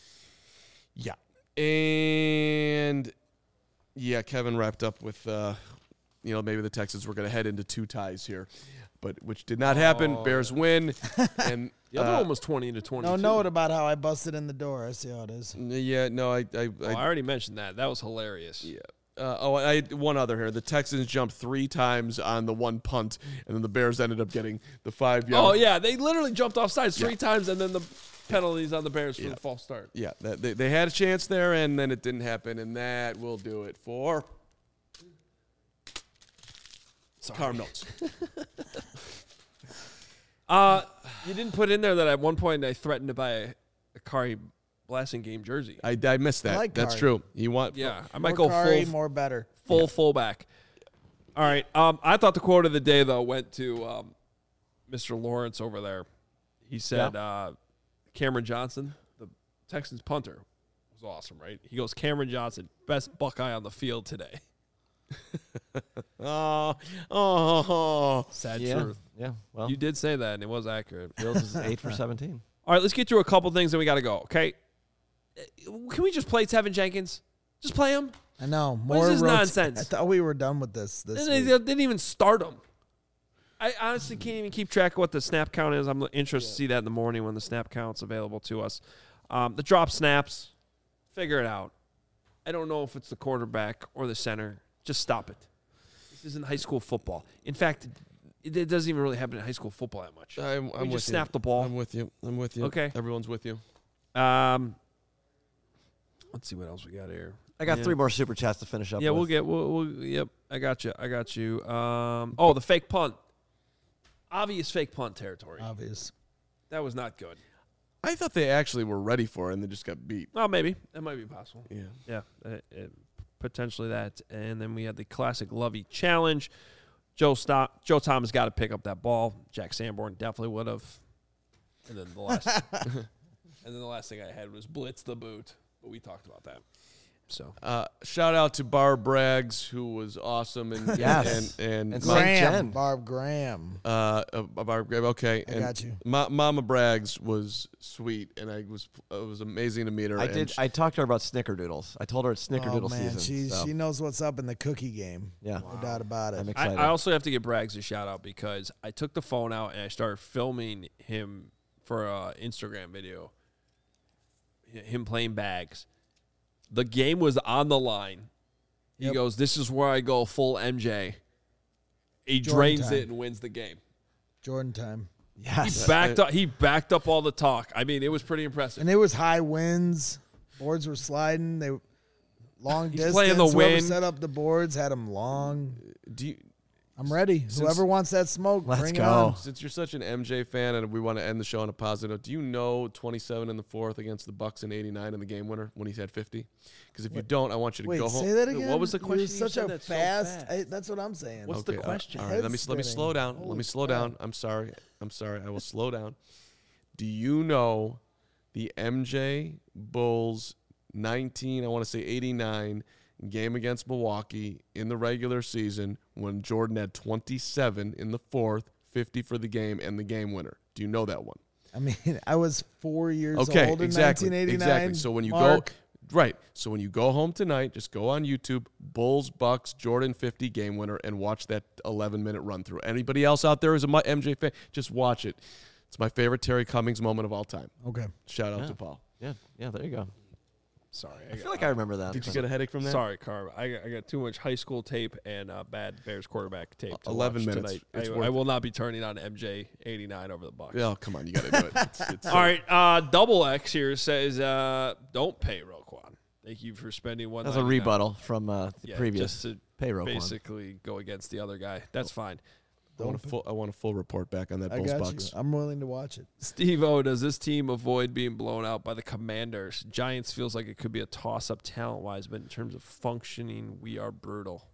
yeah. And yeah, Kevin wrapped up with, uh, you know, maybe the Texans were going to head into two ties here. but which did not happen. Oh. Bears win, and The other uh, one was twenty to twenty-two. No note about how I busted in the door. I see how it is. yeah, no, I, I, Oh, I already mentioned that. That was hilarious. Yeah. Uh, oh, I had one other here. The Texans jumped three times on the one punt, and then the Bears ended up getting the five yard. Oh, yeah. They literally jumped off sides three times, and then the penalties on the Bears for Yeah. the false start. Yeah, that, they, they had a chance there, and then it didn't happen, and that will do it for Carm Notes. Uh, you didn't put in there that at one point I threatened to buy a, a Kari Blasting game jersey. I, I missed that. I like That's Kari. true. You want? Yeah, I might More go Kari, full more better. full fullback. All right. Um, I thought the quote of the day though went to um, Mister Lawrence over there. He said, uh, "Cameron Johnson, the Texans punter, was awesome, right?" He goes, "Cameron Johnson, best Buckeye on the field today." Oh, oh, Sad Yeah. truth. Yeah. Well, You did say that, and it was accurate. Fields is eight for seventeen. All right, let's get through a couple things, and we got to go. Okay. Uh, Can we just play Tevin Jenkins? Just play him. I know. What is More this rot- nonsense? I thought we were done with this. This And they, week. they didn't even start him. I honestly can't even keep track of what the snap count is. I'm interested to see that in the morning when the snap count's available to us. Um, the drop snaps, figure it out. I don't know if it's the quarterback or the center. Just stop it. This isn't high school football. In fact, it, it doesn't even really happen in high school football that much. I'm, We I'm just with snap you. the ball. I'm with you. I'm with you. Okay. Everyone's with you. Um, let's see what else we got here. I got Yeah. three more super chats to finish up. Yeah, with. we'll get. We'll, we'll. Yep, I got you. I got you. Um. Oh, the fake punt. Obvious fake punt territory. Obvious. That was not good. I thought they actually were ready for it, and they just got beat. Well, maybe that might be possible. Yeah. Yeah, uh, uh, potentially that. And then we had the classic Lovey challenge. Joe stop. Joe Thomas got to pick up that ball. Jack Sanborn definitely would have. And then the last. and then the last thing I had was blitz the boot, but we talked about that. So Uh, shout out to Barb Braggs, who was awesome, and Yes. and and, And Ma- Saint Graham. Jen. Barb Graham. uh, uh, Barb Braggs. Okay, I and got you. Ma- Mama Braggs was sweet, and I was it was amazing to meet her. I and did. she- I talked to her about snickerdoodles. I told her it's snickerdoodle Oh, man. season. She, so, she knows what's up in the cookie game. yeah, No doubt about it. I'm I, excited. I also have to give Braggs a shout out because I took the phone out and I started filming him for an Instagram video. h- Him playing bags. The game was on the line. He Yep. goes, "This is where I go full M J." He Jordan drains time. it and wins the game. Jordan time. He yes. backed up. He backed up all the talk. I mean, it was pretty impressive. And it was high winds. Boards were sliding. They long He's distance. playing the Whoever wind. set up the boards had them long. do you, I'm ready. Whoever wants that smoke, Let's bring go. it on. since you're such an M J fan, and we want to end the show on a positive note, do you know twenty-seven in the fourth against the Bucks in eighty-nine in the game winner when he had fifty? Because if you don't, I want you to Wait, go say home. that Wait, again. what was the You're question you such said a that's so fast. fast? I, that's what I'm saying. What's the Okay, uh, question? All right, let me Head let me spinning. slow down. Holy let me slow crap. down. I'm sorry. I'm sorry. I will slow down. Do you know the M J Bulls nineteen? I want to say eighty-nine game against Milwaukee in the regular season when Jordan had twenty-seven in the fourth, fifty for the game, and the game winner. Do you know that one? I mean, I was four years Okay, old in exactly, nineteen eighty-nine. exactly. So when you Mark, go right, so when you go home tonight, just go on YouTube, Bulls Bucks Jordan fifty game winner, and watch that eleven minute run through. Anybody else out there who's a mu- M J fan, just watch it. It's my favorite Terry Cummings moment of all time. Okay. Shout out Yeah. to Paul. yeah, yeah. There you go. Sorry, I feel like I remember that. Did you but- get a headache from that? Sorry, Carb. I got, I got too much high school tape and uh, bad Bears quarterback tape. To eleven watch minutes. Tonight. It's I, worth I it. will not be turning on M J eighty-nine over the Bucks. Oh, come on, you got to do it. It's, it's, All right, uh, Double X here says, uh, "Don't pay Roquan. Thank you for spending one." That's a rebuttal from uh, the Yeah, previous just to payroll. basically go against the other guy. That's fine. I want a full. I want a full report back on that I Bulls got Bucks. you. I'm willing to watch it. Steve O, does this team avoid being blown out by the Commanders? Giants feels like it could be a toss-up talent-wise, but in terms of functioning, we are brutal.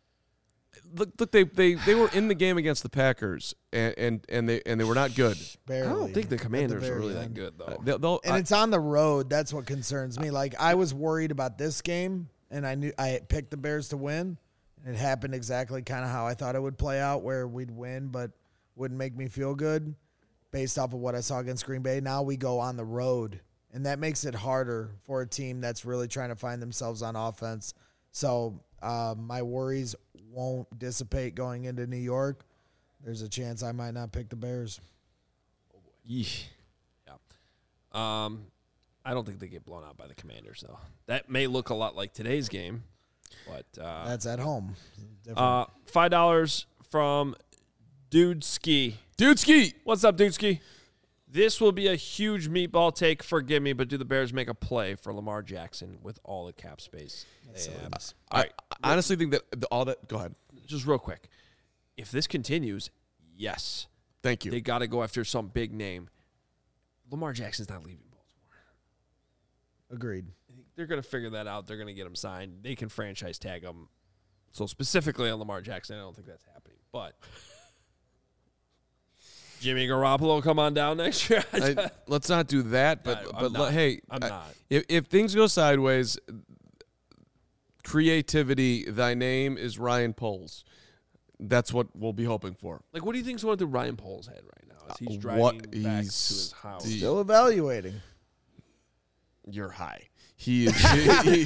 Look, look, they, they they were in the game against the Packers, and and, and they and they were not good. Barely. I don't think the at Commanders are very really that end. good, though. Uh, they'll, they'll, And I- it's on the road. That's what concerns me. Like I was worried about this game, and I knew I picked the Bears to win. It happened exactly kind of how I thought it would play out, where we'd win, but wouldn't make me feel good based off of what I saw against Green Bay. Now we go on the road, and that makes it harder for a team that's really trying to find themselves on offense. So uh, my worries won't dissipate going into New York. there's a chance I might not pick the Bears. Yeesh. Yeah. Um, I don't think they get blown out by the Commanders, though. That may look a lot like today's game, but uh, That's at home. Different. uh, five dollars from Dude Ski. Dude Ski. What's up, Dude Ski? This will be a huge meatball take. Forgive me, but do the Bears make a play for Lamar Jackson with all the cap space? they have? All right, I honestly think that the, all that. Go ahead. just real quick. If this continues, yes, Thank you. they got to go after some big name. Lamar Jackson's not leaving Baltimore. Agreed. They're going to figure that out. They're going to get him signed. They can franchise tag him. So specifically on Lamar Jackson, I don't think that's happening. But Jimmy Garoppolo come on down next year. I, let's not do that. But No, I'm but not. le- hey, I'm I- not. If, if things go sideways, creativity. Thy name is Ryan Poles. That's what we'll be hoping for. Like, what do you think's going through Ryan Poles' head right now as he's Uh, driving what back to he's his house? the- Still evaluating. You're high. He is. he- he- he-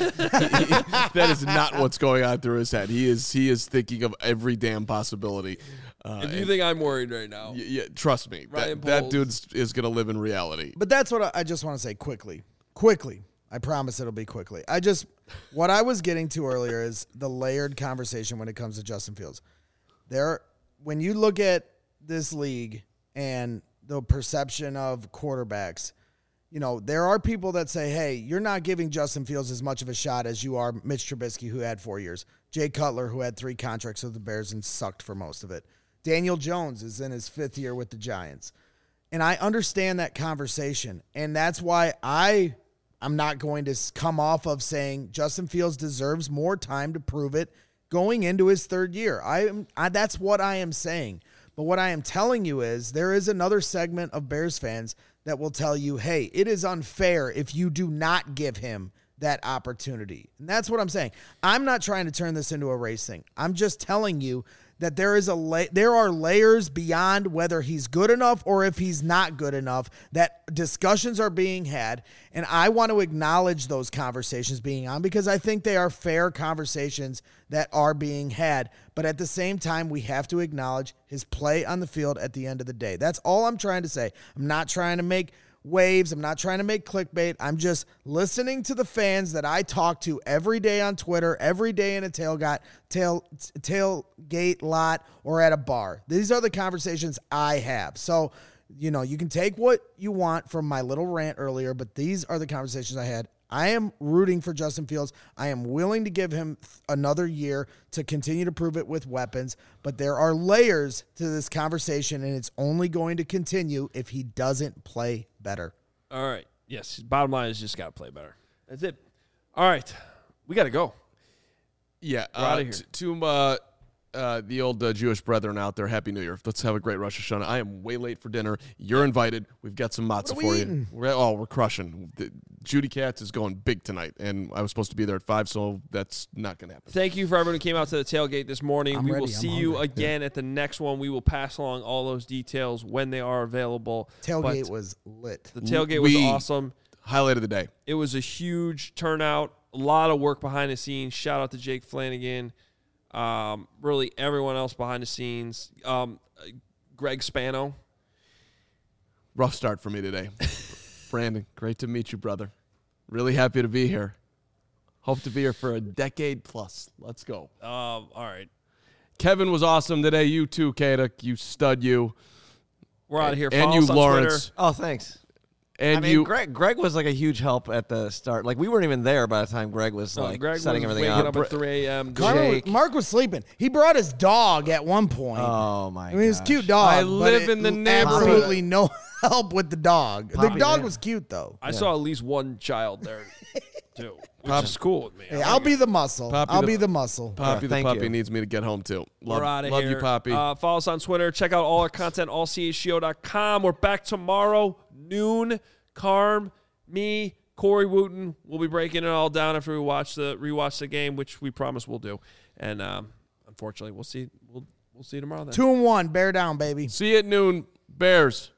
that is not what's going on through his head. He is. He is thinking of every damn possibility. Uh, and you and- think I'm worried right now? y- yeah, trust me. Ryan That, that Poles. dude is going to live in reality. But that's what I, I just want to say quickly. Quickly. I promise it'll be quickly. I just, what I was getting to earlier is the layered conversation when it comes to Justin Fields. There, when you look at this league and the perception of quarterbacks, you know, there are people that say, hey, you're not giving Justin Fields as much of a shot as you are Mitch Trubisky, who had four years. Jay Cutler, who had three contracts with the Bears and sucked for most of it. Daniel Jones is in his fifth year with the Giants. And I understand that conversation. And that's why I, I'm not going to come off of saying Justin Fields deserves more time to prove it going into his third year. I am, I, that's what I am saying. But what I am telling you is there is another segment of Bears fans that will tell you, hey, it is unfair if you do not give him that opportunity. And that's what I'm saying. I'm not trying to turn this into a race thing. I'm just telling you that there is a la- there are layers beyond whether he's good enough or if he's not good enough, that discussions are being had, and I want to acknowledge those conversations being on because I think they are fair conversations that are being had. But at the same time, we have to acknowledge his play on the field at the end of the day. That's all I'm trying to say. I'm not trying to make waves. I'm not trying to make clickbait. I'm just listening to the fans that I talk to every day on Twitter, every day in a tailgate, tail, tailgate lot or at a bar. These are the conversations I have. So, you know, you can take what you want from my little rant earlier, but these are the conversations I had. I am rooting for Justin Fields. I am willing to give him another year to continue to prove it with weapons, but there are layers to this conversation, and it's only going to continue if he doesn't play better. All right. Yes. Bottom line is just got to play better. That's it. All right. We got to go. Yeah. We're outta Uh, here. t- to uh, uh, the old uh, Jewish brethren out there, Happy New Year. Let's have a great Rosh Hashanah. I am way late for dinner. You're invited. We've got some matzah are we for eating? you. We're, oh, we're crushing. The, Judy Katz is going big tonight, and I was supposed to be there at five, so that's not going to happen. Thank you for everyone who came out to the tailgate this morning. I'm we ready. will I'm see you hungry. again at the next one. We will pass along all those details when they are available. Tailgate But was lit. the tailgate was We- awesome. Highlight of the day. It was a huge turnout. A lot of work behind the scenes. Shout out to Jake Flanagan. Um, really, everyone else behind the scenes. Um, Greg Spano. Rough start for me today. Brandon, great to meet you, brother. Really happy to be here. Hope to be here for a decade plus. Let's go. Um, all right. Kevin was awesome today. You too, Kata. You stud you. We're out of here. And Follow you, us on Lawrence. Twitter. Oh, thanks. And I mean, you. Greg, Greg was like a huge help at the start. Like we weren't even there by the time Greg was No, like Greg setting was everything waking up. up at three a.m. Carter was- Jake. Mark was sleeping. He brought his dog at one point. Oh my! I mean, it's a gosh. cute dog. I but live it- in the neighborhood. Absolutely no help with the dog. the Poppy dog there. was cute though. I saw at least one child there, too, which Pop- is cool with me. Hey, I'll be the muscle. Poppy I'll the- be the muscle. Poppy the thank puppy you. needs me to get home too. Love, We're out of love here. you, Poppy. Uh, follow us on Twitter. Check out all our content, all c h g o dot com. We're back tomorrow, noon. Carm, me, Corey Wooten. We'll be breaking it all down after we watch the rewatch the game, which we promise we'll do. And um, unfortunately, we'll see. We'll we'll see you tomorrow then. Two and one. Bear down, baby. See you at noon, Bears.